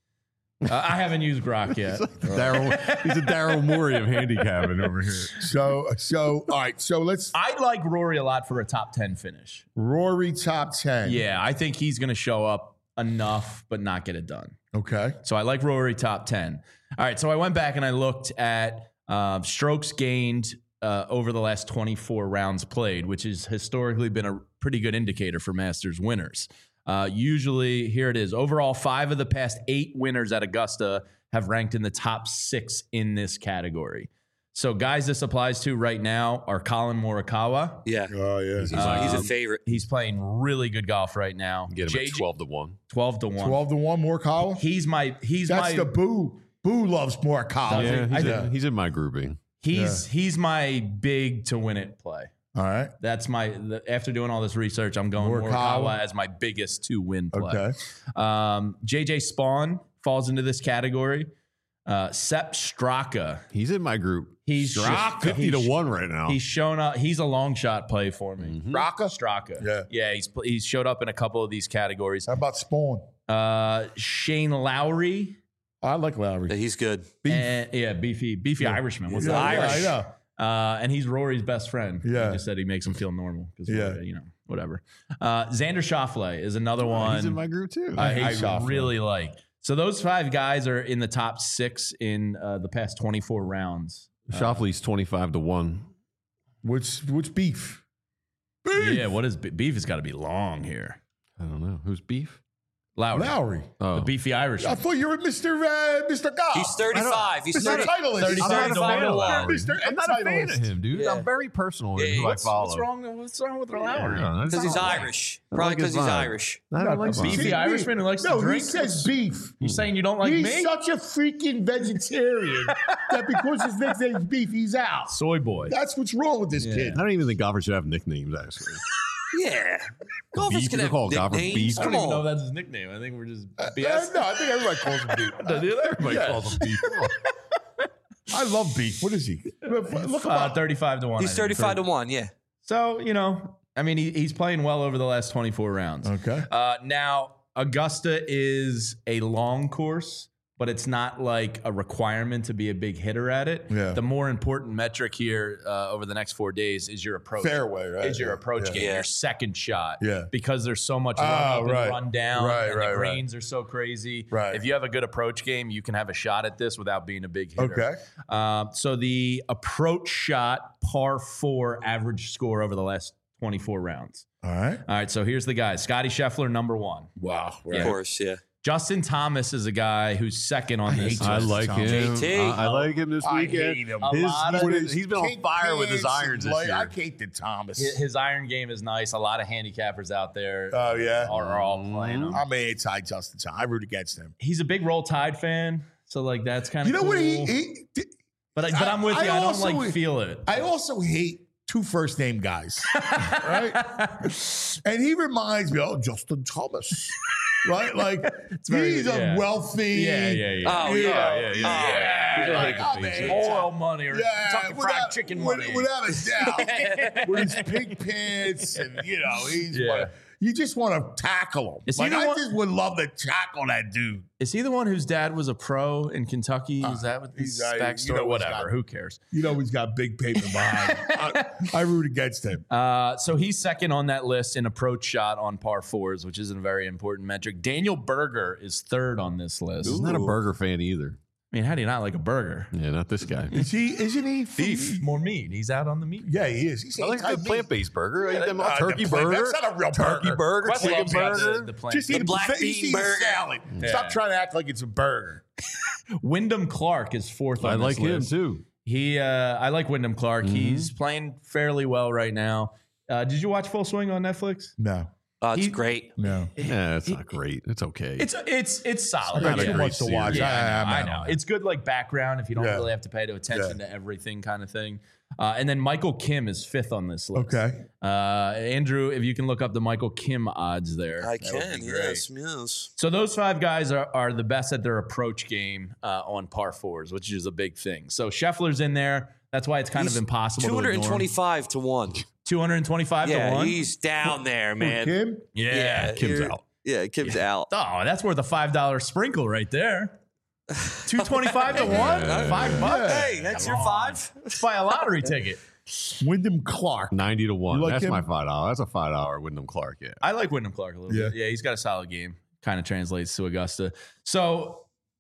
Uh, I haven't used Grok yet. Daryl, he's a Daryl Morey of handicapping over here. So, so all right. So let's I like Rory a lot for a top ten finish. Rory top ten. Yeah, I think he's going to show up enough, but not get it done. Okay. So I like Rory top ten. All right, so I went back and I looked at uh, strokes gained uh, over the last twenty-four rounds played, which has historically been a pretty good indicator for Masters winners. Uh, usually, here it is. Overall, five of the past eight winners at Augusta have ranked in the top six in this category. So guys this applies to right now are Colin Morikawa. Yeah. Oh, yeah. He's, Um, he's a favorite. He's playing really good golf right now. Get him J at J twelve to one. twelve to one. twelve to one, Morikawa? He's my he's That's my the Boo. Boo loves Morikawa. Yeah, he's, I- in, he's in my grouping. he's he's my big to win it play. All right. That's my the, after doing all this research, I'm going Morikawa. Morikawa as my biggest to win play. Okay. Um, J J Spawn falls into this category. Uh, Sepp Straka. He's in my group. He's Straka. fifty to one right now. He's shown up. He's a long shot play for me. Mhm. Straka? Straka. Yeah. Yeah. He's he's showed up in a couple of these categories. How about Spawn? Uh, Shane Lowry. I like Lowry. Yeah, he's good. And, yeah, beefy, beefy Yeah. Irishman. What's Yeah, that? yeah, Irish. I know. Uh, and he's Rory's best friend. Yeah. He just said he makes him feel normal. 'Cause, Yeah. uh, you know, whatever. Uh, Xander Schauffele is another one. He's in my group too. I, I hate I Schauffele. really like. So those five guys are in the top six in uh, the past twenty-four rounds. Shoffley's twenty-five to one. Which which beef? Beef. Yeah, what is beef? Has got to be long here. I don't know. Who's beef? Lowry, Lowry. Oh. the beefy Irish. I thought you were Mister Uh, Mister Goff. He's thirty-five. He's Mister thirty. Titleist. thirty-five I'm not a to fan one. of Lowry. Mister I'm not a fan of Titleist. him, dude. Yeah. I'm very personal Yeah, in who I what's- follow. What's wrong? What's wrong with I Lowry? don't know. Because he's That's- Irish. I Probably like his because he's vibe. Irish. I don't like No, the Beefy vibe. See, Irishman who likes to no, drink? he says beef. You saying you don't like he's me? such a freaking vegetarian that because his nickname's beef, he's out. Soy boy. That's what's wrong with this kid. I don't even think golfers should have nicknames, actually. Yeah. Golfers Beef, can you have call golfers nicknames. beef? I don't Come even know if on. that's his nickname. I think we're just Uh, B S. no, I think everybody calls him beef. Everybody Yeah. calls him beef. Come on. I love beef. What is he? Look him Uh, up. thirty-five to one. He's I think. thirty-five to one. Yeah. So, you know, I mean, he, he's playing well over the last twenty-four rounds. Okay. Uh, now, Augusta is a long course, but it's not like a requirement to be a big hitter at it. Yeah. The more important metric here uh, over the next four days is your approach. Fairway, right? Is your Yeah. approach Yeah. game, Yeah. your second shot. Yeah. Because there's so much run Ah, up and right. run down, Right, and right, the right. greens are so crazy. Right. If you have a good approach game, you can have a shot at this without being a big hitter. Okay. Um, so the approach shot par four average score over the last twenty-four rounds. All right. All right, so here's the guys. Scotty Scheffler, number one. Wow. Of course. Yeah. Justin Thomas is a guy who's second on this I list. like him. J T. I, I like him this I weekend. hate him. A His- lot he's of- been- he's been on Kink fire with his pants irons and this light- year. I hate the Thomas. His his iron game is nice. A lot of handicappers out there Oh, yeah? are, are all playing him. I'm an anti Justin Thomas. I root against him. He's a big Roll Tide fan, so like that's kind of You know cool. what he, he but I, but I'm with I- you. I I, don't also- like feel it. I also hate two first name guys, right? And he reminds me, oh, Justin Thomas, right? Like very- he's yeah. a wealthy, Yeah, yeah, yeah. Oh, you yeah. know, Yeah, yeah, yeah. like, Yeah. I'm a- Oil money or yeah, Kentucky Fried without- Chicken with- money. without a doubt, with his pink pants, and you know, he's Yeah. one- you just want to tackle him. Is he Like the I one- just would love to tackle that dude. Is he the one whose dad was a pro in Kentucky? Is that what he's, this uh, you backstory? know, he's Whatever. got- Who cares? You know, he's got big paper behind. I, I root against him. Uh, so he's second on that list in approach shot on par fours, which is a very important metric. Daniel Berger is third on this list. He's not a burger fan either. I mean, how do you not like a burger? Yeah, not this guy. Is he? Isn't he? Beef, more meat. He's out on the meat. Yeah, he is. He's I like the anti-beef. plant-based burger. I eat them all. Uh, turkey the plant- burger. That's not a real turkey burger. burger. Question Chicken is about burger. The, the plant. Just eat The a black buffet- bean just eat a burger. salad. Yeah. Stop trying to act like it's a burger. Wyndham Clark is fourth on I this like him list. too. He, uh, I like Wyndham Clark. He's playing fairly well right now. Uh, did you watch Full Swing on Netflix? No, Oh, it's He- great. no. Yeah, it's not great. It's okay. It's it's it's solid. Not a too great much to series. watch. Yeah, I know. I, I know. It's good like background if you don't Yeah. really have to pay to attention Yeah. to everything kind of thing. Uh, and then Michael Kim is fifth on this list. Okay. Uh, Andrew, if you can look up the Michael Kim odds there. I that would can. be great. Yes. Yes. So those five guys are, are the best at their approach game uh, on par fours, which is a big thing. So Scheffler's in there. That's why it's kind He's of impossible two hundred to ignore. twenty-five to one. two hundred twenty-five Yeah, to one. he's down there, man. Kim? Yeah. Kim's you're- out. Yeah, Kim's out. Oh, that's worth a five dollar sprinkle right there. two twenty-five to one? Five bucks? Hey, that's your five. Let's buy a lottery ticket. Wyndham Clark. Ninety to one. You like That's him? my five dollar. That's a five dollar Wyndham Clark. Yeah. I like Wyndham Clark a little Yeah. bit. Yeah, he's got a solid game. Kind of translates to Augusta. So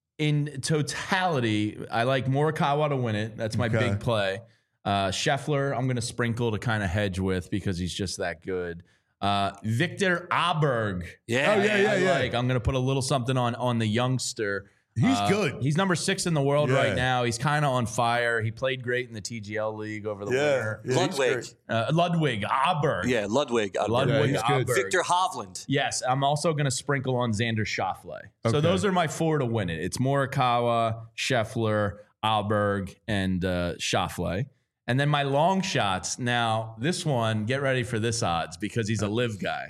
in totality, I like Morikawa to win it. That's my Okay. big play. Uh, Scheffler, I'm going to sprinkle to kind of hedge with because he's just that good. Uh, Victor Aberg. Yeah. Oh, yeah, yeah, I yeah. like. I'm going to put a little something on on the youngster. He's Uh, good. He's number six in the world Yeah. right now. He's kind of on fire. He played great in the T G L League over the winter. Yeah, he's Ludwig. great. Uh, Ludwig Aberg. Yeah, Ludwig. I'd Ludwig Yeah, he's good. Aberg. Victor Hovland. Yes, I'm also going to sprinkle on Xander Schauffele. So Okay. those are my four to win it. It's Morikawa, Scheffler, Aberg, and uh, Schauffele. And then my long shots. Now, this one, get ready for this odds because he's a live guy.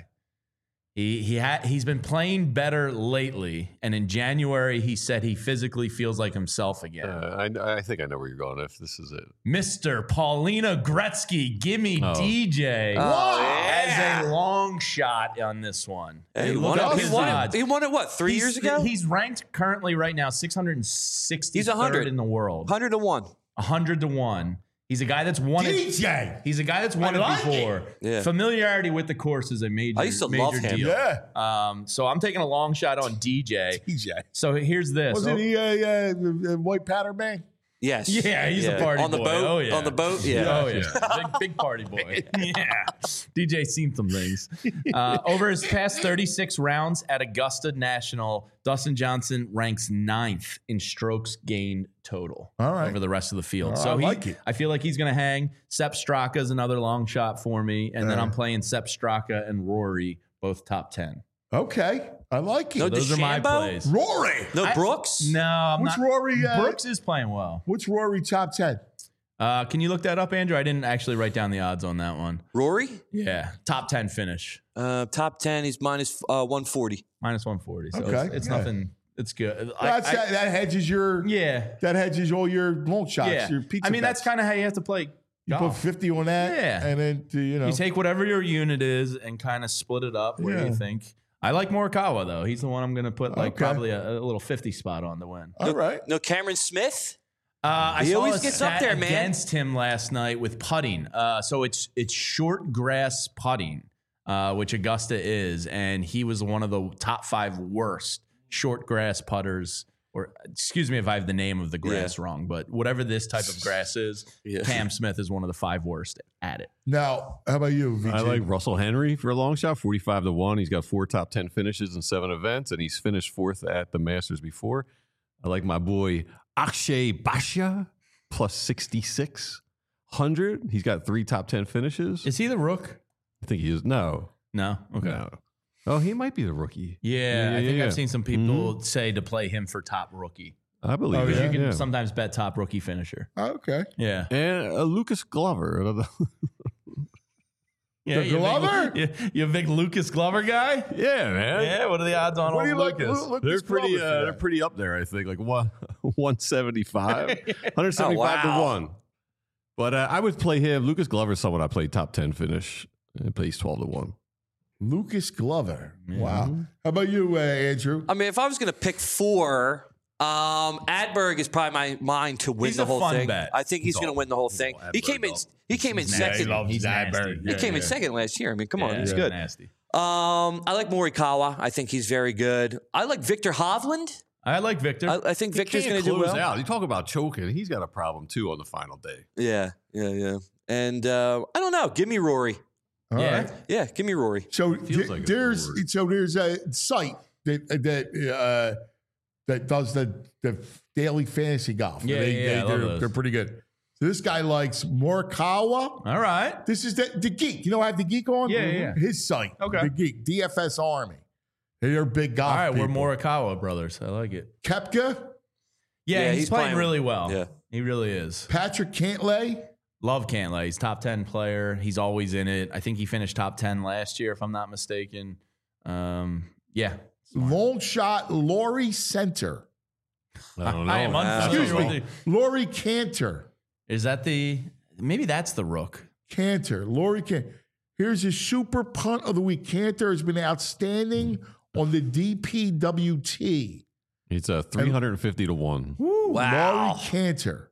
He he had he's been playing better lately, and in January he said he physically feels like himself again. Uh, I, I think I know where you're going if this is it. Mister Paulina Gretzky, gimme Oh. D J Oh, yeah. as a long shot on this one. Hey, he, Look won up it, his he, won odds. it, he won it, what, three He's- years ago? He's ranked currently right now six hundred sixty-third He's one hundred. in the world. one hundred to one. one hundred to one. He's a guy that's won D it. J. He's a guy that's won I it like before. Yeah. Familiarity with the course is a major, I used to major love him. deal. Yeah. Um, so I'm taking a long shot on D J. D J. So here's this. Wasn't Oh, he a, uh, a white powder man? Yes. Yeah, he's Yeah. a party on the boy. boat. Oh, yeah. On the boat. Yeah. Oh, yeah. Big, big party boy. Yeah. D J's seen some things. Uh, over his past thirty-six rounds at Augusta National, Dustin Johnson ranks ninth in strokes gained total All right. over the rest of the field. Oh, so I he, like it. I feel like he's going to hang. Sepp Straka is another long shot for me. And then Yeah. I'm playing Sepp Straka and Rory, both top ten. Okay. I like it. No, Those are my DeChambeau? plays. Rory. No I- Brooks? No, I'm What's not. Rory? Uh, Brooks is playing well. What's Rory top ten? Uh, can you look that up, Andrew? I didn't actually write down the odds on that one. Rory? Yeah, top ten finish, Uh, top ten, he's minus uh, one forty. minus one forty. So Okay, it's, it's yeah. nothing. It's good. I- That's I- that, that hedges your. yeah, That hedges all your long shots. yeah. Your pizza I mean, that's bets. kind of how you have to play You put golf. fifty on that. Yeah. And then to, you know. You take whatever your unit is and kind of split it up where Yeah. you think. I like Morikawa though. He's the one I'm going to put like Okay. probably a, a little fifty spot on to win. all right. No Cameron Smith? Uh, I He saw always a gets up stat there, man. against him last night with putting. Uh, so it's it's short grass putting, uh, which Augusta is, and he was one of the top five worst short grass putters. Or excuse me if I have the name of the grass wrong, but whatever this type of grass is, Yeah. Cam Smith is one of the five worst at it. Now, how about you, V J? I like Russell Henry for a long shot, forty-five to one. He's got four top ten finishes in seven events, and he's finished fourth at the Masters before. I like my boy Akshay Bhatia, plus sixty-six hundred. He's got three top ten finishes. Is he the rook? I think he is. No. No. Okay. No. Oh, he might be the rookie. Yeah, I think yeah. I've seen some people say to play him for top rookie. I believe Oh, it. yeah? You can yeah. sometimes bet top rookie finisher. Okay. Yeah. And uh, Lucas Glover. Yeah, The you a Glover? Big, you, you a big Lucas Glover guy? yeah, man. Yeah, what are the odds on What do old you like? Lucas? Lu- Lucas They're pretty. Glover for Uh, that? they're pretty up there. I think like one, one seventy five, one seventy five Oh, wow. to one. But uh, I would play him. Lucas Glover is someone I played top ten finish. And plays twelve to one. Lucas Glover. Wow. How about you, uh, Andrew? I mean, if I was going to pick four, um, Adberg is probably my mine to win He's the a whole fun thing. bet. I think he's, He's going to all- win the whole he's thing. all He Adberg, came in. though. He came in He's second. nasty. He's nasty. He came in Yeah. second last year. I mean, come on, Yeah, he's he's good. nasty. Um, I like Morikawa. I think he's very good. I like Victor Hovland. I like Victor. I, I think He Victor's can't going to do close well. out. You talk about choking. He's got a problem too on the final day. Yeah, yeah, yeah. And uh, I don't know. Give me Rory. All yeah. right. Yeah, give me Rory. So Feels th- like a there's reward. so there's a site that that uh, that does the the daily fantasy golf. Yeah, they, yeah, they, I love they're, those. they're pretty good. So this guy likes Morikawa. All right. This is the, the Geek. You know, I have the Geek on. Yeah, yeah, yeah. His site. Okay. The Geek. D F S Army. They're big golf. All right, we're people. Morikawa brothers. I like it. Kepka, Yeah, Yeah, he's, he's playing, playing- really well. yeah. He really is. Patrick Cantlay, Love Cantlay. He's top ten player. He's always in it. I think he finished top ten last year, if I'm not mistaken. Um, yeah. long shot Laurie Center. I don't know. I am Wow. unfamiliar Excuse with me, the- Laurie Cantor. Is that the? Maybe that's the rook. Cantor, Laurie Cantor. Here's his super punt of the week. Cantor has been outstanding on the D P W T. It's a three hundred fifty to one. Woo, Wow. Laurie Cantor.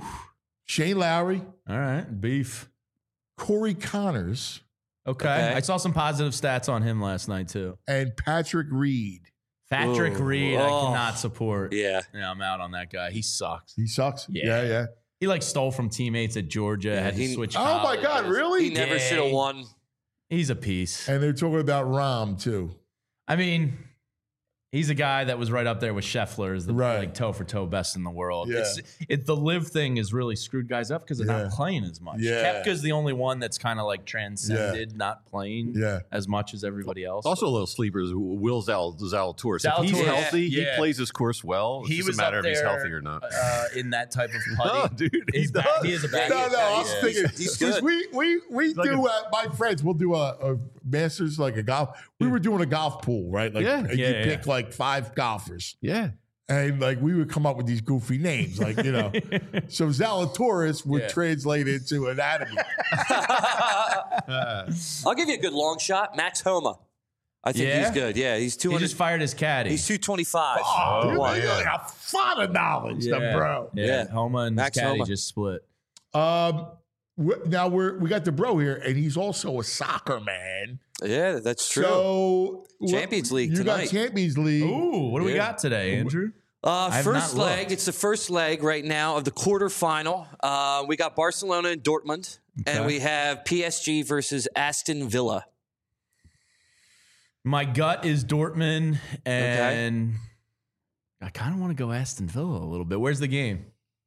Shane Lowry, All right, beef. Corey Connors, Okay. Okay. I saw some positive stats on him last night too. and Patrick Reed. Patrick Ooh. Reed, I Oh. cannot support. Yeah. Yeah, I'm out on that guy. He sucks. He sucks. Yeah. Yeah, yeah. He like stole from teammates at Georgia. Yeah, had to he- switch. Oh my God, colleges. really? He never Yeah. should have won. He's a piece. And they're talking about Rahm, too. I mean, he's a guy that was right up there with Scheffler as the Right. like toe for toe best in the world. Yeah. It's it the live thing has really screwed guys up because they're Yeah. not playing as much. Yeah. Koepka's the only one that's kind of like transcended, not playing Yeah. as much as everybody else. Also, a little sleepers. Will Zal- Zalatoris. If he's Zalatoris, healthy, yeah. he plays his course well. It's he just was a matter up if he's there, healthy or not. uh, in that type of No, putting. dude, he He's back, does. he is a bad. No, no, I was Yeah, thinking, he's- he's 'cause good. we we we like do uh, my friends. We'll do a, a Masters like a golf. We were doing a golf pool, right? Like Yeah. and Yeah, you yeah. pick like five golfers, Yeah. and like we would come up with these goofy names, like you know. So Zalatoris would Yeah. translate into anatomy. I'll give you a good long shot. Max Homa. I think Yeah? he's good. Yeah, he's two He hundred. just fired his caddy. He's two twenty-five. Oh, dude, One. you got a lot of knowledge, yeah. the bro. Yeah, Yeah. Homa and Max his caddy Homa. just split. Um, we- now we're we got the bro here, and he's also a soccer man. Yeah, that's true. So Champions League you tonight. got Champions League. Ooh, what do we Yeah. got today, Andrew? Uh, I have first not leg. looked. It's the first leg right now of the quarterfinal. Uh, we got Barcelona and Dortmund, and Okay. we have P S G versus Aston Villa. My gut is Dortmund, and I kind of want to go Aston Villa a little bit. Where's the game?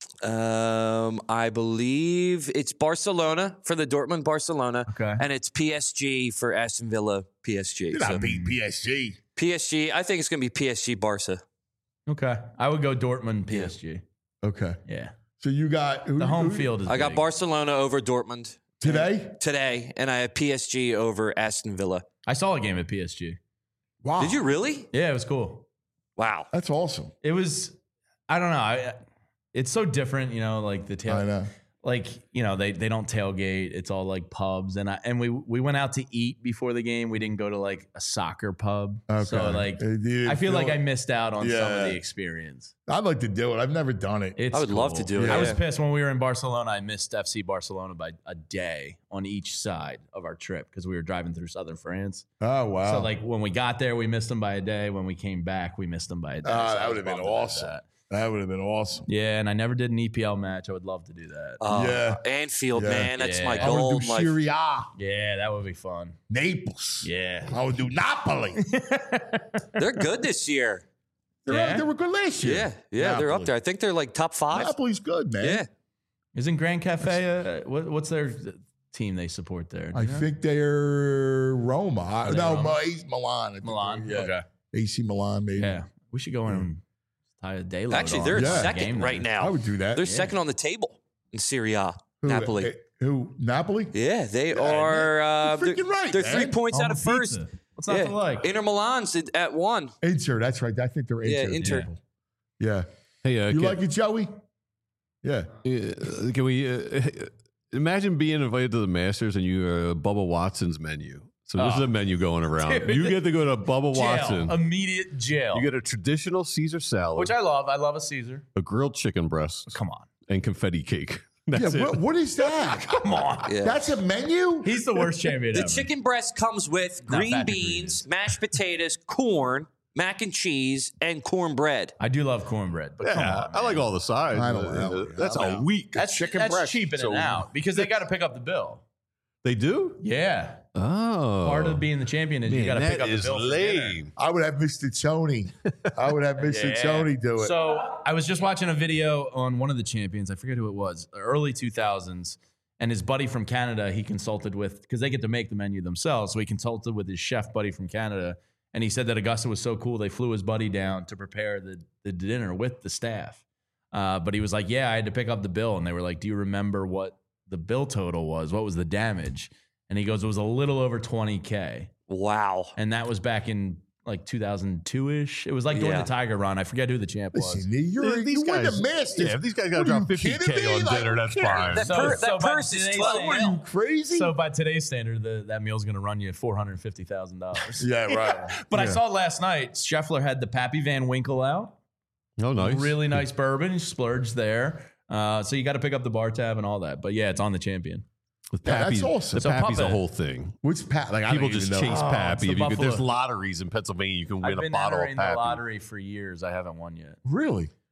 Um, I believe it's Barcelona for the Dortmund Barcelona, Okay. and it's P S G for Aston Villa P S G. You're So not beating P S G. P S G. I think it's going to be P S G Barca. Okay, I would go Dortmund, P S G. Okay. Yeah, So you got who, the home who- field is. I got big. Barcelona over Dortmund today. today, and I have P S G over Aston Villa. I saw a game at P S G. Wow. Did you really? Yeah, it was cool. Wow. That's awesome. It was. I don't know. I, it's so different, you know. Like the tail. I know. Like you know, they they don't tailgate. It's all like pubs, and I and we we went out to eat before the game. We didn't go to like a soccer pub. Okay. So like, Uh, you I feel feel- like I missed out on some Yeah. of the experience. I'd like to do it. I've never done it. It's I would love to cool. do it, I was yeah. pissed when we were in Barcelona. I missed F C Barcelona by a day on each side of our trip because we were driving through southern France. Oh wow. So like when we got there, we missed them by a day. When we came back, we missed them by a day. Ah, So I that was would have been bummed about awesome. that. That would have been awesome. Yeah, and I never did an E P L match. I would love to do that. Uh, Yeah. Anfield, Yeah. man. That's Yeah. my I would goal. do in life. Serie A, Yeah, that would be fun. Naples. Yeah. I would do Napoli. They're good this year. They're- Yeah? They were good last year. Yeah, yeah, they're up Napoli. there. I think they're like top five. Napoli's good, man. Yeah. Isn't Grand Cafe, uh, what, what's their team they support there? Do I you know? think they're Roma. I- Are they no, Roma? Ma- he's Milan. I think Milan. they're- Yeah. Okay. A C Milan, maybe. Yeah. We should go in and tie a day load Actually, on they're for Yeah. the second game right then. I now. would do that. They're Yeah. second on the table in Serie A. Who, Napoli. eh, Who? Napoli? Yeah, they Yeah, are. Uh, you're freaking they're right, they're man. three points On out the of first. pizza. What's not Yeah. to like? Inter Milan's at- at one. Inter. That's right. I think they're Inter. Yeah, Inter. people. Yeah. Hey, uh, You can, like it, Joey? Yeah. uh, can we uh, imagine being invited to the Masters and you are Bubba Watson's menu? So this Oh. is a menu going around. Dude. You get to go to Bubba Jail. Watson. Immediate jail. You get a traditional Caesar salad, Which I love. I love a Caesar. a grilled chicken breast, Come on. and confetti cake. That's yeah. it. What, what is that? Come on. Yeah. That's a menu? He's the worst champion The ever. chicken breast comes with Not green bad beans, ingredients. mashed potatoes, corn, mac and cheese, and cornbread. I do love cornbread, but come Yeah, on, I like man. all the sides. I don't Uh, know. That's I'm a out. week. That's chicken that's breast. cheaping So- it out because they got to pick up the bill. They do? Yeah. Oh. Part of being the champion is you Man, got to that pick up the is bill. for dinner. lame. I would have Mister Tony. I would have Mister Yeah. Tony do it. So I was just watching a video on one of the champions. I forget who it was, early two thousands. And his buddy from Canada, he consulted with, because they get to make the menu themselves. So he consulted with his chef buddy from Canada. And he said that Augusta was so cool, they flew his buddy down to prepare the, the dinner with the staff. Uh, but he was like, yeah, I had to pick up the bill. And they were like, do you remember what the bill total was? What was the damage? And he goes, it was a little over twenty K. Wow. And that was back in like two thousand two-ish. It was like during Yeah. the Tiger run. I forget who the champ was. Listen, you're, Yeah, these you win guys- the Masters. Yeah, if these guys got What to are drop you fifty kidding K me? on Like, dinner, that's yeah, fine. That, So- per- so that by purse is today's twelve standard- Are you mil. crazy? So by today's standard, the, that meal's going to run you four hundred fifty thousand dollars. yeah, right. But I Yeah. saw last night, Scheffler had the Pappy Van Winkle out. Oh, nice. Really nice bourbon. He splurged there. Uh, so you got to pick up the bar tab and all that. But yeah, it's on the champion. With Yeah, that's Pappy, awesome. The So Pappy's a Puppet. whole thing. What's Pat? Like, I People don't just even know. chase Oh, Pappy. it's If the you could, there's Buffalo. lotteries in Pennsylvania. You can win I've a been bottle of entering the Pappy. lottery for years. I haven't won yet. Really?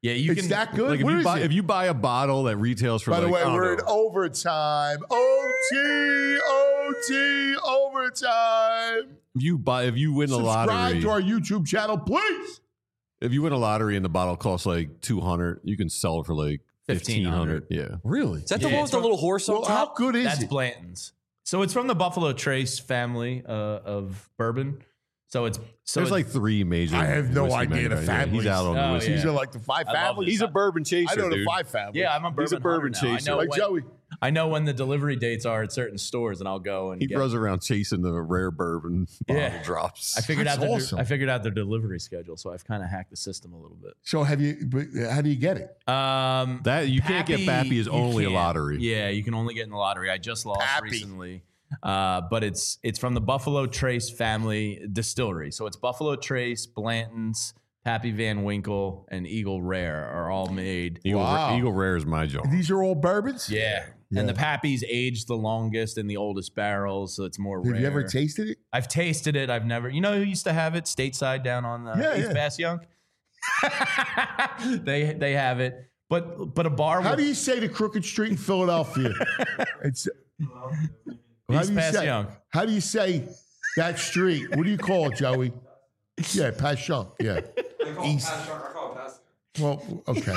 Yeah, you it's can. that good. Like if What you is buy it? if you buy a bottle that retails for By like the way, I don't we're know, in overtime. O T, O T, overtime. if you buy if you win a Subscribe lottery, to our YouTube channel, please. if you win a lottery and the bottle costs like two hundred, you can sell it for like fifteen hundred. Yeah, really? Is that the Yeah, one with it's the from- little horse on Well, top? how good is That's it? Blanton's. So it's from the Buffalo Trace family uh, of bourbon. So it's so there's it's, like three major. I have no whiskey idea the manufacturers. Yeah, families. He's out on the Oh, whiskey. yeah. These are like the five I love families. this. He's a bourbon chaser. I know the dude. five families. yeah. I'm a bourbon, He's a bourbon hunter now. chaser. I know Like when, Joey. I know when the delivery dates are at certain stores, and I'll go and He get. runs around chasing the rare bourbon bottle Yeah. drops. I figured That's out their, awesome. I figured out their delivery schedule, so I've kind of hacked the system a little bit. So have you? but How do you get it? Um, That you can't get Pappy is you only a can't. lottery. Yeah, you can only get in the lottery. I just lost Pappy. recently, uh, but it's it's from the Buffalo Trace family distillery. So it's Buffalo Trace, Blanton's, Pappy Van Winkle, and Eagle Rare are all made. Eagle, Wow. Eagle Rare is my job. These are all bourbons. Yeah. Yeah. And the Pappy's aged the longest in the oldest barrels, so it's more Have rare. you ever tasted it? I've tasted it. I've never. You know who used to have it stateside down on uh, Yeah, East yeah. Bass Young? they they have it, but but a bar. How with, do you say the Crooked Street in Philadelphia? It's how East do you Pass say? Young. How do you say that street? What do you call it, Joey? Yeah, Pass Young. Yeah. East. Well, okay.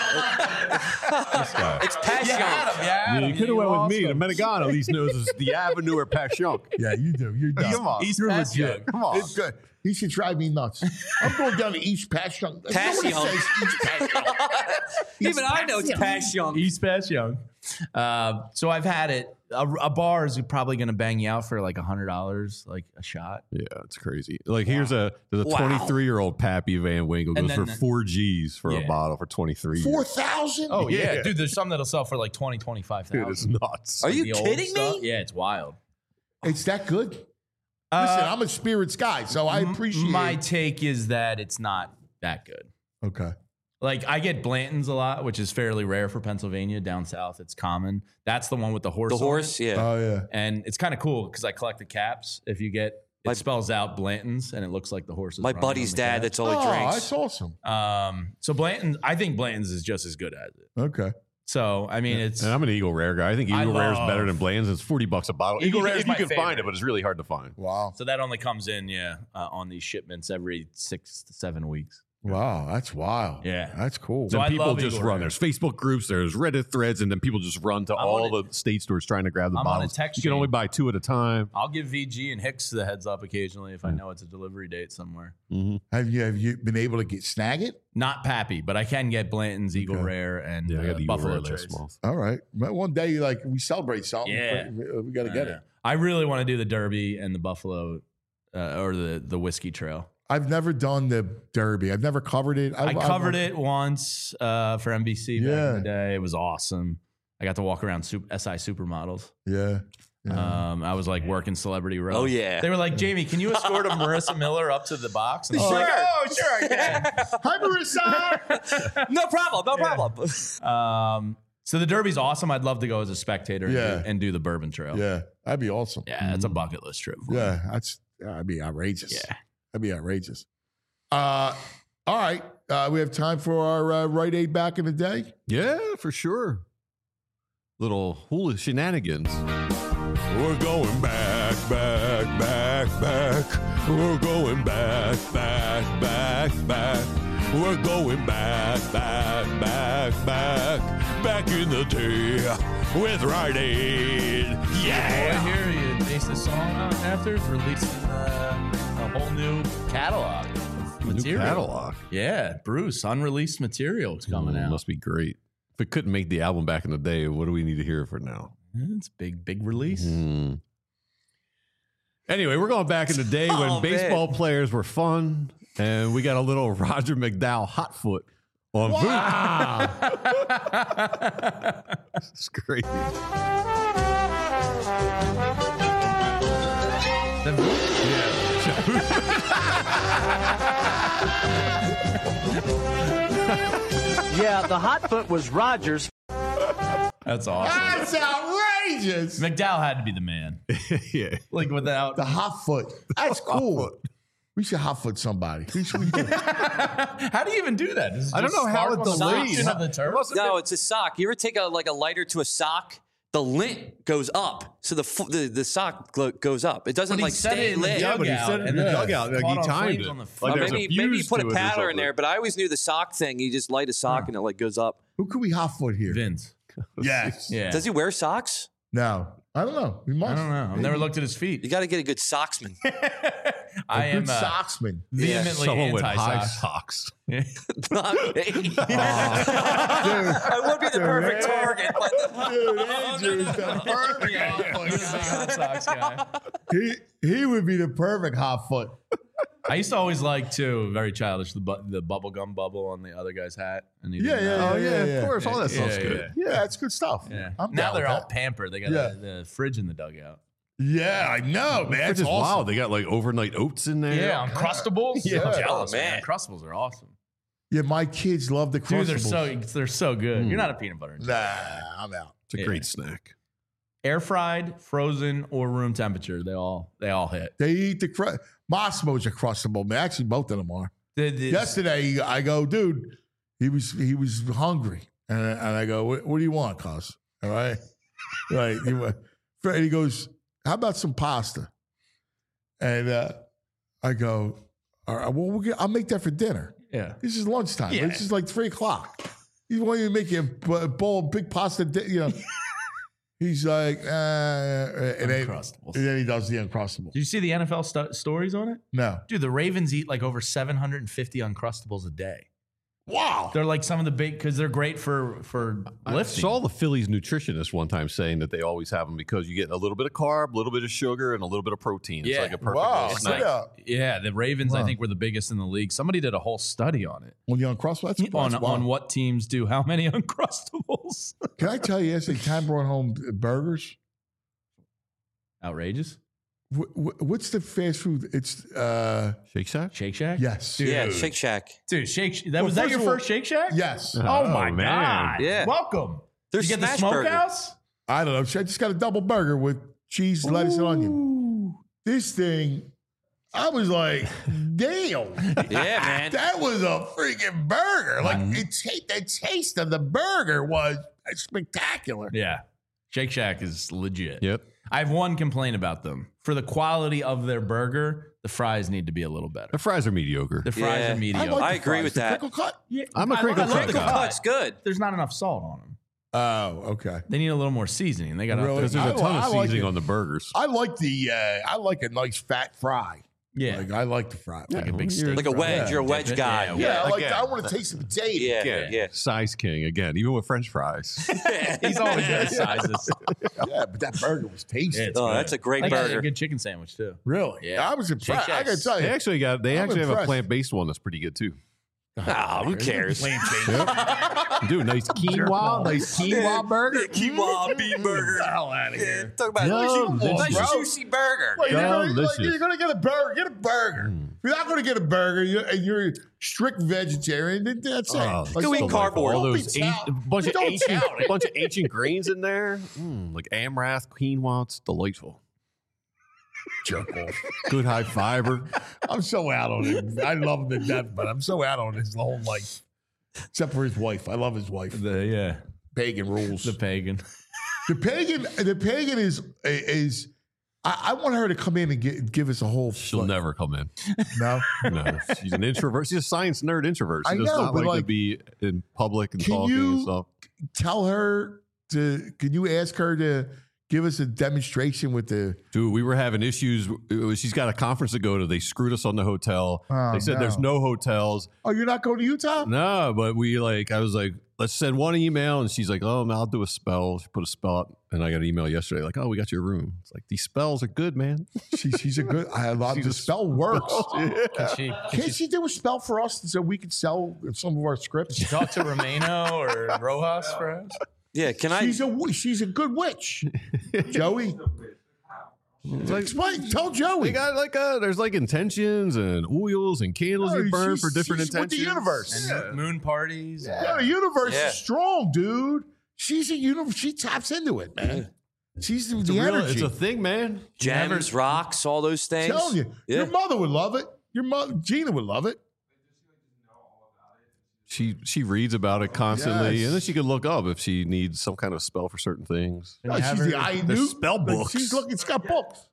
It's passion. Yeah, you could have went with me. The Menegano, at least knows is the Avenue or Passion. Yeah, you do. You're done. Come on. East You're Pass legit. Young. Come on. It's good. He should drive me nuts. I'm going down to East Pass Young. Pass Nobody Young. says East Pass Young. Even I know it's passion. East Pass Young. Uh, so I've had it. A, a bar is probably going to bang you out for like a hundred dollars, like a shot. Yeah, it's crazy. Like here's a there's a Wow. twenty-three year old Pappy Van Winkle And goes then for the- four G's for Yeah. a bottle for twenty-three. Four years. thousand. Oh yeah. Yeah. dude. There's some that'll sell for like twenty, twenty-five Dude, it's thousand. nuts. Are you The old kidding stuff. me? Yeah, it's wild. It's that good. Listen, Uh, I'm a spirits guy, so I appreciate. My take is that it's not that good. Okay. Like I get Blanton's a lot, which is fairly rare for Pennsylvania. Down south, it's common. That's the one with the horse. The on horse, it. yeah. Oh yeah. And it's kind of cool because I collect the caps. If you get, it My- spells out Blanton's, and it looks like the horse. Is My running buddy's on the dad, cap. that's all he Oh, drinks. that's awesome. Um, so Blanton, I think Blanton's is just as good as it. Okay. So I mean, it's And I'm an Eagle Rare guy. I think I Eagle Rare is love- better than Bland's. It's forty bucks a bottle. Eagle if you, Rare is if you my can find favorite. it, but it's really hard to find. Wow. so that only comes in, yeah, uh, on these shipments every six to seven weeks. Wow, that's wild. Yeah. That's cool. So Then I people love just Eagle run. Rare. There's Facebook groups, there's Reddit threads, and then people just run to I'm all on the state stores trying to grab the I'm on a bottles. text You can chain. only buy two at a time. I'll give V G and Hicks the heads up occasionally if I know it's a delivery date somewhere. have you have you been able to get snag it? Not Pappy, but I can get Blanton's, Eagle Okay. Rare, and Yeah, I uh, got the Eagle Buffalo Rare Trace. last month. All right. Well, one day, like we celebrate something. Yeah. we, we got to get Uh, it. I really want to do the Derby and the Buffalo, uh, or the the whiskey trail. I've never done the Derby. I've never covered it. I covered it once uh, for N B C back Yeah. in the day. It was awesome. I got to walk around super, S I Supermodels. Yeah. yeah. Um, I was like working Celebrity Row. Oh, yeah. They were like, Jamie, can you escort a Marissa Miller up to the box? And I was Sure. like, oh, sure I can. Hi, Marissa. No problem. No problem. Um, so the Derby's awesome. I'd love to go as a spectator and, Yeah. do, and do the Bourbon Trail. yeah, that'd be awesome. Yeah, that's a bucket list trip. for me. Yeah, that's that'd be outrageous. Yeah. That'd be outrageous. Uh, all right. Uh, we have time for our uh, Rite Aid back in the day. Yeah, for sure. Little hula shenanigans. We're going back, back, back, back. We're going back, back, back, back. We're going back, back, back, back. Back in the day with Rite Aid. Yeah. Boy, here you base the song on after it's releasing uh, a whole new catalog of New material. catalog. Yeah, Bruce, unreleased material is coming Mm, out. Must be great. If it couldn't make the album back in the day, what do we need to hear for now? It's big, big release. Mm. Anyway, we're going back in the day when Oh, baseball man. players were fun, and we got a little Roger McDowell hot foot on Wow. It's great. Yeah, the hot foot was Rogers. That's awesome. That's outrageous. McDowell had to be the man. Yeah. Like without The hot foot. That's cool. We should hot foot somebody. We should, we should. How do you even do that? Does it I don't just know how spark it on the delays. section of the turf? No, it's a sock. You ever take a like a lighter to a sock? The lint goes up, so the f- the, the sock gl- goes up. It doesn't But he like said stay it in the lit. Yeah, but he said it in the Yeah. dugout. Like, Caught he on timed flames it. on the Like, Or there's a maybe maybe you fuse put to a it or paddler in something. there, but I always knew the sock thing. You just light a sock and it like goes up. Who could we hot foot here? Vince. Yes. Yeah. Does he wear socks? No. I don't know. We must. I don't know. I've never looked at his feet. You got to get a good socksman. I A am good uh, socksman. vehemently Someone with high anti-socks. socks. Not me. I would be the perfect target. But Dude, Andrew's the perfect hot Socks guy. foot. He, he would be the perfect hot foot. I used to always like too, very childish, the bu- the bubble gum bubble on the other guy's hat. And he Yeah, didn't yeah, know. Oh, yeah, yeah, yeah. of course. All that Yeah, stuff's yeah, good. Yeah, that's good stuff. Yeah. I'm Now down they're with all that. pampered. They got Yeah. the, the fridge in the dugout. Yeah, I know, man. It's It's just awesome. wild. They got like overnight oats in there. Yeah, Uncrustables. Yeah. I'm jealous, Oh, man. man. Uncrustables are awesome. Yeah, my kids love the Dude, they're Crustables. so they're so good. Mm. You're not a peanut butter. Nah, I'm out. It's a Yeah. great snack. Air fried, frozen, or room temperature. They all they all hit. They eat the cru- Mossimo's a Crustable, man. Actually, both of them are. The- the- Yesterday, I go, dude. He was he was hungry, and I, and I go, what, what do you want, cuz? All right, right. He, went- Fred, he goes, how about some pasta? And uh, I go, all right, well, we'll get, I'll make that for dinner. Yeah. This is lunchtime. Yeah. This is like three o'clock. He's wanting to make you a b- bowl of big pasta. Di- you know. He's like, uh, and then, Uncrustables. and then he does the Uncrustables. Did you see the N F L stu- stories on it? No. Dude, the Ravens eat like over seven hundred fifty Uncrustables a day. Wow. They're like some of the big because they're great for for I lifting. saw the Phillies nutritionist one time saying that they always have them because you get a little bit of carb, a little bit of sugar, and a little bit of protein. It's Yeah. like a perfect Wow. little It's snack. like- yeah, the Ravens I Wow. think were the biggest in the league. Somebody did a whole study on it. On the Uncrustables? That's, On, that's wild. on what teams do how many Uncrustables. Can I tell you, yesterday, Tam brought home burgers. Outrageous. Wh- wh- What's the fast food? It's, uh, Shake Shack? Shake Shack? yes. Dude. Yeah, Shake Shack. Dude, Shake that Well, was that first your of all- first Shake Shack? Yes. Oh, Oh, my man. god. Yeah. Welcome. There's you get the Smash Burger. smokehouse? I don't know. I just got a double burger with cheese, lettuce, and onion. This thing, I was like, damn. Yeah, man. That was a freaking burger. Like, it ta- the taste of the burger was spectacular. Yeah. Shake Shack is legit. Yep. I have one complaint about them. For the quality of their burger, the fries need to be a little better. The fries are mediocre. The fries Yeah. are mediocre. like I the agree fries. with The that. Crinkle cut? Yeah, I'm a I crinkle love the cut Crinkle guy. cut's good. There's not enough salt on them. Oh, okay. They need a little more seasoning. They got Really? Because there's I- a ton I of like seasoning it. on the burgers. I like the, uh, I like a nice fat fry. yeah. Like, I like the fry. Like a big You're- steak. Like a wedge. Yeah. You're a wedge Yeah, guy. yeah, Yeah, I like. again. I want to taste the potato. Yeah, Again, yeah. size king again, even with French fries. He's always got sizes. Yeah, but that burger was tasty. Yeah, it's Oh, good. that's a great They got burger. a good chicken sandwich too. Really? Yeah. I was impressed. Shake I gotta Shacks. tell they you. actually got. They I'm actually have a impressed. plant based one that's pretty good too. Oh, who cares? Dude, nice quinoa, nice quinoa burger. Quinoa beef burger. hell out of here. Talk about Yum, a nice bro. juicy burger. Well, you're, gonna, like, Delicious. you're gonna get a burger. Get a burger. If you're not gonna get a burger, you're, and you're a strict vegetarian, then that's it. Oh, Like, Go eat don't- cardboard. All don't be those tout- a- bunch of don't ancient, tout it. bunch of ancient grains in there, mm, like amaranth, quinoa. It's delightful. Jerk off. Good high fiber. I'm so out on it. I love him to death, but I'm so out on his whole life. Except for his wife. I love his wife. The yeah, Pagan rules. the pagan. The pagan, the pagan is is. I, I want her to come in and get, give us a whole. She'll like, never come in. No, No, she's an introvert. She's a science nerd introvert. She I does know, not but like, to like, be in public and can talking you- and stuff. tell her to. Can you ask her to give us a demonstration with the? Dude, we were having issues. It was- She's got a conference to go to. They screwed us on the hotel. Oh, they said no. there's no hotels. Oh, you're not going to Utah? No, but we like, I was like, let's send one email. And she's like, oh, man, I'll do a spell. She put a spell up. And I got an email yesterday like, oh, we got your room. It's like, these spells are good, man. She, she's a good. I love She's the a spell works. Can she, can Can't she, she do a spell for us so we can sell some of our scripts? she talk to Romano or Rojas perhaps? Yeah, can I? She's a wi- she's a good witch, Joey. Explain. Tell Joey. We got like uh there's like intentions and oils and candles No, you burn she's- for different she's with intentions. the universe. And mo- moon parties. Yeah, the universe Yeah. is strong, dude. She's a universe. She taps into it, man. She's the, It's, the a real, energy. it's a thing, man. Gems, rocks, all those things. I'm telling you, Yeah. your mother would love it. Your mother, Gina, would love it. She she reads about it constantly, Yes. and then she can look up if she needs some kind of spell for certain things. No, she's the I There's knew spell like, books. she's looking. She's got books.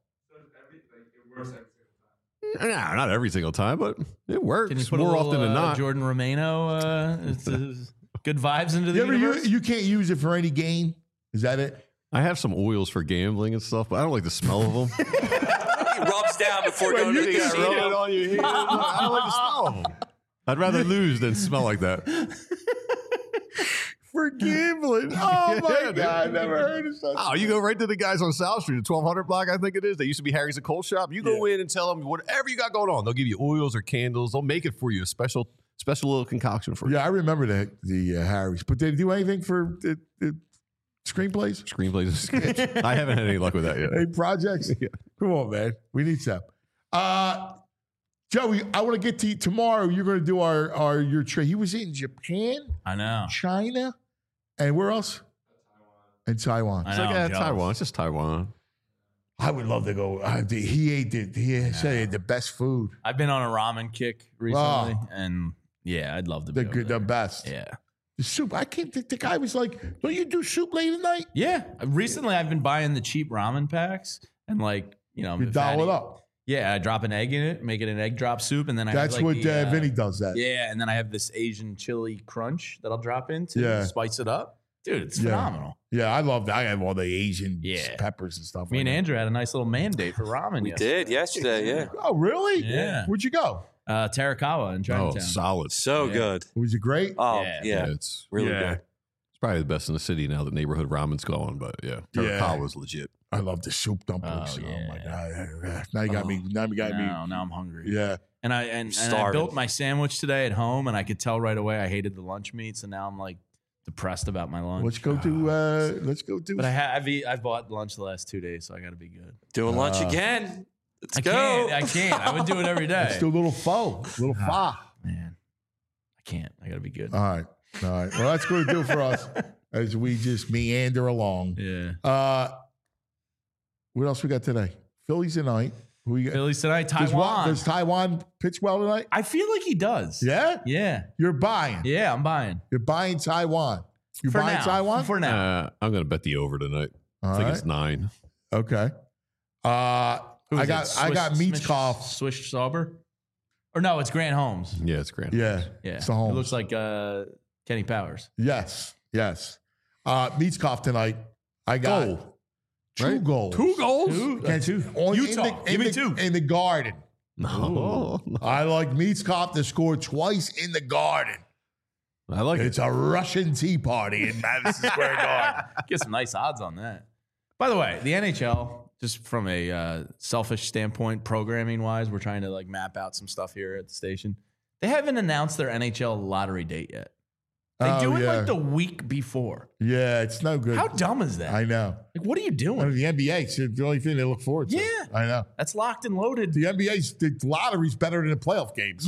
Nah, not every single time, but it works Can you put more a little, often than uh, not. Jordan Romano, uh, it's, uh, good vibes into the You ever universe? you, you can't use it for any game. Is that it? I have some oils for gambling and stuff, but I don't like the smell of them. He rubs down before Well, going to you the can casino. Rub it on your hands. I don't like the smell of them. I'd rather lose than smell like that. For gambling. Oh my Yeah, dude. god, I never heard of such. Oh, you go right to the guys on South Street, the twelve hundred block, I think it is. They used to be Harry's and Cold Shop. You go in and tell them whatever you got going on. They'll give you oils or candles. They'll make it for you, a special, special little concoction for you. Yeah, I remember the the uh, Harry's, but did they do anything for the, the screenplays? Screenplays. I haven't had any luck with that yet. Any projects? Come on, man. We need some. Uh, Joey, I want to get to you tomorrow. You're going to do our our your trip. He was in Japan, I know. China, and where else? And Taiwan. I It's know, like I'm yeah, jealous. Taiwan. It's just Taiwan. I would love to go. Uh, the- he ate the, he said he had the best food. I've been on a ramen kick recently, and yeah, I'd love to The be over good, the there. best. Yeah. The soup. I can't think the guy was like, don't you do soup late at night? Yeah. Recently, I've been buying the cheap ramen packs and like, you know, You if dial Fatty- it up. Yeah, I drop an egg in it, make it an egg drop soup, and then I That's have like what the, uh, Vinny does that. Yeah, and then I have this Asian chili crunch that I'll drop in to Yeah. spice it up. Dude, it's Yeah. phenomenal. Yeah, I love that. I have all the Asian Yeah. peppers and stuff. Me like and that. Andrew had a nice little mandate for ramen. We yesterday. did yesterday, yeah. Oh, really? Yeah. Where'd you go? Uh, Terakawa in Oh, Chinatown. solid. So Yeah. good. Was it great? Oh, Yeah. yeah. it's Really Yeah. good. it's probably the best in the city now that neighborhood ramen's going. But yeah, Yeah. Terakawa's legit. I love the soup dumplings. Oh, Oh, my yeah. god! Now you got Oh. me. Now you got now, me. now I'm hungry. Yeah. And I and, and I Starving. built my sandwich today at home, and I could tell right away I hated the lunch meats, and now I'm like depressed about my lunch. Let's go to. Uh, let's go to. But I ha- I've eat, I've bought lunch the last two days, so I got to be good. Doing lunch Uh, again. Let's I go. can't. I can't. I would do it every day. Let's do a little pho, little pho. Man, I can't. I got to be good. All right. All right. Well, that's going to do it for us as we just meander along. Yeah. Uh, what else we got today? Phillies tonight. Who we got? Phillies tonight. Does, Taiwan. what, does Taiwan pitch well tonight? I feel like he does. Yeah. Yeah. You're buying. Yeah. I'm buying. You're buying Taiwan. You For buying now. Taiwan? For now. Uh, I'm going to bet the over tonight. All I think right. it's nine. Okay. Uh, Who I is got it? I got Swish- Meatskoff. Swish Sauber? Or no, it's Grant Holmes. Yeah, it's grand. Yeah. Yeah. It's the Holmes. It looks like uh, Kenny Powers. Yes. Yes. Uh, Meatskoff tonight. I got Goal. two Right? goals. Two goals? Two? Against- on- in Utah. the- in Give me the- two. In the Garden. No. I like Meatskoff to score twice in the Garden. I like It's it. a Russian tea party in Madison Square Garden. Get some nice odds on that. By the way, the N H L, just from a uh, selfish standpoint, programming wise, we're trying to like map out some stuff here at the station. They haven't announced their N H L lottery date yet. They Oh, do it yeah. like the week before. Yeah, it's no good. How dumb is that? I know. Like, what are you I doing? mean, the N B A, it's the only thing they look forward to. Yeah. I know. That's locked and loaded. The N B A's the lottery's better than the playoff games.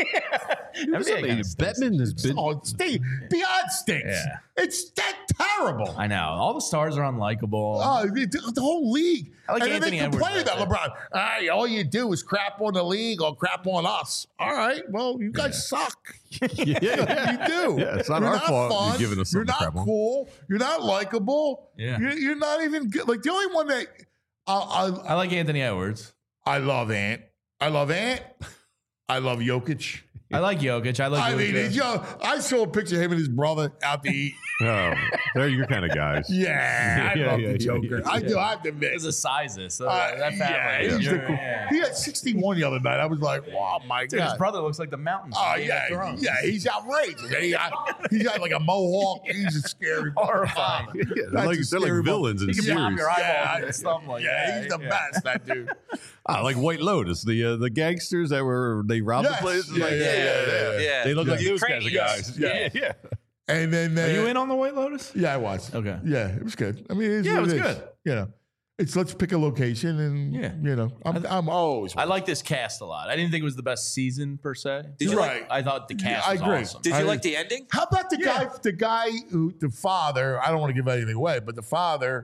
N B A kinda stinks. Bettman has been. Oh, it's sti- beyond stinks. Yeah. It's that terrible. I know. All the stars are unlikable. Oh, the, the whole league. I like and then Anthony they complain Edwards about like LeBron. Hey, all you do is crap on the league or crap on us. All right, well, you guys suck. yeah, yeah. You do. Yeah, it's not You're our not fault fun. you're giving us You're something to not crap on. cool. You're not likable. Yeah. You're, you're not even good. Like the only one that I, I, I like Anthony Edwards. I love Ant. I love Ant. I love Jokic. I like Jokic. I like. I mean, Luka. it's, yo, I saw a picture of him and his brother out to eat. Oh, they're your kind of guys. Yeah, I Yeah, love yeah, the yeah, Joker. yeah. I do. I have to admit. It's a sizes. So Uh, that family. yeah, he's the You're- cool- yeah. He had sixty-one the other night. I was like, wow, my Dude, his God. brother looks like the mountains. Oh, from Game of yeah. Thrones. Yeah, he's outrageous. And he got, he's got like a mohawk. He's a scary. Horrifying. Yeah, they're That's like, a they're like scary villains in He the can pop series. your eyeballs Yeah, and stuff like yeah, that. he's the Yeah. best, that dude. Ah, like White Lotus, the uh, the gangsters that were they robbed Yes. the place. Yeah, Like, yeah, yeah, yeah, yeah. They look Yeah. like those kinds of Yes. guys. Yeah. yeah. And then uh, Are you in on the White Lotus? Yeah, I was. Okay. Yeah, it was good. I mean, it is Yeah, what it was is. good. You know, it's let's pick a location and Yeah. you know, I'm I'm always. I like this cast a lot. I didn't think it was the best season per se. Did you Right. like? I thought the cast I was agree. awesome. Did you I- like the ending? How about the Yeah. guy, the guy who, the father? I don't want to give anything away, but the father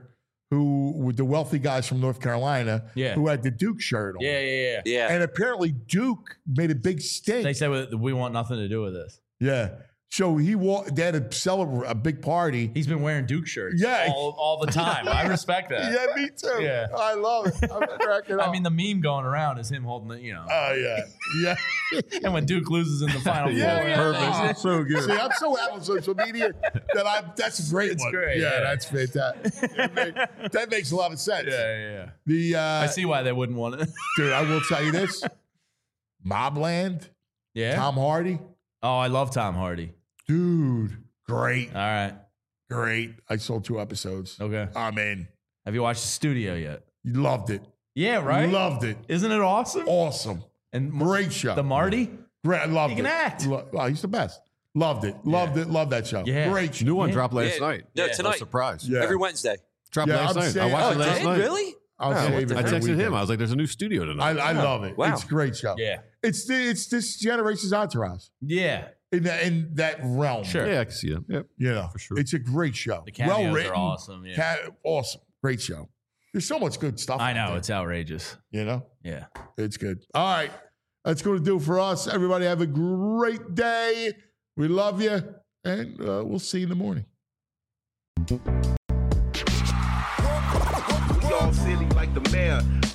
who were the wealthy guys from North Carolina, Yeah. who had the Duke shirt on. Yeah, yeah, yeah. Yeah. And apparently Duke made a big stink. They said we- we want nothing to do with this. Yeah. So he walked, they had to celebrate a big party. He's been wearing Duke shirts Yeah. all, all the time. I respect that. Yeah, me too. Yeah. I love it. I'm cracking up. I mean, the meme going around is him holding the, you know. Oh, yeah. Yeah. And when Duke loses in the final Yeah, four. yeah. Perfect. Oh, so good. See, I'm so out on social media that I that's a great It's one. great, Yeah, yeah. that's fantastic. That, make- that makes a lot of sense. Yeah, yeah, yeah. The uh, I see why they wouldn't want it. dude, I will tell you this. Mobland, Yeah. Tom Hardy, Oh, I love Tom Hardy. dude, great, All right. great. I saw two episodes. Okay. I'm in. Have you watched the studio yet? Loved it. Yeah, right? Loved it. Isn't it awesome? Awesome. And Great show. the Marty? Great. I loved He can it. act. Lo- oh, he's the best. Loved it. Loved it. Loved that show. Yeah. Great show. New one Yeah. dropped last Yeah. night. No, Yeah. No tonight. surprise. Yeah. Every Wednesday. Dropped Yeah, last I'm night. saying- I watched Oh, it it last did? night. Really? I'll Yeah, save I it for the texted weekend. him. I was like, "There's a new studio I, tonight." I love it. Wow. It's a great show. Yeah. It's the, it's this generation's entourage Yeah. in that in that realm. Sure. Yeah, I can see it. Yep. You know, For sure. It's a great show. The cameos well are written. awesome, yeah. Ca- awesome. Great show. There's so much good stuff. I out know. there, It's outrageous. you know, Yeah. it's good. All right. That's going to do it for us. Everybody have a great day. We love you. And uh, we'll see you in the morning. Dog silly like the mayor.